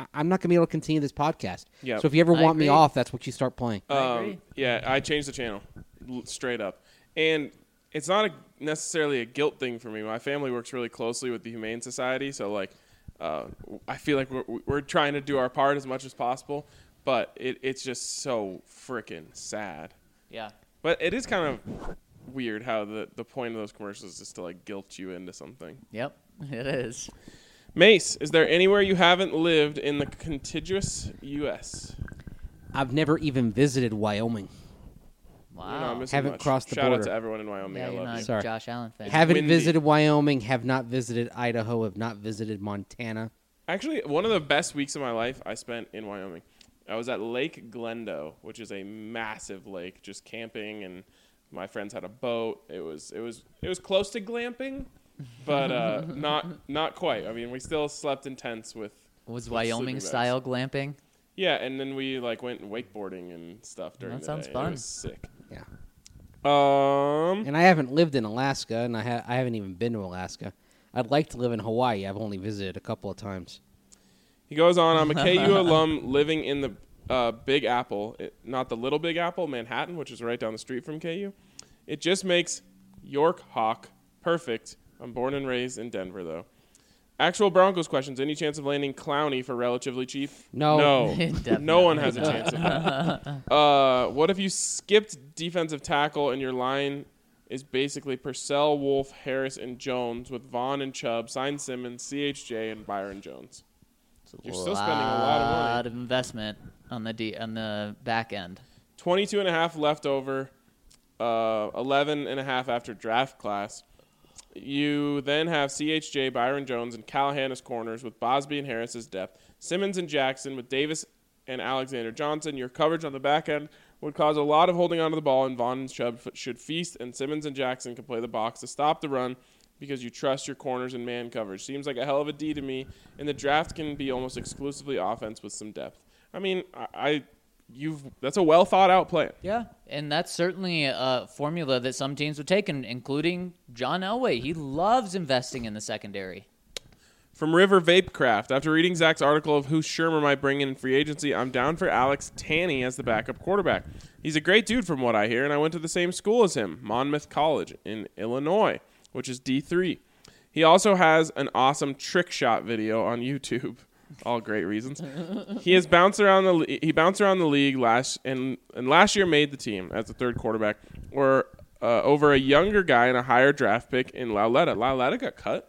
I- I'm not going to be able to continue this podcast. Yep. So if you ever I want me agree. off, that's what you start playing. I Um, agree. yeah, I changed the channel l- straight up, and it's not a, necessarily a guilt thing for me. My family works really closely with the Humane Society, so like, uh, I feel like we're we're trying to do our part as much as possible, but it, it's just so freaking sad. Yeah. But it is kind of weird how the the point of those commercials is to like guilt you into something. Yep. It is. Mace, is there anywhere you haven't lived in the contiguous U S? I've never even visited Wyoming. Wow. You're not missing Haven't much. crossed the Shout border. out to everyone in Wyoming. yeah, I you're love not you. a Sorry. Josh Allen fan. Haven't windy. visited Wyoming, have not visited Idaho, have not visited Montana. Actually, one of the best weeks of my life I spent in Wyoming. I was at Lake Glendo, which is a massive lake, just camping, and my friends had a boat. It was it was it was close to glamping, but uh, not not quite. I mean, we still slept in tents with Was with Wyoming sleeping bags. style glamping? Yeah, and then we like went wakeboarding and stuff during That the sounds day. fun. It was sick. Yeah. Um, And I haven't lived in Alaska, and I, ha- I haven't even been to Alaska. I'd like to live in Hawaii. I've only visited a couple of times. he goes on. I'm a K U alum living in the uh, Big Apple, it, not the Little Big Apple, Manhattan, which is right down the street from K U. It just makes York Hawk perfect. I'm born and raised in Denver, though. Actual Broncos questions. Any chance of landing Clowney for relatively cheap? No. No. Definitely No one has a not. chance of that. Uh, what if you skipped defensive tackle and your line is basically Purcell, Wolf, Harris, and Jones with Vaughn and Chubb, Sign Simmons, C H J, and Byron Jones? You're still spending a lot of money. lot of investment on the D, on the back end. twenty-two and a half left over, uh, eleven and a half after draft class. You then have C H J, Byron Jones, and Callahan as corners with Bosby and Harris as depth. Simmons and Jackson with Davis and Alexander Johnson. Your coverage on the back end would cause a lot of holding onto the ball, and Vaughn and Chubb f- should feast, and Simmons and Jackson can play the box to stop the run because you trust your corners and man coverage. Seems like a hell of a D to me, and the draft can be almost exclusively offense with some depth. I mean, I, I you've that's a well thought out plan. Yeah, and that's certainly a formula that some teams would take, and including John Elway. He loves investing in the secondary. From River Vapecraft, after reading Zach's article of who Shermer might bring in free agency, I'm down for Alex Tanney as the backup quarterback. He's a great dude from what I hear, and I went to the same school as him, Monmouth College in Illinois, which is D three. He also has an awesome trick shot video on YouTube. All great reasons. He has bounced around the le- he bounced around the league last and and last year made the team as the third quarterback, or uh, over a younger guy and a higher draft pick in Lauletta. Lauletta got cut.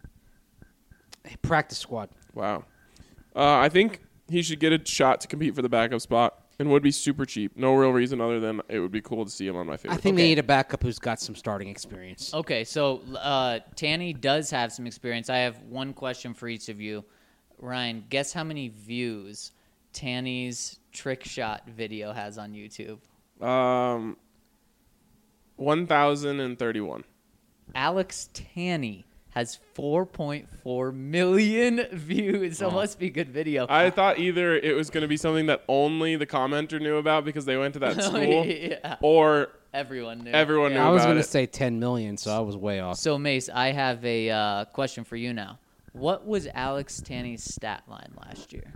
Practice squad. Wow. Uh, I think he should get a shot to compete for the backup spot and would be super cheap. No real reason other than it would be cool to see him on my favorite. I think team. they need a backup who's got some starting experience. Okay, so uh, Tanny does have some experience. I have one question for each of you. Ryan, guess how many views Tanny's trick shot video has on YouTube? Um, one thousand thirty-one. Alex Tanny has four point four million views. So it must be a good video. I thought either it was going to be something that only the commenter knew about because they went to that school, Yeah. or Everyone knew. Everyone knew I was about going to it. say ten million, so I was way off. So, Mace, I have a uh, question for you now. What was Alex Tanny's stat line last year?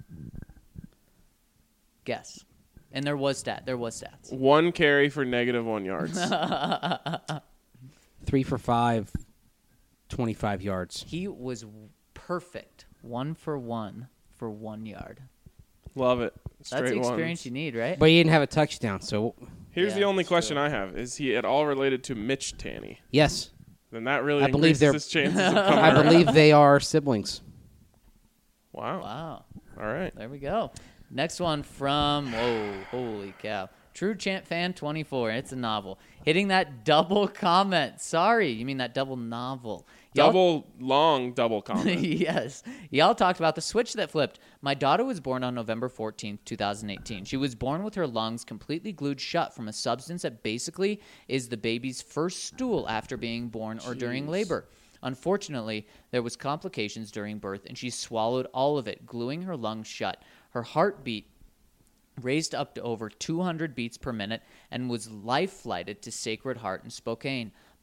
Guess. And there was stat. There was stats. one carry for negative one yards. Three for five, twenty-five yards. He was perfect. One for one for one yard. Love it. Straight That's the ones. experience you need, right? But he didn't have a touchdown, so Here's Yeah, the only that's question true. I have: Is he at all related to Mitch Tanny? yes, Then that really I believe increases they're- his chances of coming. I around. believe they are siblings. Wow. Wow. All right. There we go. Next one from, whoa, holy cow. True Champ Fan twenty-four. It's a novel. Hitting that double comment. Sorry, you mean that double novel. Y'all- Double long double comment. Yes. Y'all talked about the switch that flipped. My daughter was born on November fourteenth, twenty eighteen. She was born with her lungs completely glued shut from a substance that basically is the baby's first stool after being born or during labor. Unfortunately, there was complications during birth, and she swallowed all of it, gluing her lungs shut. Her heartbeat raised up to over two hundred beats per minute and was life-flighted to Sacred Heart in Spokane.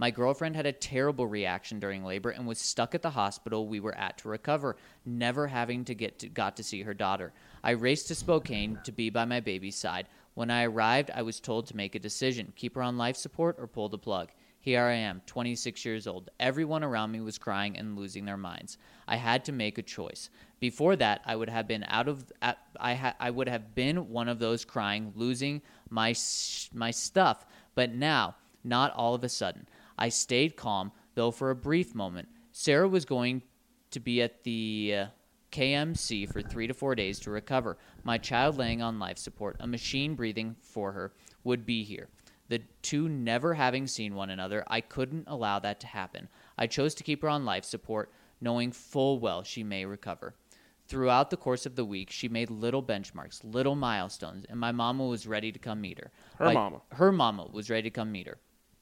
My girlfriend had a terrible reaction during labor and was stuck at the hospital we were at to recover, never having to get to, got to see her daughter. I raced to Spokane to be by my baby's side. When I arrived, I was told to make a decision, keep her on life support or pull the plug. Here I am, twenty-six years old. Everyone around me was crying and losing their minds. I had to make a choice. Before that, I would have been out of I ha, I would have been one of those crying, losing my my stuff. But now, not all of a sudden. I stayed calm, though for a brief moment. Sarah was going to be at the uh, K M C for three to four days to recover. My child laying on life support, a machine breathing for her, would be here. The two never having seen one another, I couldn't allow that to happen. I chose to keep her on life support, knowing full well she may recover. Throughout the course of the week, she made little benchmarks, little milestones, and my mama was ready to come meet her. Her By, mama. Her mama was ready to come meet her.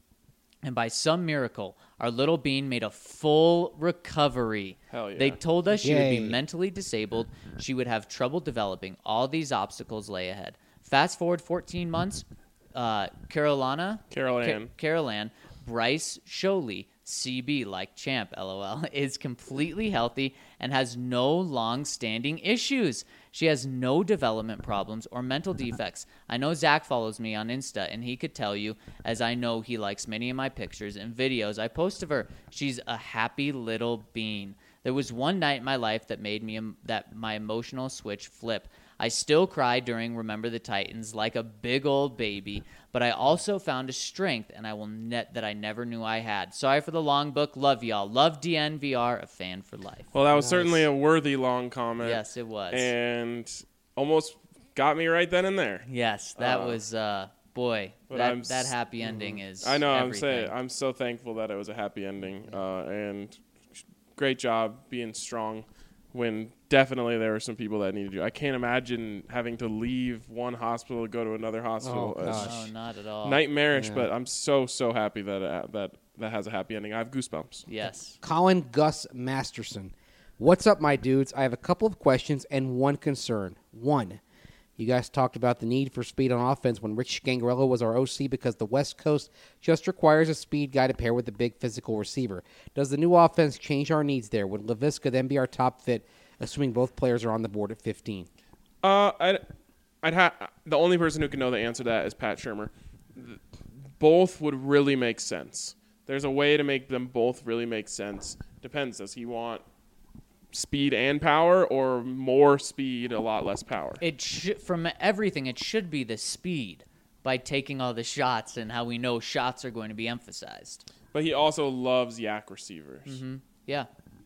And by some miracle, our little bean made a full recovery. Hell yeah. They told us she would Yay. be mentally disabled. She would have trouble developing. All these obstacles lay ahead. Fast forward fourteen months, uh, Carolina, Carol Ca- Ann. Carol Ann, Bryce Sholey, C B like champ, lol, is completely healthy and has no long-standing issues. She has no development problems or mental defects. I know Zach follows me on Insta, and he could tell you, as I know he likes many of my pictures and videos I post of her. She's a happy little bean. There was one night in my life that made me that my emotional switch flip. I still cry during Remember the Titans like a big old baby, but I also found a strength and I will net that I never knew I had. Sorry for the long book. Love y'all. Love D N V R, a fan for life. Well, that was certainly a worthy long comment. Yes, it was. And almost got me right then and there. Yes, that Uh, was uh boy. but That I'm that s- happy ending is I know. I'm everything. saying I'm so thankful that it was a happy ending. Uh, and great job being strong when definitely there were some people that needed you. I can't imagine having to leave one hospital to go to another hospital. Oh, It's gosh. No, not at all. nightmarish, Yeah. but I'm so so happy that it, that that has a happy ending. I have goosebumps. Yes. Colin Gus Masterson. What's up, my dudes? I have a couple of questions and one concern. One, you guys talked about the need for speed on offense when Rich Gangarello was our O C because the West Coast just requires a speed guy to pair with a big physical receiver. Does the new offense change our needs there? Would LaVisca then be our top fit, assuming both players are on the board at fifteen? Uh, I'd, I'd ha- the only person who can know the answer to that is Pat Shermer. Th- Both would really make sense. There's a way to make them both really make sense. Depends. Does he want speed and power, or more speed, a lot less power? It sh- from everything, it should be the speed by taking all the shots and how we know shots are going to be emphasized. But he also loves yak receivers. Mm-hmm. Yeah.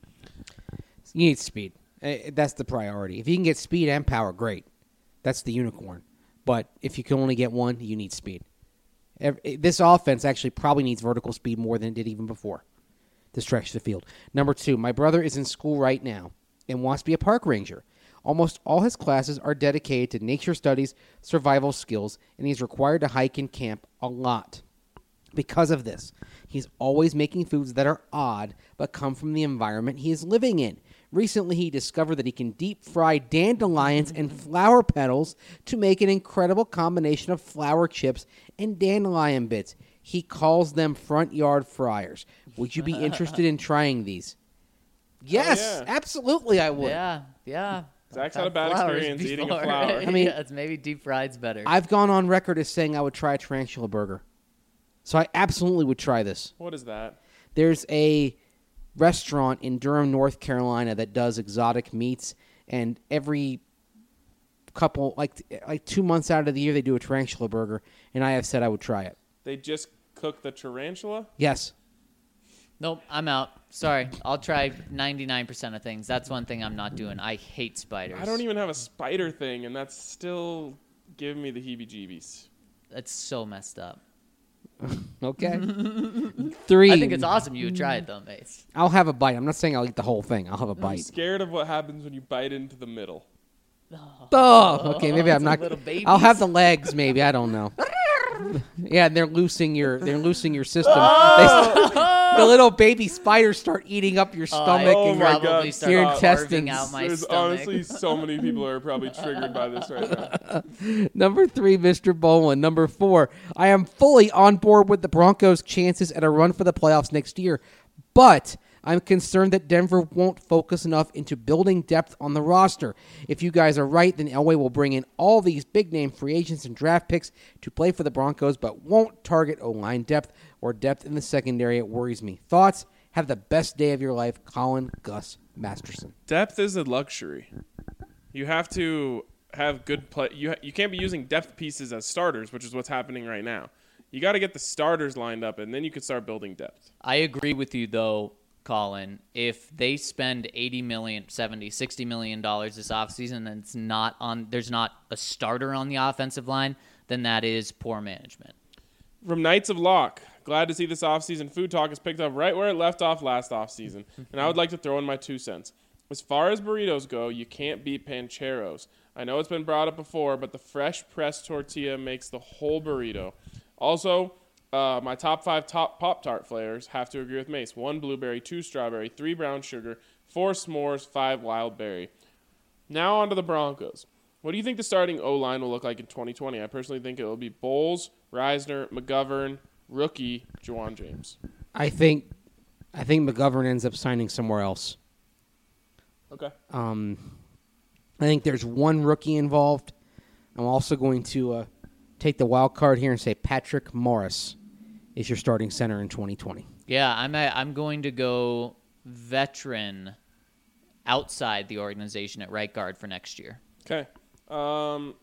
You need speed. Uh, That's the priority. If you can get speed and power, great. That's the unicorn. But if you can only get one, you need speed. Ev- This offense actually probably needs vertical speed more than it did even before to stretch the field. Number two, my brother is in school right now and wants to be a park ranger. Almost all his classes are dedicated to nature studies, survival skills, and he's required to hike and camp a lot. Because of this, he's always making foods that are odd but come from the environment he is living in. Recently, he discovered that he can deep fry dandelions and flower petals to make an incredible combination of flower chips and dandelion bits. He calls them front yard fryers. Would you be interested in trying these? Yes, yeah. absolutely, I would. Yeah. Yeah. Zach's I've had a bad flowers experience eating a before. flower. I mean- yes, maybe deep fried's better. I've gone on record as saying I would try a tarantula burger. So I absolutely would try this. What is that? There's a restaurant in Durham, North Carolina that does exotic meats, and every couple, like like two months out of the year, they do a tarantula burger, and I have said I would try it. They just cook the tarantula? Yes. Nope, I'm out. Sorry. I'll try ninety-nine percent of things. That's one thing I'm not doing. I hate spiders. I don't even have a spider thing, and that's still giving me the heebie-jeebies. That's so messed up. Okay. Three. I think it's awesome you would try it, though, Mace. I'll have a bite. I'm not saying I'll eat the whole thing. I'll have a I'm bite. scared of what happens when you bite into the middle. Oh, okay. Maybe I'm It's not. little babies. I'll have the legs. Maybe I don't know. Yeah, and they're loosing your. They're loosing your system. They, the little baby spiders start eating up your stomach Oh and my your, God, probably stop. your start carving intestines. out my There's stomach. honestly so many people who are probably triggered by this right now. Number three, Mister Bolin. Number four, I am fully on board with the Broncos' chances at a run for the playoffs next year, but I'm concerned that Denver won't focus enough into building depth on the roster. If you guys are right, then Elway will bring in all these big-name free agents and draft picks to play for the Broncos, but won't target O-line depth or depth in the secondary. It worries me. Thoughts? Have the best day of your life, Colin Gus Masterson. Depth is a luxury. You have to have good play. You ha- you can't be using depth pieces as starters, which is what's happening right now. You got to get the starters lined up, and then you can start building depth. I agree with you, though, Colin. If they spend eighty million, seventy, sixty million dollars this offseason and it's not on, there's not a starter on the offensive line, then that is poor management. From Knights of Lock, glad to see this offseason food talk has picked up right where it left off last offseason, and I would like to throw in my two cents. As far as burritos go, you can't beat Pancheros. I know it's been brought up before, but the fresh pressed tortilla makes the whole burrito. Also, uh, my top five top Pop-Tart flavors have to agree with Mace. One blueberry, two strawberry, three brown sugar, four s'mores, five wild berry. Now on to the Broncos. What do you think the starting O-line will look like in twenty twenty? I personally think it will be Bowles, Reisner, McGovern, rookie, Juwan James. I think I think McGovern ends up signing somewhere else. Okay. Um, I think there's one rookie involved. I'm also going to uh, take the wild card here and say Patrick Morris is your starting center in twenty twenty. Yeah, I'm a, I'm going to go veteran outside the organization at right guard for next year. Okay. Um,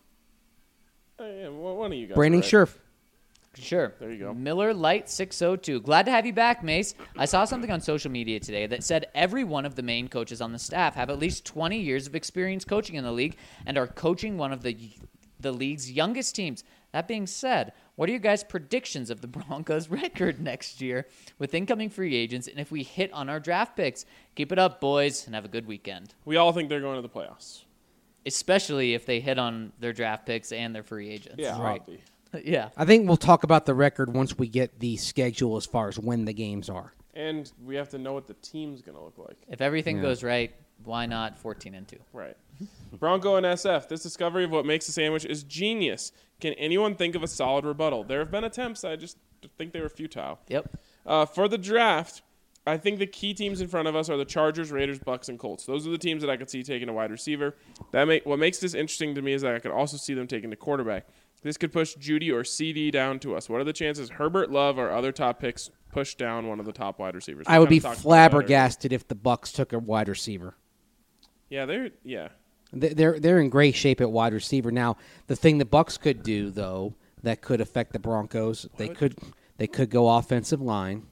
uh, yeah, one of you guys. Brandon are right. Scherf. Sure. There you go. Miller Light six oh two. Glad to have you back, Mace. I saw something on social media today that said every one of the main coaches on the staff have at least twenty years of experience coaching in the league and are coaching one of the the league's youngest teams. That being said, what are your guys' predictions of the Broncos' record next year with incoming free agents and if we hit on our draft picks? Keep it up, boys, and have a good weekend. We all think they're going to the playoffs. Especially if they hit on their draft picks and their free agents. Yeah, Right. Obvi. Yeah. I think we'll talk about the record once we get the schedule as far as when the games are. And we have to know what the team's going to look like. If everything Yeah. goes right, why not fourteen and two? Right. Bronco and S F. This discovery of what makes a sandwich is genius. Can anyone think of a solid rebuttal? There have been attempts. I just think they were futile. Yep. Uh, for the draft, I think the key teams in front of us are the Chargers, Raiders, Bucks, and Colts. Those are the teams that I could see taking a wide receiver. That make what makes this interesting to me is that I could also see them taking a quarterback. This could push Judy or C D down to us. What are the chances Herbert, Love, or other top picks push down one of the top wide receivers? We I would be kinda talked about that earlier. flabbergasted if the Bucks took a wide receiver. Yeah, they're yeah. They- They're they're in great shape at wide receiver now. The thing the Bucks could do though that could affect the Broncos, they What? could they could go offensive line.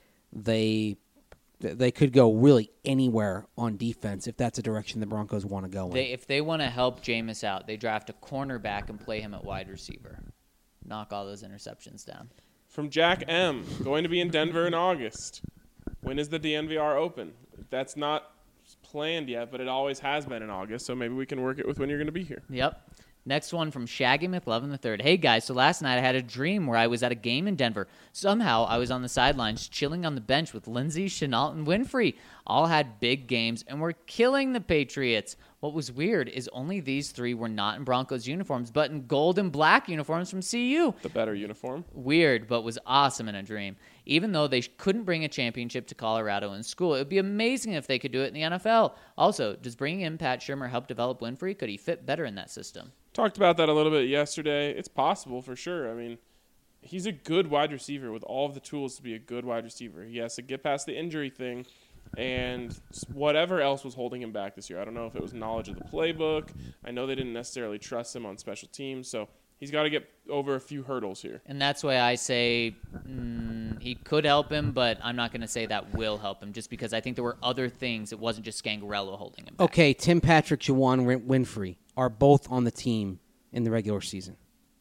They they could go really anywhere on defense if that's a direction the Broncos want to go in. They if they want to help Jameis out, they draft a cornerback and play him at wide receiver. Knock all those interceptions down. From Jack M. Going to be in Denver in August. When is the D N V R open? That's not planned yet, but it always has been in August, so maybe we can work it with when you're going to be here. Yep. Next one from Shaggy McLovin the third. Hey guys, so last night I had a dream where I was at a game in Denver. Somehow I was on the sidelines chilling on the bench with Lindsey, Chenault, and Winfrey. All had big games and were killing the Patriots. What was weird is only these three were not in Broncos uniforms, but in gold and black uniforms from C U. The better uniform. Weird, but was awesome in a dream. Even though they couldn't bring a championship to Colorado in school, it would be amazing if they could do it in the N F L. Also, does bringing in Pat Shurmur help develop Winfrey? Could he fit better in that system? Talked about that a little bit yesterday. It's possible for sure. I mean, he's a good wide receiver with all of the tools to be a good wide receiver. He has to get past the injury thing and whatever else was holding him back this year. I don't know if it was knowledge of the playbook. I know they didn't necessarily trust him on special teams, so he's got to get over a few hurdles here. And that's why I say mm, he could help him, but I'm not going to say that will help him just because I think there were other things. It wasn't just Scangarello holding him back. Okay, Tim Patrick, Juwan Win- Winfrey are both on the team in the regular season.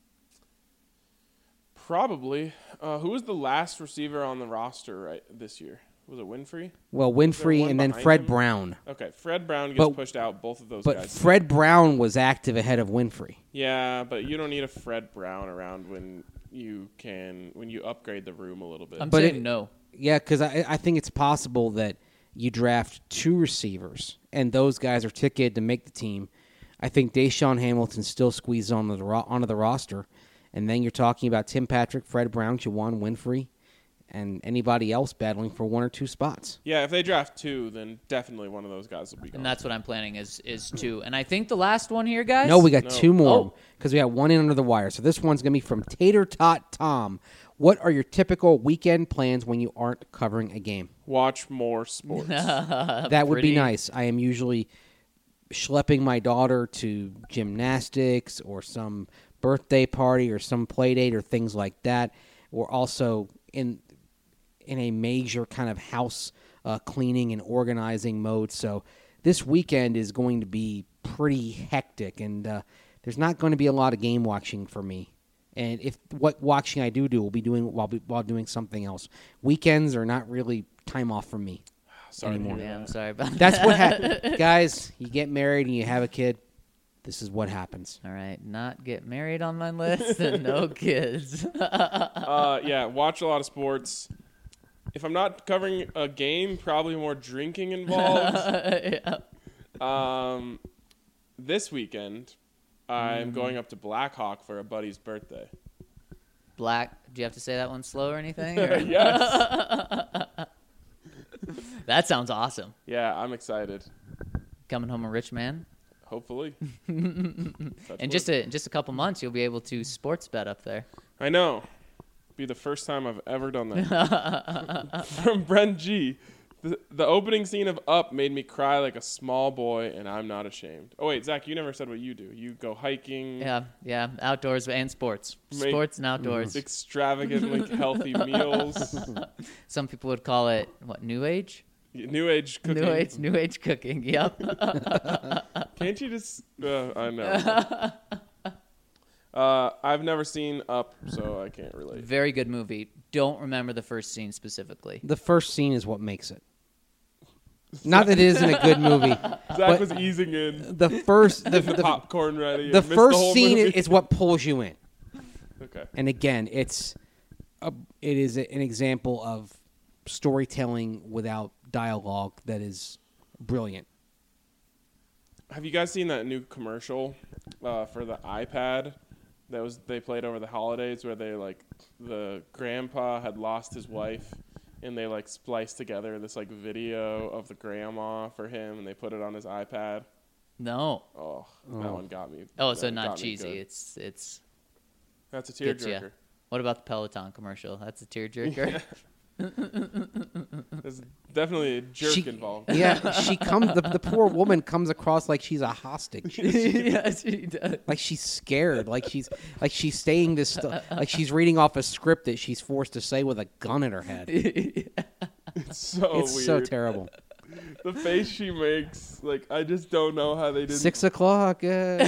Probably. Uh, who was the last receiver on the roster right this year? Was it Winfrey? Well, there Winfrey one and then behind Fred him? Brown. Okay, Fred Brown gets But- pushed out, both of those But guys. Fred Brown was active ahead of Winfrey. Yeah, but you don't need a Fred Brown around when you can when you upgrade the room a little bit. I'm But saying it- no. Yeah, because I, I think it's possible that you draft two receivers, and those guys are ticketed to make the team. I think Deshaun Hamilton still squeezes onto the, ro- onto the roster. And then you're talking about Tim Patrick, Fred Brown, Juwan Winfrey, and anybody else battling for one or two spots. Yeah, if they draft two, then definitely one of those guys will be gone. And that's what I'm planning is is two. And I think the last one here, guys. No, we got No. two more Oh. because we got one in under the wire. So this one's going to be from Tater Tot Tom. What are your typical weekend plans when you aren't covering a game? Watch more sports. That would be pretty- nice. I am usually schlepping my daughter to gymnastics or some birthday party or some play date or things like that. We're also in in a major kind of house uh, cleaning and organizing mode. So this weekend is going to be pretty hectic, and uh, there's not going to be a lot of game watching for me. And if what watching I do do, will be doing while while doing something else. Weekends are not really time off for me. Sorry to anymore. hear Yeah, that. I'm sorry about that. That's what happens, guys. You get married and you have a kid. This is what happens. All right, not get married on my list and no kids. Uh, yeah, watch a lot of sports. If I'm not covering a game, probably more drinking involved. Yeah. Um, this weekend, I'm going up to Black Hawk for a buddy's birthday. Black. Do you have to say that one slow or anything? or- Yes. That sounds awesome. Yeah, I'm excited. Coming home a rich man. Hopefully. In just a in just a couple months, you'll be able to sports bet up there. I know. Be the first time I've ever done that. From Brent G. The, the opening scene of Up made me cry like a small boy, and I'm not ashamed. Oh, wait, Zach, you never said what you do. You go hiking, Yeah, yeah, outdoors and sports, Make- sports and outdoors. extravagantly healthy meals, Some people would call it what? New age. new age cooking. New age, new age cooking. Yep. Can't you just... Uh, I know. uh, I've never seen Up, so I can't relate. Very good movie. Don't remember the first scene specifically. The first scene is what makes it. Not that it isn't a good movie. Zach But- was easing in, The first, the, the, the, popcorn ready. the and missed first whole scene movie. is what pulls you in. Okay. And again, it's a, it is a, an example of storytelling without dialogue that is brilliant. Have you guys seen that new commercial uh, for the iPad that was they played over the holidays where they like the grandpa had lost his wife and they like spliced together this like video of the grandma for him and they put it on his iPad? No. Oh, that one got me. Oh, so that not got me cheesy. good. It's it's That's a gets ya. tearjerker. What about the Peloton commercial? That's a tearjerker. There's definitely a jerk She- involved. Yeah, she comes. The, the poor woman comes across like she's a hostage, yes, he does. like she's scared, like she's like she's saying this, stu- like she's reading off a script that she's forced to say with a gun in her head. It's so It's weird. so terrible. The face she makes, like I just don't know how they didn't. Six o'clock. Uh,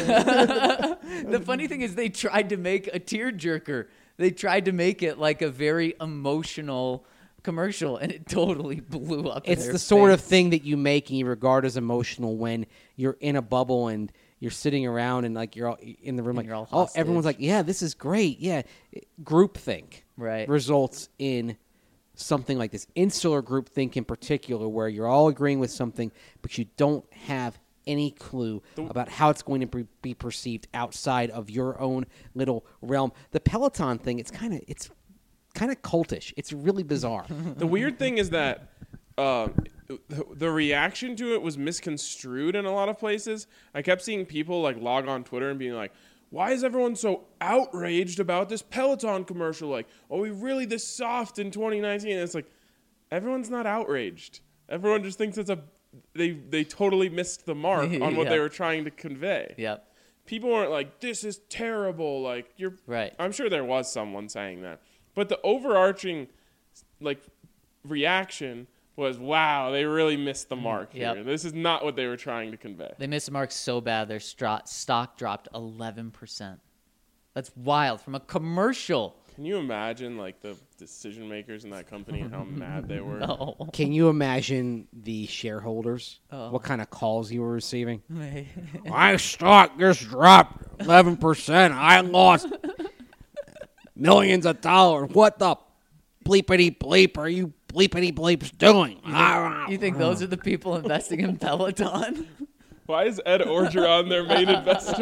The funny thing is, they tried to make a tearjerker. They tried to make it like a very emotional commercial, and it totally blew up. in it's their the sort of face. thing that you make and you regard as emotional when you're in a bubble and you're sitting around and like you're all in the room, like you're all oh, everyone's hostage. like, yeah, this is great, yeah. Groupthink Right. results in something like this. Insular groupthink in particular, where you're all agreeing with something, but you don't have any clue about how it's going to be, be perceived outside of your own little realm. The Peloton thing, it's kind of it's kind of cultish. It's really bizarre. The weird thing is that um, the, the reaction to it was misconstrued in a lot of places. I kept seeing people like log on Twitter and being like, "Why is everyone so outraged about this Peloton commercial? Like, are we really this soft in twenty nineteen?" And it's like, everyone's not outraged. Everyone just thinks it's a they they totally missed the mark on what Yeah. they were trying to convey. Yep. People weren't like, "This is terrible." Like you're Right. I'm sure there was someone saying that. But the overarching like reaction was, "Wow, they really missed the mark Yep. here. This is not what they were trying to convey." They missed the mark so bad their stro- stock dropped eleven percent. That's wild from a commercial. Can you imagine like the decision makers in that company and how mad they were? No. Can you imagine the shareholders? Oh. What kind of calls you were receiving? My stock just dropped eleven percent. I lost millions of dollars. What the bleepity bleep are you bleepity bleeps doing? You think those are the people investing in Peloton? Why is Ed Orgeron their main investor?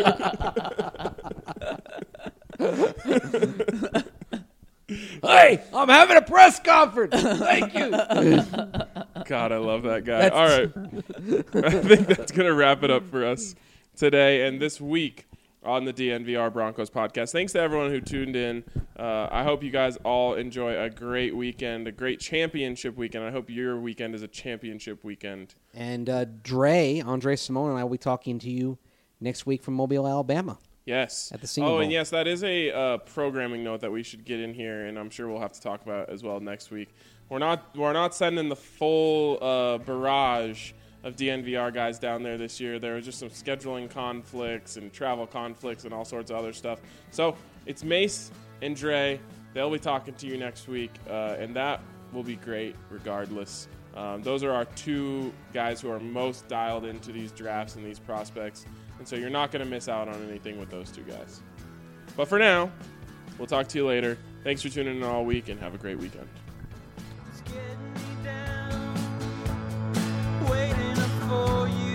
Hey, I'm having a press conference. Thank you. God, I love that guy. All right. I think that's going to wrap it up for us today and this week on the D N V R Broncos podcast. Thanks to everyone who tuned in. Uh, I hope you guys all enjoy a great weekend, a great championship weekend. I hope your weekend is a championship weekend. And uh, Dre, Andre Simone, and I will be talking to you next week from Mobile, Alabama. Yes. At the Senior oh, Bowl. and yes, that is a uh, programming note that we should get in here, and I'm sure we'll have to talk about as well next week. We're not we're not sending the full uh, barrage of D N V R guys down there this year. There was just some scheduling conflicts and travel conflicts and all sorts of other stuff. So it's Mace and Dre. They'll be talking to you next week, uh, and that will be great regardless. Um, those are our two guys who are most dialed into these drafts and these prospects. And so you're not going to miss out on anything with those two guys. But for now, we'll talk to you later. Thanks for tuning in all week, and have a great weekend. It's getting me down, waiting up for you.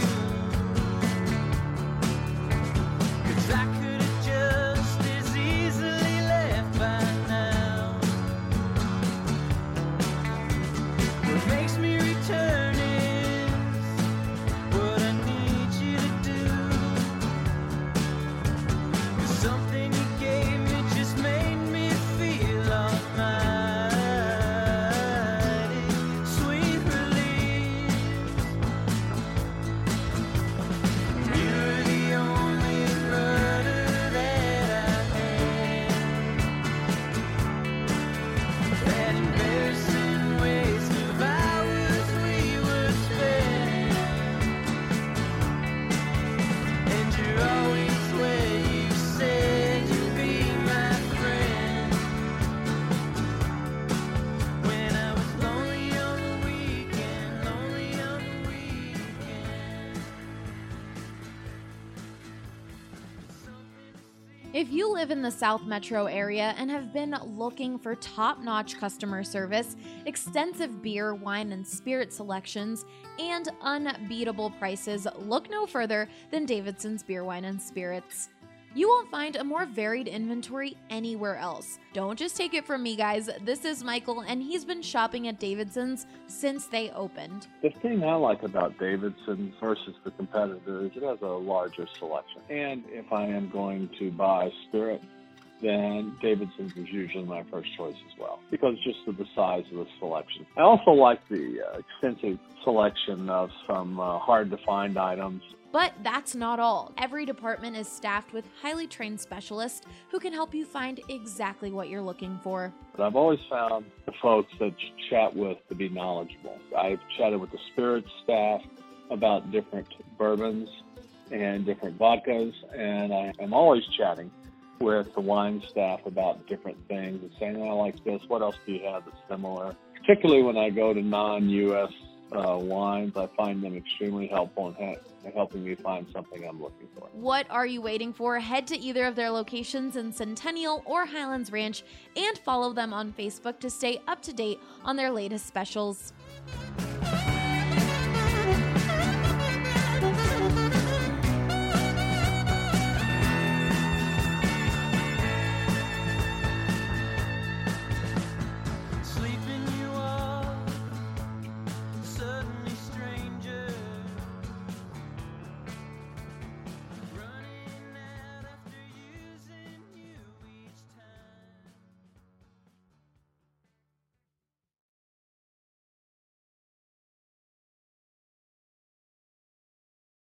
'Cause I could have just as easily left by now. What makes me return is what I need you to do. 'Cause something you gave me just made me feel almighty. Sweet release. You're the only murder that I had. That embarrassing waste of hours we were spending. And you're always where you said you'd be my friend. When I was lonely on the weekend, lonely on the weekend. If you live in the South Metro area and have been looking for top-notch customer service, extensive beer, wine, and spirit selections, and unbeatable prices, look no further than Davidson's Beer, Wine, and Spirits. You won't find a more varied inventory anywhere else. Don't just take it from me, guys. This is Michael, and he's been shopping at Davidson's since they opened. The thing I like about Davidson versus the competitor is it has a larger selection. And if I am going to buy spirit, then Davidson's is usually my first choice as well, because just of the size of the selection. I also like the uh, extensive selection of some uh, hard-to-find items. But that's not all. Every department is staffed with highly trained specialists who can help you find exactly what you're looking for. But I've always found the folks that you chat with to be knowledgeable. I've chatted with the spirits staff about different bourbons and different vodkas, and I am always chatting with the wine staff about different things and saying, oh, I like this, what else do you have that's similar? Particularly when I go to non-U S uh, wines, I find them extremely helpful in ha- helping me find something I'm looking for. What are you waiting for? Head to either of their locations in Centennial or Highlands Ranch and follow them on Facebook to stay up to date on their latest specials.